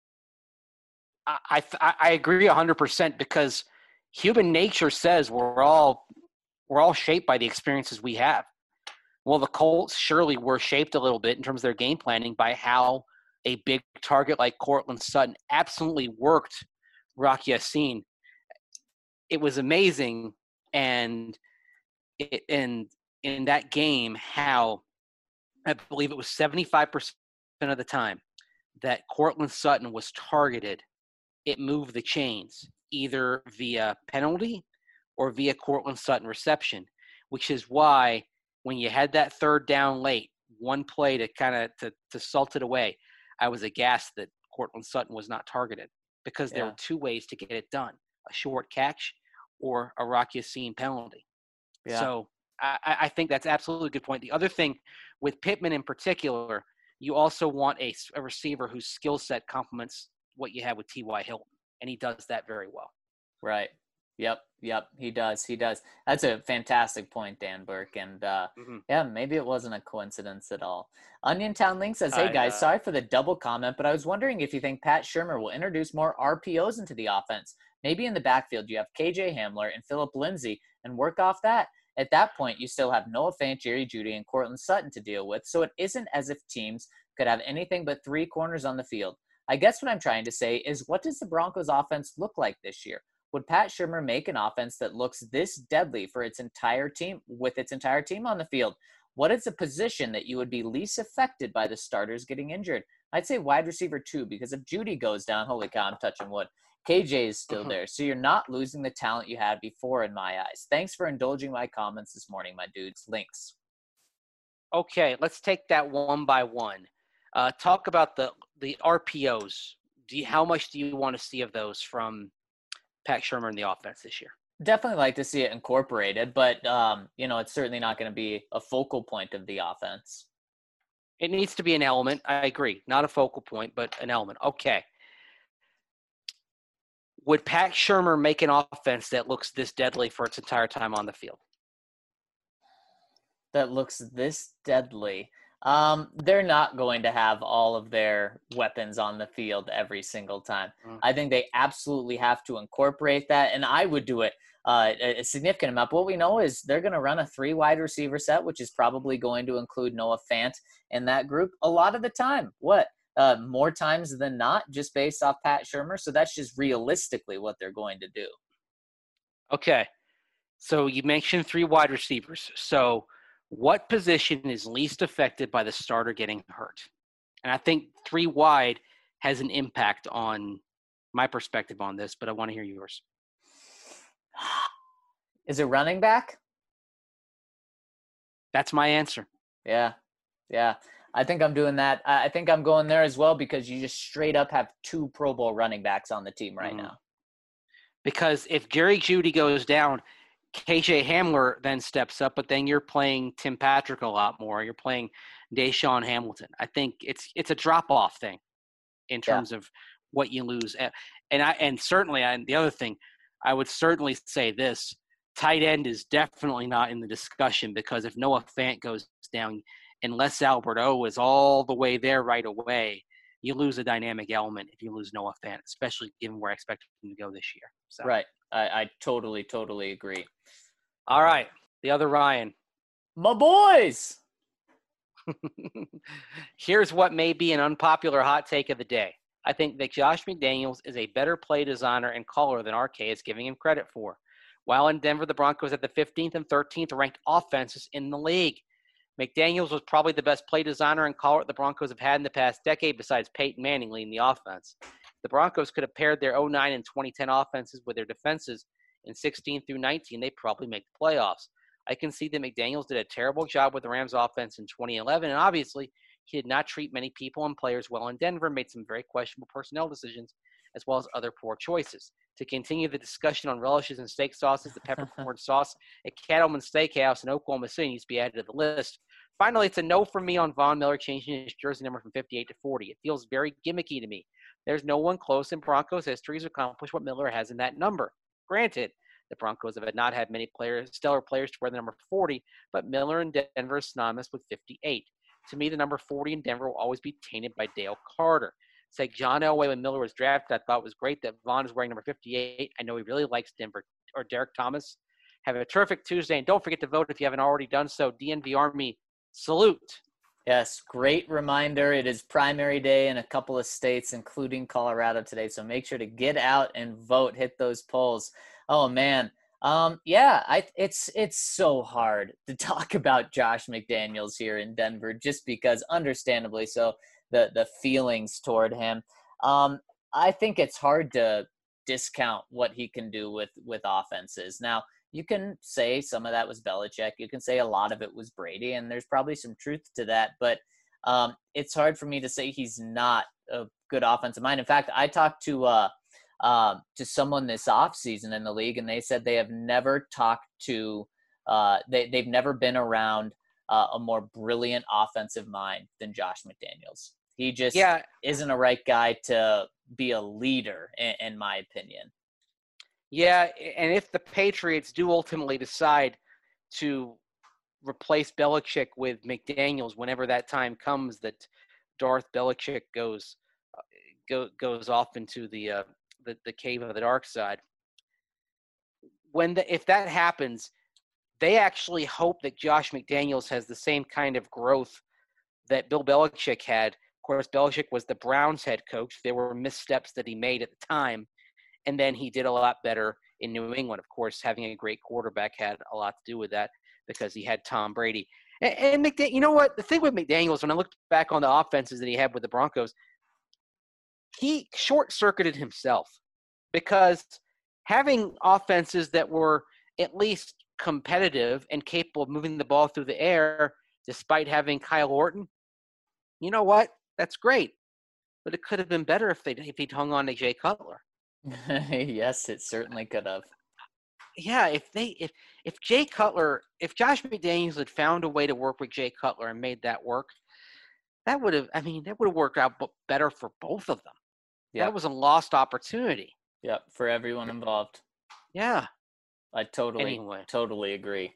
I, I I agree one hundred percent because human nature says we're all we're all shaped by the experiences we have. Well, the Colts surely were shaped a little bit in terms of their game planning by how a big target like Cortland Sutton absolutely worked Rocky Ya-Sin. It was amazing, and it, and in that game, how I believe it was seventy-five percent of the time that Cortland Sutton was targeted, it moved the chains either via penalty or via Cortland Sutton reception, which is why when you had that third down late, one play to kind of to, to salt it away, I was aghast that Cortland Sutton was not targeted because there Yeah. were two ways to get it done, a short catch or a Rocky Ya-Sin penalty. Yeah. So I, I think that's absolutely a good point. The other thing with Pittman in particular, you also want a, a receiver whose skill set complements what you have with T Y Hilton, and he does that very well. Right. Yep. Yep. He does. He does. That's a fantastic point, Dan Burke. And uh, Mm-hmm. yeah, maybe it wasn't a coincidence at all. Onion Town Link says, hey I, guys, uh, sorry for the double comment, but I was wondering if you think Pat Shurmur will introduce more R P Os into the offense. Maybe in the backfield you have K J Hamler and Philip Lindsay and work off that. At that point, you still have Noah Fant, Jerry Jeudy, and Cortland Sutton to deal with, so it isn't as if teams could have anything but three corners on the field. I guess what I'm trying to say is, what does the Broncos offense look like this year? Would Pat Shurmur make an offense that looks this deadly for its entire team, with its entire team on the field? What is a position that you would be least affected by the starters getting injured? I'd say wide receiver two, because if Jeudy goes down, holy cow, I'm touching wood. K J is still there, so you're not losing the talent you had before in my eyes. Thanks for indulging my comments this morning, my dudes. Links. Okay, let's take that one by one. Uh, talk about the the R P Os. Do you, how much do you want to see of those from Pat Shurmur in the offense this year? Definitely like to see it incorporated, but um, you know, it's certainly not going to be a focal point of the offense. It needs to be an element. I agree. Not a focal point, but an element. Okay. Would Pat Shurmur make an offense that looks this deadly for its entire time on the field? That looks this deadly. Um, they're not going to have all of their weapons on the field every single time. Mm. I think they absolutely have to incorporate that, and I would do it uh, a a significant amount. But what we know is they're going to run a three wide receiver set, which is probably going to include Noah Fant in that group a lot of the time. What? Uh, more times than not, just based off Pat Shurmur. So that's just realistically what they're going to do. Okay. So you mentioned three wide receivers. So what position is least affected by the starter getting hurt? And I think three wide has an impact on my perspective on this, but I want to hear yours. Is it running back? That's my answer. Yeah. Yeah, I think I'm doing that. I I think I'm going there as well because you just straight up have two Pro Bowl running backs on the team right Mhm. now. Because if Jerry Jeudy goes down, K J Hamler then steps up, but then you're playing Tim Patrick a lot more. You're playing Deshaun Hamilton. I think it's it's a drop-off thing in Yeah. terms of what you lose. A- And I and certainly and the other thing, I would certainly say this, tight end is definitely not in the discussion because if Noah Fant goes down and Les Alberto is all the way there right away, you lose a dynamic element if you lose Noah Fant, especially given where I expect him to go this year. So. Right. I, I totally, totally agree. All right. The other Ryan. My boys. Here's what may be an unpopular hot take of the day. I think that Josh McDaniels is a better play designer and caller than R K is giving him credit for. While in Denver, the Broncos had the fifteenth and thirteenth ranked offenses in the league. McDaniels was probably the best play designer and caller the Broncos have had in the past decade besides Peyton Manning leading the offense. The Broncos could have paired their oh nine and twenty ten offenses with their defenses in sixteen through nineteen. They'd probably make the playoffs. I can see that McDaniels did a terrible job with the Rams offense in twenty eleven, and obviously he did not treat many people and players well in Denver, made some very questionable personnel decisions, as well as other poor choices. To continue the discussion on relishes and steak sauces, the peppercorn sauce at Cattleman Steakhouse in Oklahoma City needs to be added to the list. Finally, it's a no for me on Von Miller changing his jersey number from fifty-eight to forty. It feels very gimmicky to me. There's no one close in Broncos history who's accomplished what Miller has in that number. Granted, the Broncos have not had many players, stellar players to wear the number forty, but Miller in Denver is synonymous with fifty-eight. To me, the number forty in Denver will always be tainted by Dale Carter. It's like John Elway when Miller was drafted. I thought it was great that Vaughn is wearing number fifty-eight. I know he really likes Denver. Or Derek Thomas. Have a terrific Tuesday, and don't forget to vote if you haven't already done so. D N V Army, salute. Yes, great reminder. It is primary day in a couple of states, including Colorado today. So make sure to get out and vote, hit those polls. Oh man. Um, yeah, I it's it's so hard to talk about Josh McDaniels here in Denver just because understandably so the the feelings toward him. Um, I think it's hard to discount what he can do with with offenses. Now, you can say some of that was Belichick. You can say a lot of it was Brady, and there's probably some truth to that. But um, it's hard for me to say he's not a good offensive mind. In fact, I talked to uh, uh, to someone this offseason in the league, and they said they have never talked to uh, they they've never been around uh, a more brilliant offensive mind than Josh McDaniels. He just Yeah. isn't a right guy to be a leader, in, in my opinion. Yeah, and if the Patriots do ultimately decide to replace Belichick with McDaniels whenever that time comes that Darth Belichick goes uh, go, goes off into the, uh, the the cave of the dark side, when the, if that happens, they actually hope that Josh McDaniels has the same kind of growth that Bill Belichick had. Of course, Belichick was the Browns head coach. There were missteps that he made at the time. And then he did a lot better in New England. Of course, having a great quarterback had a lot to do with that because he had Tom Brady. And, and McDaniel, you know what? The thing with McDaniels, when I look back on the offenses that he had with the Broncos, he short-circuited himself because having offenses that were at least competitive and capable of moving the ball through the air, despite having Kyle Orton, you know what? That's great. But it could have been better if they if he'd hung on to Jay Cutler. Yes, it certainly could have. Yeah, if they if if Jay Cutler, if Josh McDaniels had found a way to work with Jay Cutler and made that work, that would have I mean, that would have worked out better for both of them. Yep. That was a lost opportunity. Yep, for everyone involved. Yeah. I totally Anyway. totally agree.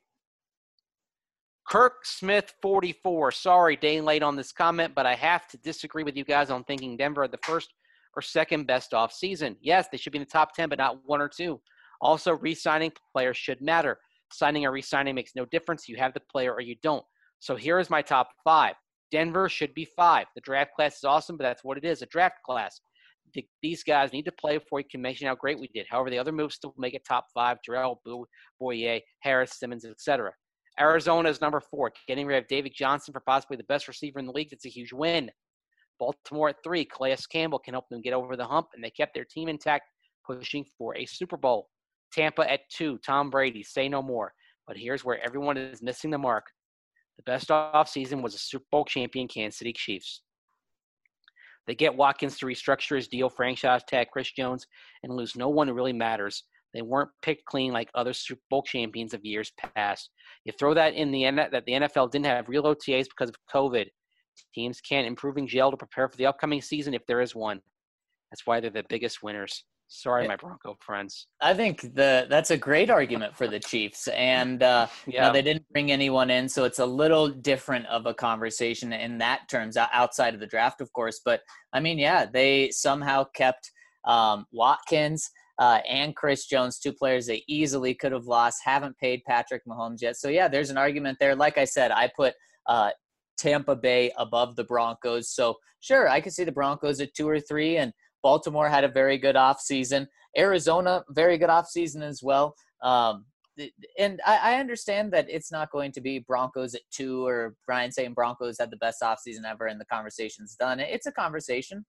Kirk Smith forty-four. Sorry, day late on this comment, but I have to disagree with you guys on thinking Denver had the first or second best off season. Yes, they should be in the top ten, but not one or two. Also, re-signing players should matter. Signing or re-signing makes no difference. You have the player or you don't. So here is my top five. Denver should be five. The draft class is awesome, but that's what it is, a draft class. These guys need to play before you can mention how great we did. However, the other moves still make it top five. Jarrell, Boye, Harris, Simmons, et cetera. Arizona is number four. Getting rid of David Johnson for possibly the best receiver in the league, that's a huge win. Baltimore at three. Calais Campbell can help them get over the hump, and they kept their team intact, pushing for a Super Bowl. Tampa at two. Tom Brady, say no more. But here's where everyone is missing the mark. The best offseason was a Super Bowl champion Kansas City Chiefs. They get Watkins to restructure his deal, franchise tag Chris Jones, and lose no one who really matters. They weren't picked clean like other Super Bowl champions of years past. You throw that in the end that the N F L didn't have real O T As because of COVID. Teams can't improve in gel to prepare for the upcoming season if there is one. That's why they're the biggest winners. Sorry, Yeah. my Bronco friends. I think the that's a great argument for the Chiefs, and uh, Yeah. now they didn't bring anyone in, so it's a little different of a conversation in that terms, o- outside of the draft, of course. But I mean, yeah, they somehow kept um, Watkins uh, and Chris Jones, two players they easily could have lost. Haven't paid Patrick Mahomes yet, so yeah, there's an argument there. Like I said, I put uh, Tampa Bay above the Broncos, so sure, I could see the Broncos at two or three, and Baltimore had a very good offseason. Arizona, very good offseason as well. Um, and I, I understand that it's not going to be Broncos at two or Brian saying Broncos had the best offseason ever and the conversation's done. It's a conversation.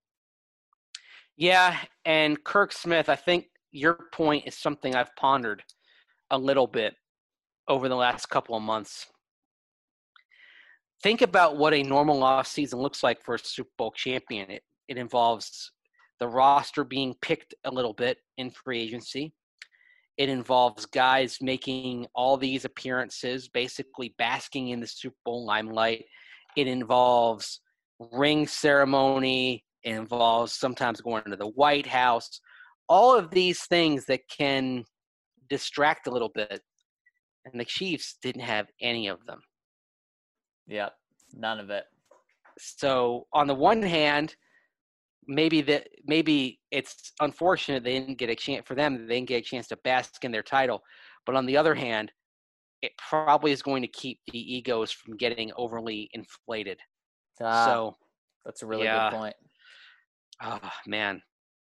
Yeah, and Kirk Smith, I think your point is something I've pondered a little bit over the last couple of months. Think about what a normal offseason looks like for a Super Bowl champion. It, it involves the roster being picked a little bit in free agency. It involves guys making all these appearances, basically basking in the Super Bowl limelight. It involves ring ceremony. It involves sometimes going to the White House. All of these things that can distract a little bit. And the Chiefs didn't have any of them. Yep, none of it. So on the one hand, maybe that maybe it's unfortunate they didn't get a chance for them. They didn't get a chance to bask in their title. But on the other hand, it probably is going to keep the egos from getting overly inflated. Ah, so that's a really yeah. good point. Oh, man.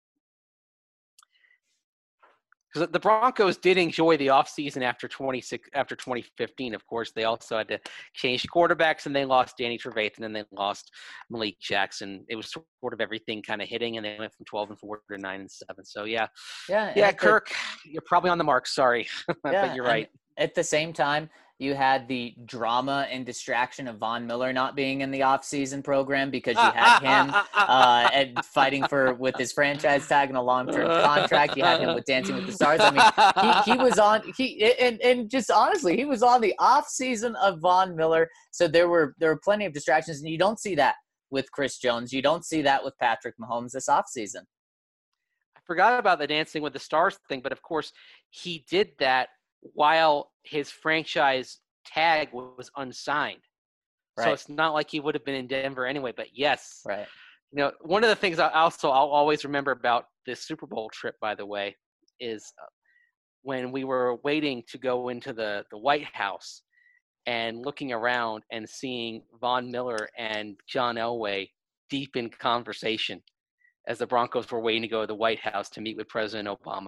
Because the Broncos did enjoy the offseason after twenty-six after twenty fifteen. Of course, they also had to change quarterbacks, and they lost Danny Trevathan, and they lost Malik Jackson. It was sort of everything kind of hitting, and they went from twelve and four to nine and seven. So yeah, Yeah, yeah, at the- Kirk, you're probably on the mark. Sorry, Yeah, but you're and right. At the same time, you had the drama and distraction of Von Miller not being in the offseason program because you had him uh, and fighting for with his franchise tag and a long-term contract. You had him with Dancing with the Stars. I mean, he, he was on he and, and just honestly, he was on the offseason of Von Miller. So there were there were plenty of distractions, and you don't see that with Chris Jones. You don't see that with Patrick Mahomes this offseason. I forgot about the Dancing with the Stars thing, but of course, he did that while his franchise tag was unsigned. Right. So it's not like he would have been in Denver anyway. But yes, Right. you know, one of the things I also I'll always remember about this Super Bowl trip, by the way, is when we were waiting to go into the, the White House and looking around and seeing Von Miller and John Elway deep in conversation as the Broncos were waiting to go to the White House to meet with President Obama.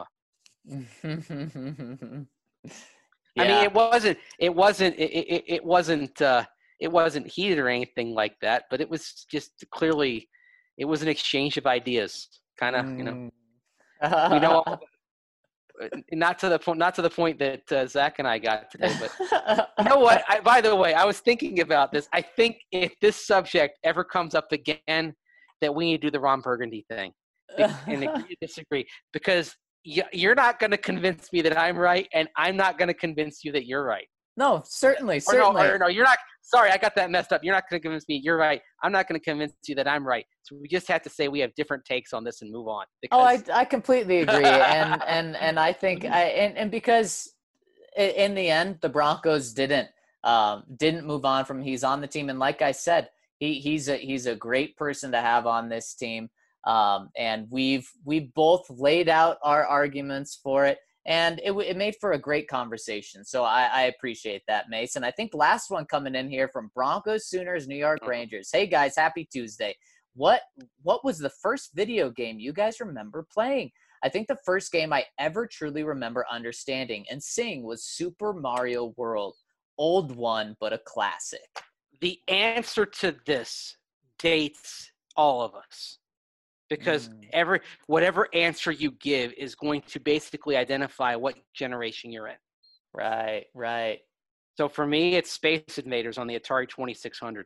Yeah. I mean, it wasn't, it wasn't, it, it, it wasn't, uh, it wasn't heated or anything like that, but it was just clearly, it was an exchange of ideas, kind of, you know, Mm. we know, not to the point, not to the point that uh, Zach and I got today, but you know what? I, by the way, I was thinking about this. I think if this subject ever comes up again, that we need to do the Ron Burgundy thing and agree to disagree, because you're not going to convince me that I'm right, and I'm not going to convince you that you're right. No, certainly, Or certainly. no, or no, you're not. Sorry, I got that messed up. You're not going to convince me you're right. I'm not going to convince you that I'm right. So we just have to say we have different takes on this and move on. Oh, I, Because- I completely agree, and and and I think I and, and because i- in the end the Broncos didn't um, didn't move on from he's on the team, and like I said, he he's a he's a great person to have on this team, um, and we've we both laid out our arguments for it, and it w- it made for a great conversation. So I, I appreciate that, Mason. I think last one coming in here from Broncos, Sooners, New York Rangers. Hey guys, happy Tuesday. What what was the first video game you guys remember playing? I think the first game I ever truly remember understanding and seeing was Super Mario World. Old one, but a classic. the answer to this dates all of us, because Mm. every whatever answer you give is going to basically identify what generation you're in. Right, right. So for me, it's Space Invaders on the Atari twenty-six hundred.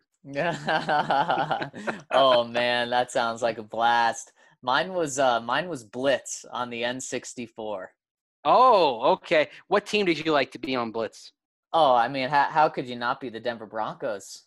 Oh man, that sounds like a blast. Mine was uh, mine was Blitz on the N sixty-four. Oh, okay. What team did you like to be on Blitz? Oh, I mean, how how could you not be the Denver Broncos?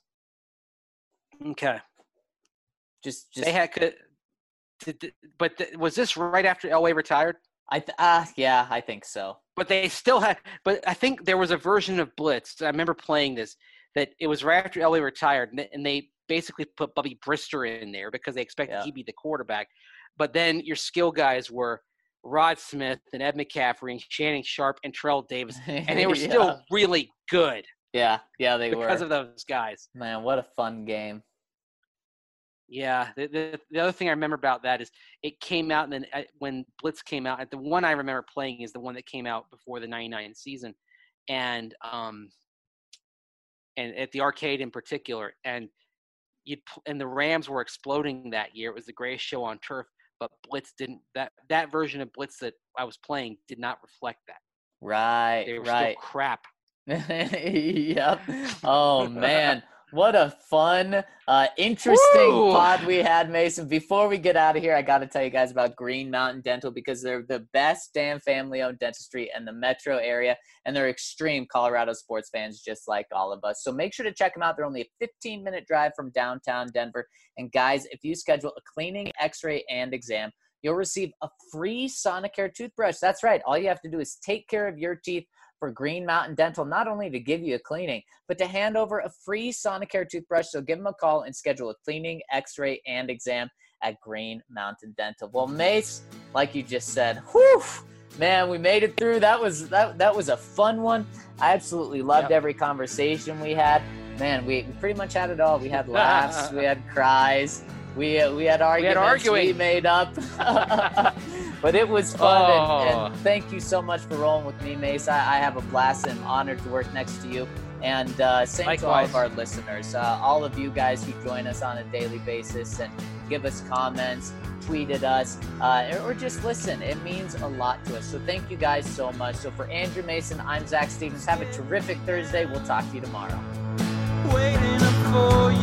Okay. Just just They had could, did, but th- was this right after Elway retired? I th- ah yeah, I think so. But they still had. But I think there was a version of Blitz. I remember playing this that it was right after Elway retired, and they, and they basically put Bubby Brister in there because they expected Yeah. he'd be the quarterback. But then your skill guys were Rod Smith and Ed McCaffrey and Channing Sharp and Terrell Davis, and they were Yeah. still really good Yeah, yeah, they because were. of those guys. Man, what a fun game. Yeah, the, the the other thing I remember about that is it came out, and then uh, when Blitz came out, the one I remember playing is the one that came out before the ninety-nine season, and um, and at the arcade in particular, and you and the Rams were exploding that year. It was the greatest show on turf, but Blitz didn't. That that version of Blitz that I was playing did not reflect that. Right, They were right. still crap. Yep. Oh man, what a fun, uh, interesting Woo! pod we had, Mason. Before we get out of here, I got to tell you guys about Green Mountain Dental because they're the best damn family-owned dentistry in the metro area, and they're extreme Colorado sports fans just like all of us. So make sure to check them out. They're only a fifteen-minute drive from downtown Denver. And guys, if you schedule a cleaning, x-ray, and exam, you'll receive a free Sonicare toothbrush. That's right. All you have to do is take care of your teeth for Green Mountain Dental, not only to give you a cleaning, but to hand over a free Sonicare toothbrush. So give them a call and schedule a cleaning, x-ray, and exam at Green Mountain Dental. Well, Mace, like you just said, whew, man, we made it through. That was that that was a fun one. I absolutely loved Yep. every conversation we had. Man, we, we pretty much had it all. We had laughs, we had cries, we uh, we had arguments arguing. we made up. But it was fun, and, Oh. and thank you so much for rolling with me, Mace. I, I have a blast and I'm honored to work next to you. And uh, same to all Likewise. of our listeners, uh, all of you guys who join us on a daily basis and give us comments, tweet at us, uh, or just listen. It means a lot to us. So thank you guys so much. So for Andrew Mason, I'm Zach Stevens. Have a terrific Thursday. We'll talk to you tomorrow. Waiting up for you.